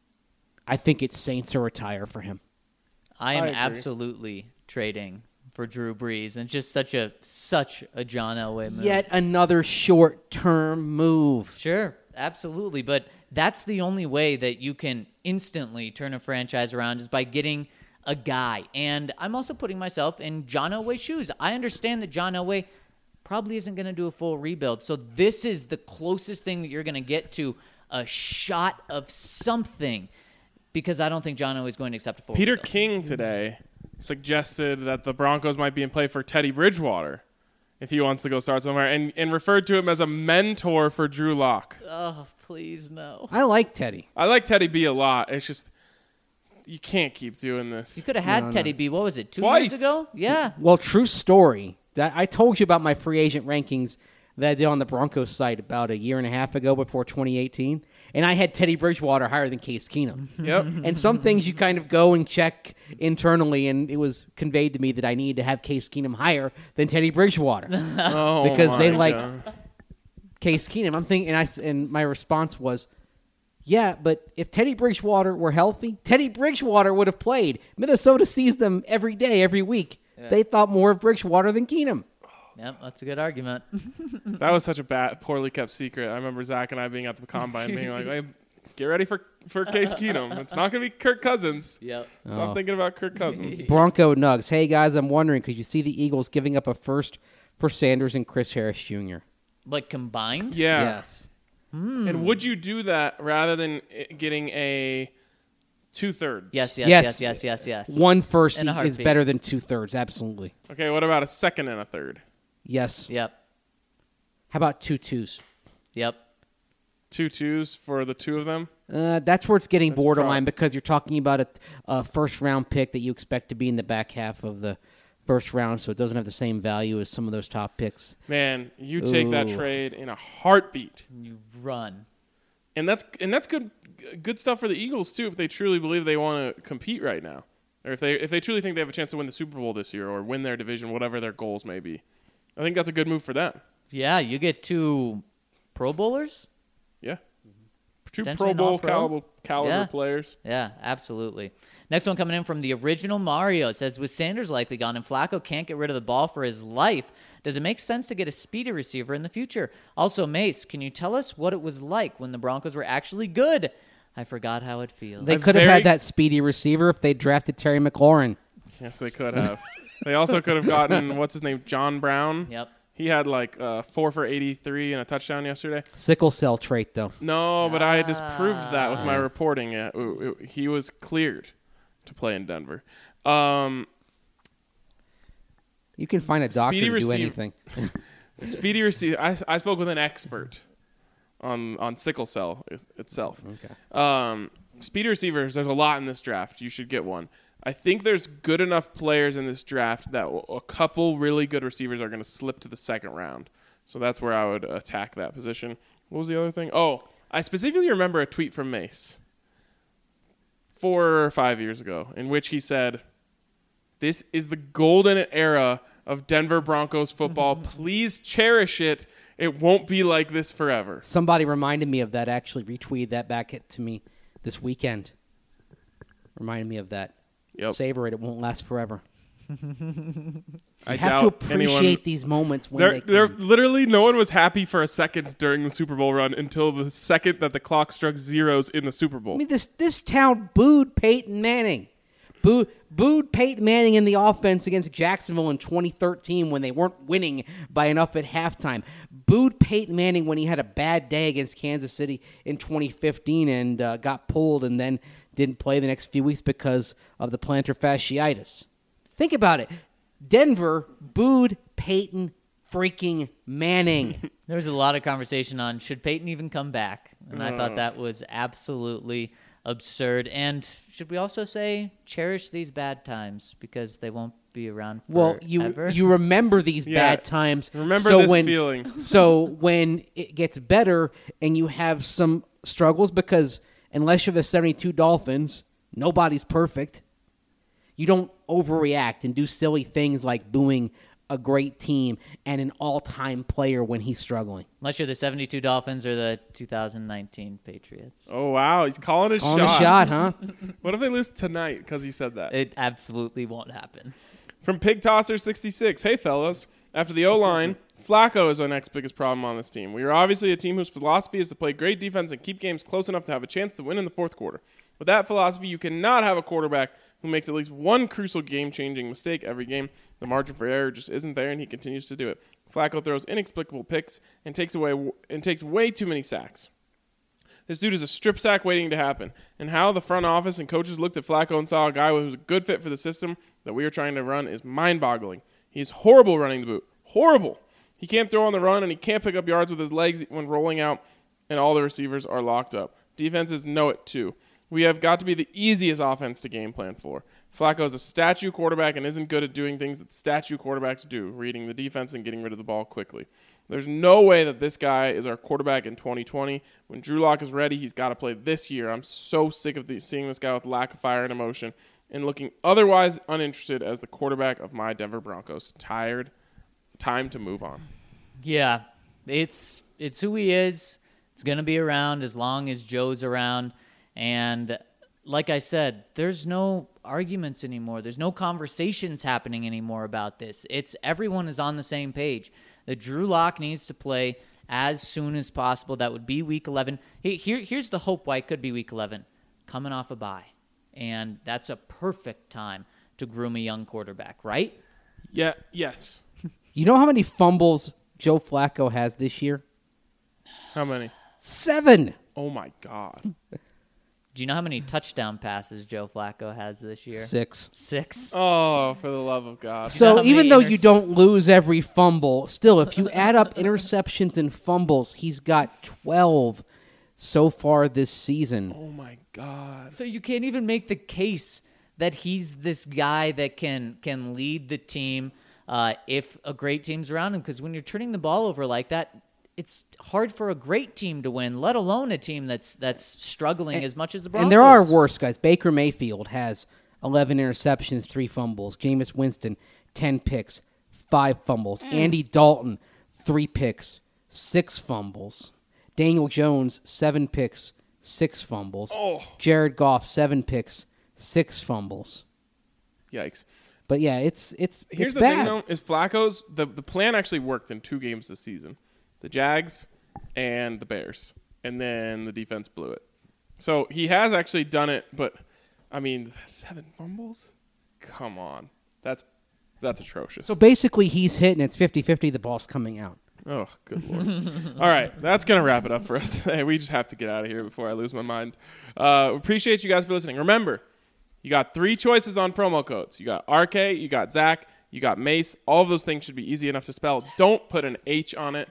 I think it's Saints or retire for him.
I am
I agree.
absolutely trading for Drew Brees, and just such a such a John Elway move.
Yet another short-term move.
Sure, absolutely, but that's the only way that you can instantly turn a franchise around is by getting a guy. And I'm also putting myself in John Elway's shoes. I understand that John Elway probably isn't going to do a full rebuild, so this is the closest thing that you're going to get to a shot of something, because I don't think John Elway is going to accept a full
Peter
rebuild.
King today suggested that the Broncos might be in play for Teddy Bridgewater if he wants to go start somewhere, and, and referred to him as a mentor for Drew Lock.
Oh, please no.
I like Teddy.
I like Teddy B a lot. It's just you can't keep doing this.
You could have had
No, no.
Teddy B. What was it? Two
Twice.
years ago? Yeah.
Well, true story. That I told you about my free agent rankings that I did on the Broncos site about a year and a half ago before twenty eighteen, and I had Teddy Bridgewater higher than Case Keenum.
Yep.
And some things you kind of go and check internally, and it was conveyed to me that I needed to have Case Keenum higher than Teddy Bridgewater.
Oh,
Because they
my
like-
God.
Case Keenum. I'm thinking, and I s- and my response was, yeah, but if Teddy Bridgewater were healthy, Teddy Bridgewater would have played. Minnesota sees them every day, every week. They thought more of Bridgewater than Keenum.
Yep, that's a good argument.
That was such a bad, poorly kept secret. I remember Zach and I being at the combine being like, hey, get ready for, for Case Keenum. It's not going to be Kirk Cousins.
Yep.
So I'm thinking about Kirk Cousins.
Bronco Nugs. Hey, guys, I'm wondering, could you see the Eagles giving up a first for Sanders and Chris Harris Junior?
Like combined?
Yeah.
Yes.
And would you do that rather than i- getting a two-thirds?
Yes, yes,
Yes.
yes, yes, yes, yes.
One first
In a
is
heartbeat.
better than two-thirds, absolutely.
Okay, what about a second and a third?
Yes.
Yep.
How about two twos?
Yep.
Two twos for the two of them?
Uh, that's where it's getting
That's
borderline
prob-
because you're talking about a, a first-round pick that you expect to be in the back half of the first round, so it doesn't have the same value as some of those top picks.
Man, you take that
Ooh.
trade in a heartbeat.
You run.
And that's and that's good good stuff for the Eagles too if they truly believe they want to compete right now. Or if they if they truly think they have a chance to win the Super Bowl this year or win their division, whatever their goals may be. I think that's a good move for them.
Yeah, you get two Pro Bowlers?
Yeah. Two
Potentially
Pro
an
Bowl
all-pro?
caliber, caliber
Yeah.
players.
Yeah, absolutely. Next one coming in from the original Mario. It says, with Sanders likely gone and Flacco can't get rid of the ball for his life, does it make sense to get a speedy receiver in the future? Also, Mace, can you tell us what it was like when the Broncos were actually good? I forgot how it feels.
They
A
could have
very-
had that speedy receiver if they drafted Terry McLaurin.
Yes, they could have. They also could have gotten what's his name, John Brown.
Yep.
He had like uh, four for eighty-three and a touchdown yesterday.
Sickle cell trait, though.
No, but I disproved that with my
Ah.
reporting. It, it- it- he was cleared to play in Denver. Um,
You can find a doctor
Speedy
to do
receive-
anything.
speedy receiver. I, I spoke with an expert on on sickle cell is- itself.
Okay.
Um, speedy receivers. There's a lot in this draft. You should get one. I think there's good enough players in this draft that w- a couple really good receivers are going to slip to the second round. So that's where I would attack that position. What was the other thing? Oh, I specifically remember a tweet from Mace four or five years ago in which he said, "This is the golden era of Denver Broncos football. Please cherish it. It won't be like this forever."
Somebody reminded me of that, actually retweeted that back at, to me this weekend. Reminded me of that.
Yep.
Savor it. It won't last forever.
I
You have
doubt
to appreciate
anyone-
these moments when
There,
they
there,
come.
literally, no one was happy for a second during the Super Bowl run until the second that the clock struck zeros in the Super Bowl.
I mean, this this town booed Peyton Manning. Boo, booed Peyton Manning in the offense against Jacksonville in twenty thirteen when they weren't winning by enough at halftime. Booed Peyton Manning when he had a bad day against Kansas City in twenty fifteen and uh, got pulled and then didn't play the next few weeks because of the plantar fasciitis. Think about it. Denver booed Peyton freaking Manning.
There was a lot of conversation on should Peyton even come back, and I thought that was absolutely absurd. And should we also say cherish these bad times because they won't be around
Well, you
forever.
you remember these
Yeah.
bad times.
Remember
so
this
when,
feeling.
So when it gets better and you have some struggles, because unless you're the seventy-two Dolphins, nobody's perfect. You don't overreact and do silly things like booing a great team and an all-time player when he's struggling.
Unless you're the seventy-two Dolphins or the two thousand nineteen Patriots.
Oh, wow. He's calling a
On
shot.
a shot, huh?
What if they lose tonight because you said that?
It absolutely won't happen.
From Pig Tosser sixty-six, hey fellas, after the O-line, Flacco is our next biggest problem on this team. We are obviously a team whose philosophy is to play great defense and keep games close enough to have a chance to win in the fourth quarter. With that philosophy, you cannot have a quarterback who makes at least one crucial game-changing mistake every game. The margin for error just isn't there, and he continues to do it. Flacco throws inexplicable picks and takes away and takes way too many sacks. This dude is a strip sack waiting to happen. And how the front office and coaches looked at Flacco and saw a guy who's a good fit for the system that we are trying to run is mind-boggling. He's horrible running the boot. Horrible. He can't throw on the run, and he can't pick up yards with his legs when rolling out, and all the receivers are locked up. Defenses know it, too. We have got to be the easiest offense to game plan for. Flacco is a statue quarterback and isn't good at doing things that statue quarterbacks do, reading the defense and getting rid of the ball quickly. There's no way that this guy is our quarterback in twenty twenty. When Drew Lock is ready, he's got to play this year. I'm so sick of the, seeing this guy with lack of fire and emotion and looking otherwise uninterested as the quarterback of my Denver Broncos. Tired. Time to move on.
Yeah, it's it's who he is. It's going to be around as long as Joe's around. And like I said, there's no arguments anymore. There's no conversations happening anymore about this. It's everyone is on the same page. That Drew Lock needs to play as soon as possible. That would be week eleven. Here, here's the hope why it could be week eleven. Coming off a bye. And that's a perfect time to groom a young quarterback, right?
Yeah, yes.
You know how many fumbles Joe Flacco has this year?
How many?
Seven.
Oh, my God.
Do you know how many touchdown passes Joe Flacco has this year?
Six.
Six.
Oh, for the love of God.
know
So
how
even
many
though
inters-
you don't lose every fumble, still, if you add up interceptions and fumbles, he's got twelve so far this season.
Oh, my God.
So you can't even make the case that he's this guy that can can lead the team uh, if a great team's around him. Because when you're turning the ball over like that, it's hard for a great team to win, let alone a team that's that's struggling
And-
as much as the Broncos.
And there are worse guys. Baker Mayfield has eleven interceptions, three fumbles. Jameis Winston, ten picks, five fumbles. Andy Dalton, three picks, six fumbles. Daniel Jones, seven picks, six fumbles.
Oh.
Jared Goff, seven picks, six fumbles.
Yikes.
But yeah, it's it's
Here's
it's
the
bad.
thing, though, is Flacco's, the, the plan actually worked in two games this season. The Jags and the Bears. And then the defense blew it. So he has actually done it, but, I mean, seven fumbles? Come on. That's that's atrocious.
So basically, he's hitting. It's fifty-fifty. The ball's coming out.
Oh, good Lord. All right, that's going to wrap it up for us. Hey, we just have to get out of here before I lose my mind. Uh, appreciate you guys for listening. Remember, you got three choices on promo codes. You got R K, you got Zach, you got Mace. All of those things should be easy enough to spell. Don't put an H on it.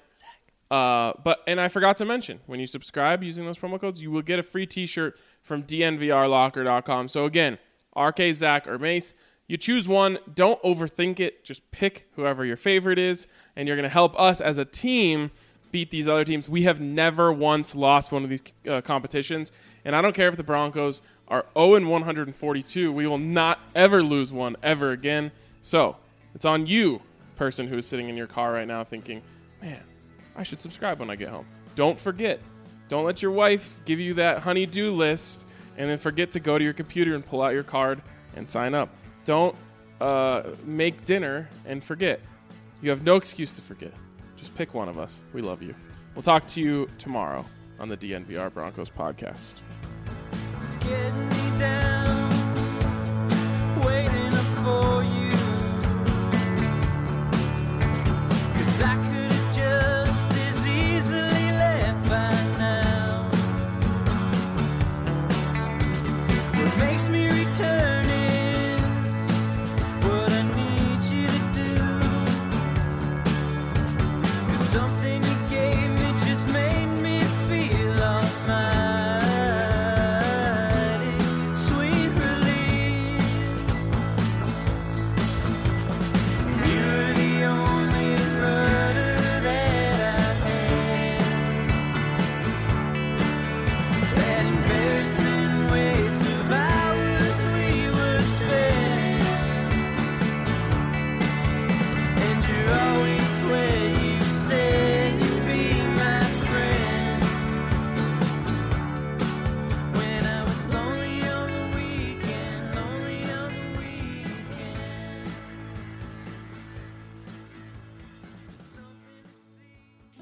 Uh, but and I forgot to mention, when you subscribe using those promo codes, you will get a free T-shirt from D N V R locker dot com. So again, R K, Zach, or Mace. You choose one. Don't overthink it. Just pick whoever your favorite is, and you're going to help us as a team beat these other teams. We have never once lost one of these uh, competitions, and I don't care if the Broncos are oh and one hundred forty-two. We will not ever lose one ever again. So it's on you, person who is sitting in your car right now thinking, man, I should subscribe when I get home. Don't forget. Don't let your wife give you that honey-do list and then forget to go to your computer and pull out your card and sign up. Don't uh, make dinner and forget. You have no excuse to forget. Just pick one of us. We love you. We'll talk to you tomorrow on the D N V R Broncos podcast.
It's getting me down, waiting up for you. 'Cause I could've just as easily left by now. What makes me return is what I need you to do. 'Cause something you gave me just made me feel almighty. Sweet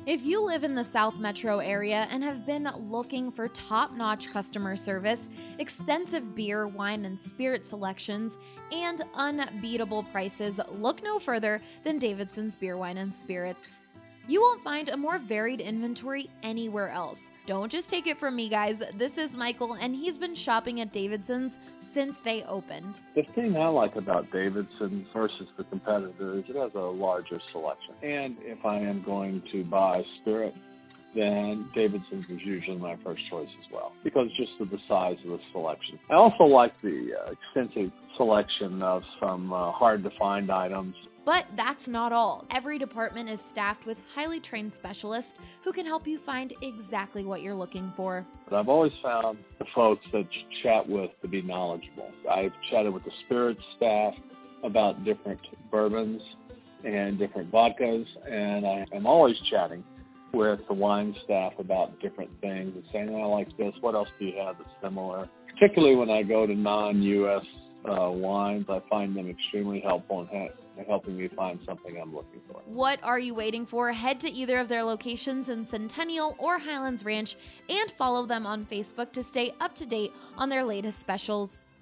If you live in the South Metro area and have been looking for top-notch customer service, extensive beer, wine, and spirit selections, and unbeatable prices, look no further than Davidson's Beer, Wine, and Spirits. You won't find a more varied inventory anywhere else. Don't just take it from me, guys. This is Michael, and he's been shopping at Davidson's since they opened.
The thing I like about Davidson's versus the competitor is it has a larger selection. And if I am going to buy spirit, then Davidson's is usually my first choice as well, because just of the size of the selection. I also like the uh, extensive selection of some uh, hard-to-find items.
But that's not all. Every department is staffed with highly trained specialists who can help you find exactly what you're looking for.
But I've always found the folks that you chat with to be knowledgeable. I've chatted with the spirits staff about different bourbons and different vodkas, and I am always chatting with the wine staff about different things and saying, I like this, what else do you have that's similar? Particularly when I go to non-U S Uh, wines, I find them extremely helpful in ha- helping me find something I'm looking for.
What are you waiting for? Head to either of their locations in Centennial or Highlands Ranch and follow them on Facebook to stay up to date on their latest specials.